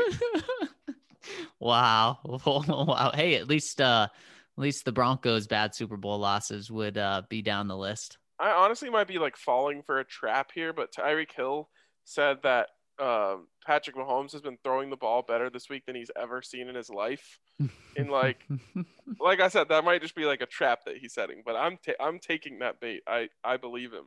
[SPEAKER 4] Wow. Wow. Hey, at least the Broncos' bad Super Bowl losses would be down the list.
[SPEAKER 1] I honestly might be falling for a trap here, but Tyreek Hill said that Patrick Mahomes has been throwing the ball better this week than he's ever seen in his life. And like I said, that might just be a trap that he's setting, but I'm taking that bait. I believe him.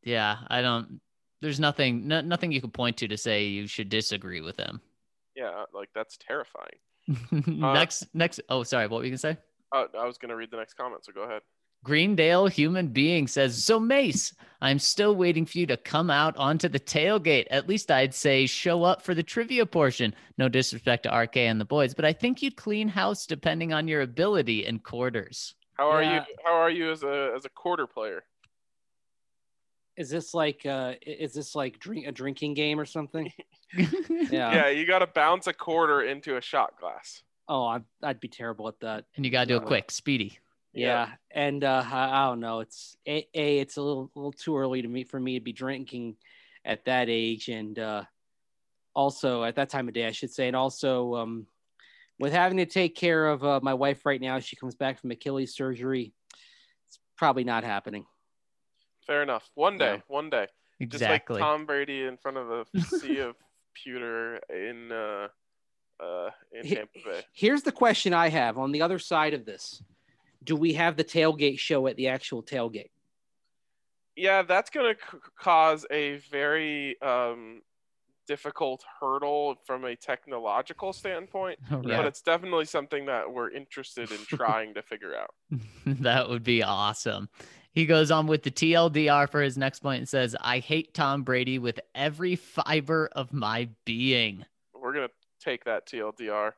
[SPEAKER 4] Yeah, I don't. There's nothing you can point to say you should disagree with him.
[SPEAKER 1] Yeah, like that's terrifying.
[SPEAKER 4] Next. Oh, sorry. What were you gonna say?
[SPEAKER 1] I was gonna read the next comment, so go ahead.
[SPEAKER 4] Greendale Human Being says, so Mace, I'm still waiting for you to come out onto the tailgate. At least I'd say show up for the trivia portion. No disrespect to RK and the boys, but I think you'd clean house depending on your ability in quarters.
[SPEAKER 1] How are you? How are you as a quarter player?
[SPEAKER 3] Is this like a drinking game or something?
[SPEAKER 1] Yeah, you got to bounce a quarter into a shot glass.
[SPEAKER 3] Oh, I'd be terrible at that.
[SPEAKER 4] And you got to do it quick, speedy.
[SPEAKER 3] Yeah, and I don't know. It's a little too early for me to be drinking at that age, and also at that time of day, I should say. And also, with having to take care of my wife right now, she comes back from Achilles surgery. It's probably not happening.
[SPEAKER 1] Fair enough. One day.
[SPEAKER 4] Exactly.
[SPEAKER 1] Just like Tom Brady in front of a sea of pewter in Tampa Bay.
[SPEAKER 3] Here's the question I have on the other side of this. Do we have the tailgate show at the actual tailgate?
[SPEAKER 1] Yeah, that's going to cause a very difficult hurdle from a technological standpoint,
[SPEAKER 4] Right.
[SPEAKER 1] But it's definitely something that we're interested in trying to figure out.
[SPEAKER 4] That would be awesome. He goes on with the TLDR for his next point and says, I hate Tom Brady with every fiber of my being.
[SPEAKER 1] We're going to take that TLDR.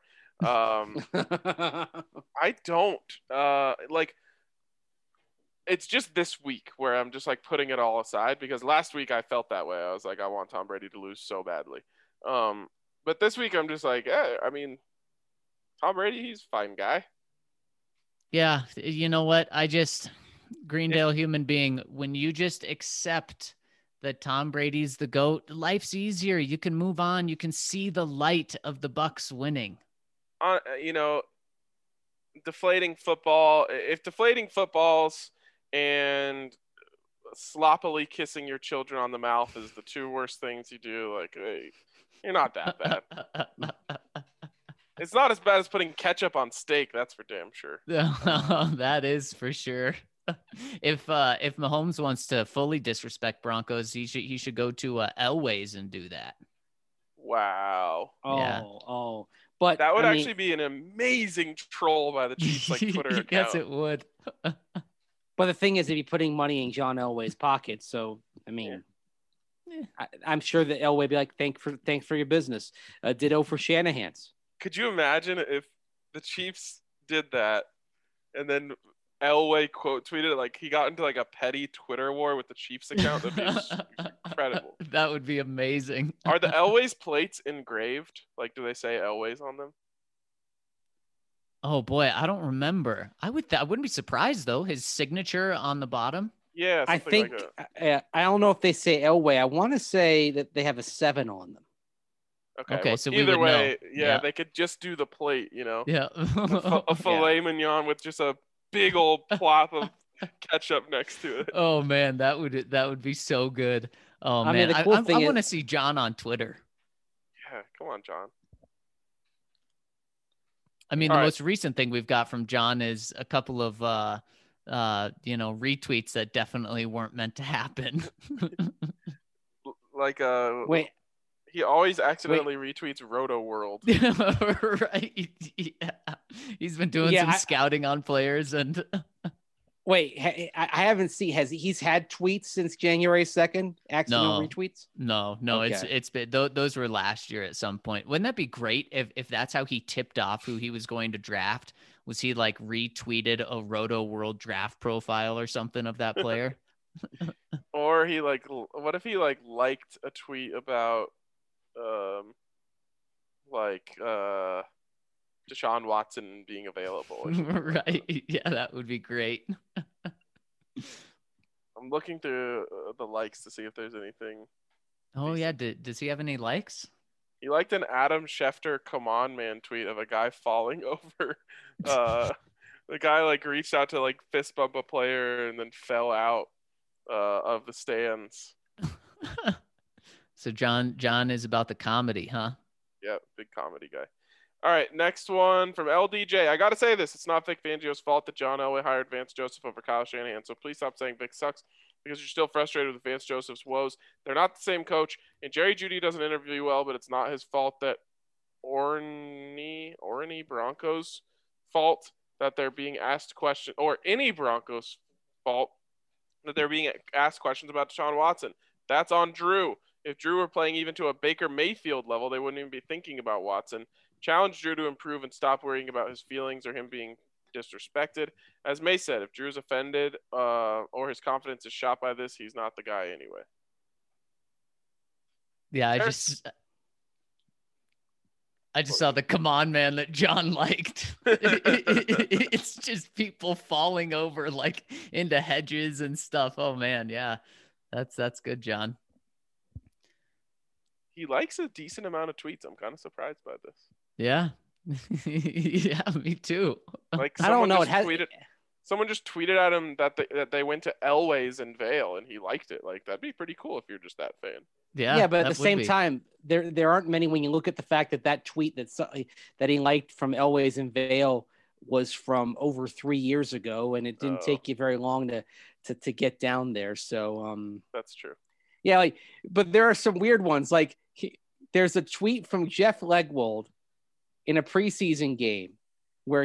[SPEAKER 1] I don't like it's just this week where I'm just like putting it all aside, because last week I felt that way. I was like, I want Tom Brady to lose so badly. But this week I'm just like, I mean, Tom Brady, he's a fine guy.
[SPEAKER 4] Yeah. You know what? Greendale Human Being, when you just accept that Tom Brady's the GOAT, life's easier. You can move on. You can see the light of the Bucs winning.
[SPEAKER 1] Deflating football. If deflating footballs and sloppily kissing your children on the mouth is the two worst things you do, like, hey, you're not that bad. It's not as bad as putting ketchup on steak. That's for damn sure.
[SPEAKER 4] That is for sure. If Mahomes wants to fully disrespect Broncos, he should go to Elway's and do that.
[SPEAKER 1] Wow.
[SPEAKER 3] Oh. But
[SPEAKER 1] that would actually be an amazing troll by the Chiefs, like Twitter account.
[SPEAKER 4] Yes, it would.
[SPEAKER 3] But the thing is, if you're putting money in John Elway's pocket, so I mean, I'm sure that Elway would be like, thanks for your business. Ditto for Shanahan's.
[SPEAKER 1] Could you imagine if the Chiefs did that, and then Elway quote tweeted, like he got into like a petty Twitter war with the Chiefs account? That'd be incredible.
[SPEAKER 4] That would be amazing.
[SPEAKER 1] Are the Elway's plates engraved? Like, do they say Elway's on them?
[SPEAKER 4] Oh boy, I don't remember. I wouldn't be surprised though. His signature on the bottom.
[SPEAKER 1] Yeah,
[SPEAKER 3] I think
[SPEAKER 1] like
[SPEAKER 3] I don't know if they say Elway. I want to say that they have a 7 on them.
[SPEAKER 1] Okay,
[SPEAKER 4] well, so
[SPEAKER 1] either way,
[SPEAKER 4] know.
[SPEAKER 1] Yeah, they could just do the plate, you know.
[SPEAKER 4] Yeah,
[SPEAKER 1] a filet mignon with just a big old plop of ketchup next to it.
[SPEAKER 4] Oh man, that would be so good. Oh man,
[SPEAKER 3] I mean, the cool thing
[SPEAKER 4] I want to see John on Twitter.
[SPEAKER 1] Yeah, come on, John.
[SPEAKER 4] I mean, the most recent thing we've got from John is a couple of retweets that definitely weren't meant to happen.
[SPEAKER 1] Like
[SPEAKER 3] wait.
[SPEAKER 1] He always accidentally retweets Roto World.
[SPEAKER 4] Right. Yeah. He's been doing some scouting on players and
[SPEAKER 3] wait, I haven't seen he's had tweets since January 2nd, accidental retweets?
[SPEAKER 4] No, okay. It's been those were last year at some point. Wouldn't that be great if that's how he tipped off who he was going to draft? Was he like retweeted a Roto World draft profile or something of that player?
[SPEAKER 1] Or he what if he liked a tweet about Deshaun Watson being available?
[SPEAKER 4] Right. Yeah, that would be great.
[SPEAKER 1] I'm looking through the likes to see if there's anything.
[SPEAKER 4] Oh decent. Yeah, does he have any likes?
[SPEAKER 1] He liked an Adam Schefter "Come on, man" tweet of a guy falling over. The guy reached out to fist bump a player and then fell out of the stands.
[SPEAKER 4] So John is about the comedy, huh?
[SPEAKER 1] Yeah, big comedy guy. All right, next one from LDJ. I got to say this. It's not Vic Fangio's fault that John Elway hired Vance Joseph over Kyle Shanahan, so please stop saying Vic sucks. because you're still frustrated with Vance Joseph's woes. They're not the same coach, and Jerry Jeudy doesn't interview well, but it's not his fault that Orny Broncos fault that they're being asked questions, or any Broncos fault that they're being asked questions about Deshaun Watson. That's on Drew. If Drew were playing even to a Baker Mayfield level, they wouldn't even be thinking about Watson. Challenge Drew to improve and stop worrying about his feelings or him being disrespected. As May said, if Drew's offended or his confidence is shot by this, he's not the guy anyway.
[SPEAKER 4] Yeah, I just saw the come on man that John liked. It's just people falling over like into hedges and stuff. Oh man, yeah. That's good, John.
[SPEAKER 1] He likes a decent amount of tweets. I'm kind of surprised by this.
[SPEAKER 4] Yeah. Yeah, me too.
[SPEAKER 1] Like
[SPEAKER 3] I don't know.
[SPEAKER 1] Someone just tweeted at him that they went to Elway's in Vail and he liked it. Like, that'd be pretty cool if you're just that fan.
[SPEAKER 3] Yeah, but at the same time, there aren't many. When you look at the fact that tweet that he liked from Elway's in Vail was from over 3 years ago, and it didn't take you very long to get down there. So
[SPEAKER 1] that's true.
[SPEAKER 3] Yeah, but there are some weird ones. Like there's a tweet from Jeff Legwold in a preseason game where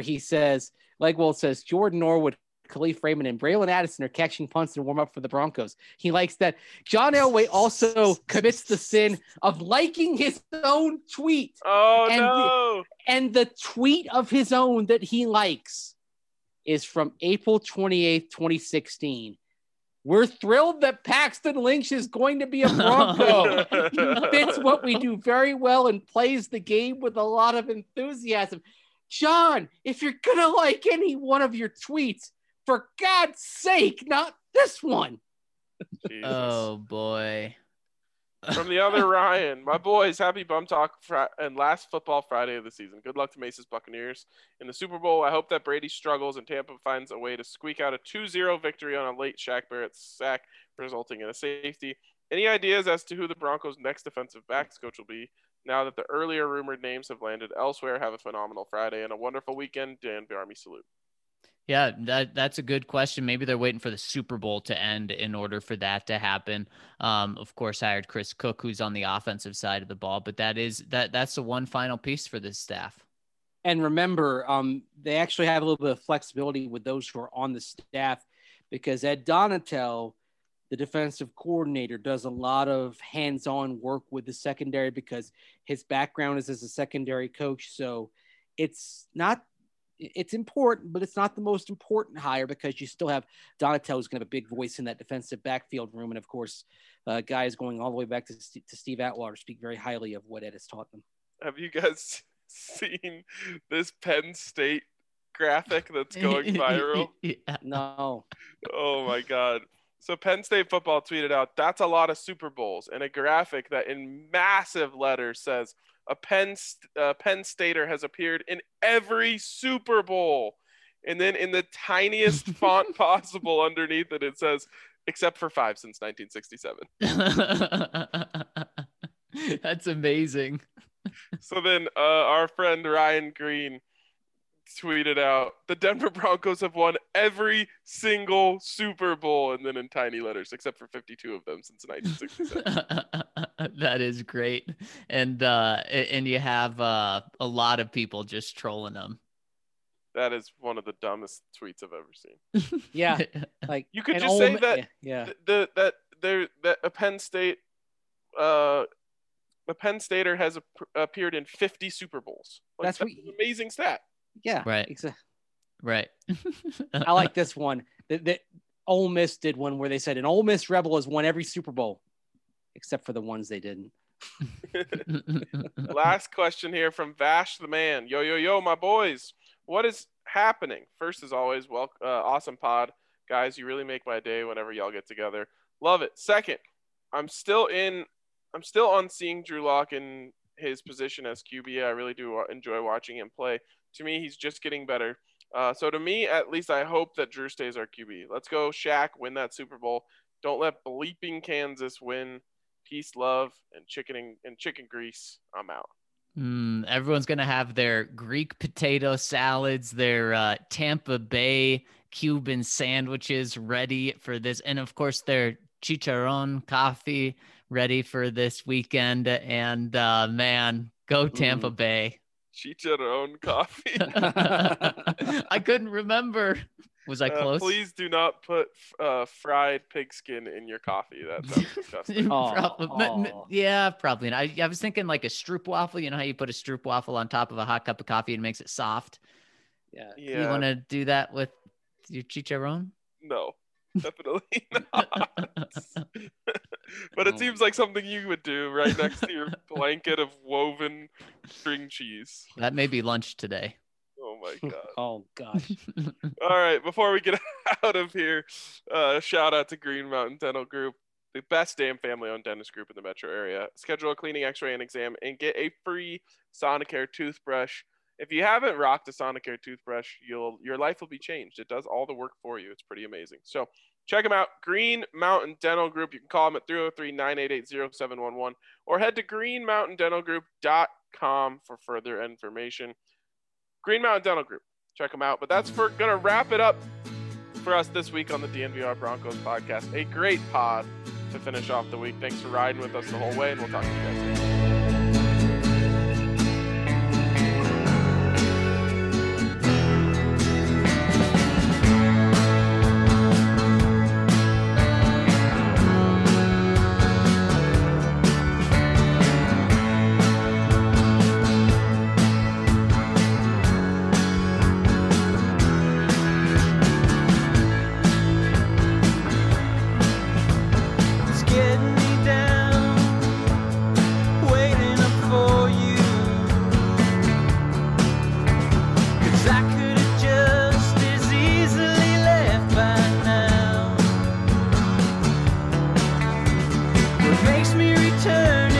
[SPEAKER 3] Legwold says Jordan Norwood, Khalif Raymond, and Braylon Addison are catching punts to warm up for the Broncos. He likes that. John Elway also commits the sin of liking his own tweet.
[SPEAKER 1] Oh, no.
[SPEAKER 3] And the tweet of his own that he likes is from April 28th, 2016. We're thrilled that Paxton Lynch is going to be a Bronco. He fits what we do very well and plays the game with a lot of enthusiasm. John, if you're going to like any one of your tweets, for God's sake, not this one.
[SPEAKER 1] Jesus.
[SPEAKER 4] Oh, boy.
[SPEAKER 1] From the other Ryan, my boys, happy Bum Talk and last football Friday of the season. Good luck to Mace's Buccaneers in the Super Bowl. I hope that Brady struggles and Tampa finds a way to squeak out a 2-0 victory on a late Shaq Barrett sack, resulting in a safety. Any ideas as to who the Broncos' next defensive backs coach will be now that the earlier rumored names have landed elsewhere? Have a phenomenal Friday and a wonderful weekend. Dan Army salute.
[SPEAKER 4] Yeah, that's a good question. Maybe they're waiting for the Super Bowl to end in order for that to happen. Of course, hired Chris Cook, who's on the offensive side of the ball, but that's the one final piece for this staff.
[SPEAKER 3] And remember, they actually have a little bit of flexibility with those who are on the staff because Ed Donatel, the defensive coordinator, does a lot of hands-on work with the secondary because his background is as a secondary coach. So it's important, but it's not the most important hire because you still have Donatel, who's going to have a big voice in that defensive backfield room. And of course, guys going all the way back to Steve Atwater speak very highly of what Ed has taught them.
[SPEAKER 1] Have you guys seen this Penn State graphic that's going viral?
[SPEAKER 4] Yeah.
[SPEAKER 3] No.
[SPEAKER 1] Oh my God. So Penn State football tweeted out, "That's a lot of Super Bowls," and a graphic that in massive letters says, a Penn Stater has appeared in every Super Bowl. And then in the tiniest font possible underneath it says, except for 5 since 1967.
[SPEAKER 4] That's amazing.
[SPEAKER 1] So then our friend Ryan Green tweeted out, the Denver Broncos have won every single Super Bowl, and then in tiny letters, except for 52 of them since 1967.
[SPEAKER 4] That is great. And you have a lot of people just trolling them.
[SPEAKER 1] That is one of the dumbest tweets I've ever seen.
[SPEAKER 3] Yeah. Like
[SPEAKER 1] you could just say that that a Penn State a Penn Stater has appeared in 50 Super Bowls. Like, that's an amazing stat.
[SPEAKER 3] Yeah.
[SPEAKER 4] Right. Right.
[SPEAKER 3] I like this one. That Ole Miss did one where they said an Ole Miss Rebel has won every Super Bowl, except for the ones they didn't.
[SPEAKER 1] Last question here from Vash the Man. Yo, my boys. What is happening? First, as always, awesome pod. Guys, you really make my day whenever y'all get together. Love it. Second, I'm still on seeing Drew Lock in his position as QB. I really do enjoy watching him play. To me, he's just getting better. So to me, at least, I hope that Drew stays our QB. Let's go, Shaq, win that Super Bowl. Don't let bleeping Kansas win. Peace, love, and chicken grease. I'm out.
[SPEAKER 4] Everyone's going to have their Greek potato salads, their Tampa Bay Cuban sandwiches ready for this. And of course, their chicharron coffee ready for this weekend. And man, go Tampa Bay.
[SPEAKER 1] Chicharron coffee.
[SPEAKER 4] I couldn't remember. Was I close?
[SPEAKER 1] Please do not put fried pigskin in your coffee. That sounds disgusting.
[SPEAKER 4] Yeah, probably not. I was thinking like a stroopwafel. You know how you put a stroopwafel on top of a hot cup of coffee and makes it soft?
[SPEAKER 3] Yeah.
[SPEAKER 4] You want to do that with your chicharron?
[SPEAKER 1] No, definitely not. But it seems like something you would do right next to your blanket of woven string cheese.
[SPEAKER 4] That may be lunch today.
[SPEAKER 1] Oh my God.
[SPEAKER 3] Oh gosh.
[SPEAKER 1] All right. Before we get out of here, shout out to Green Mountain Dental Group, the best damn family-owned dentist group in the metro area. Schedule a cleaning, X-ray, and exam, and get a free Sonicare toothbrush. If you haven't rocked a Sonicare toothbrush, your life will be changed. It does all the work for you. It's pretty amazing. So check them out. Green Mountain Dental Group. You can call them at 303-988-0711 or head to greenmountaindentalgroup.com for further information. Green Mountain Dental Group. Check them out. But that's going to wrap it up for us this week on the DNVR Broncos podcast. A great pod to finish off the week. Thanks for riding with us the whole way, and we'll talk to you guys later.
[SPEAKER 2] Makes me return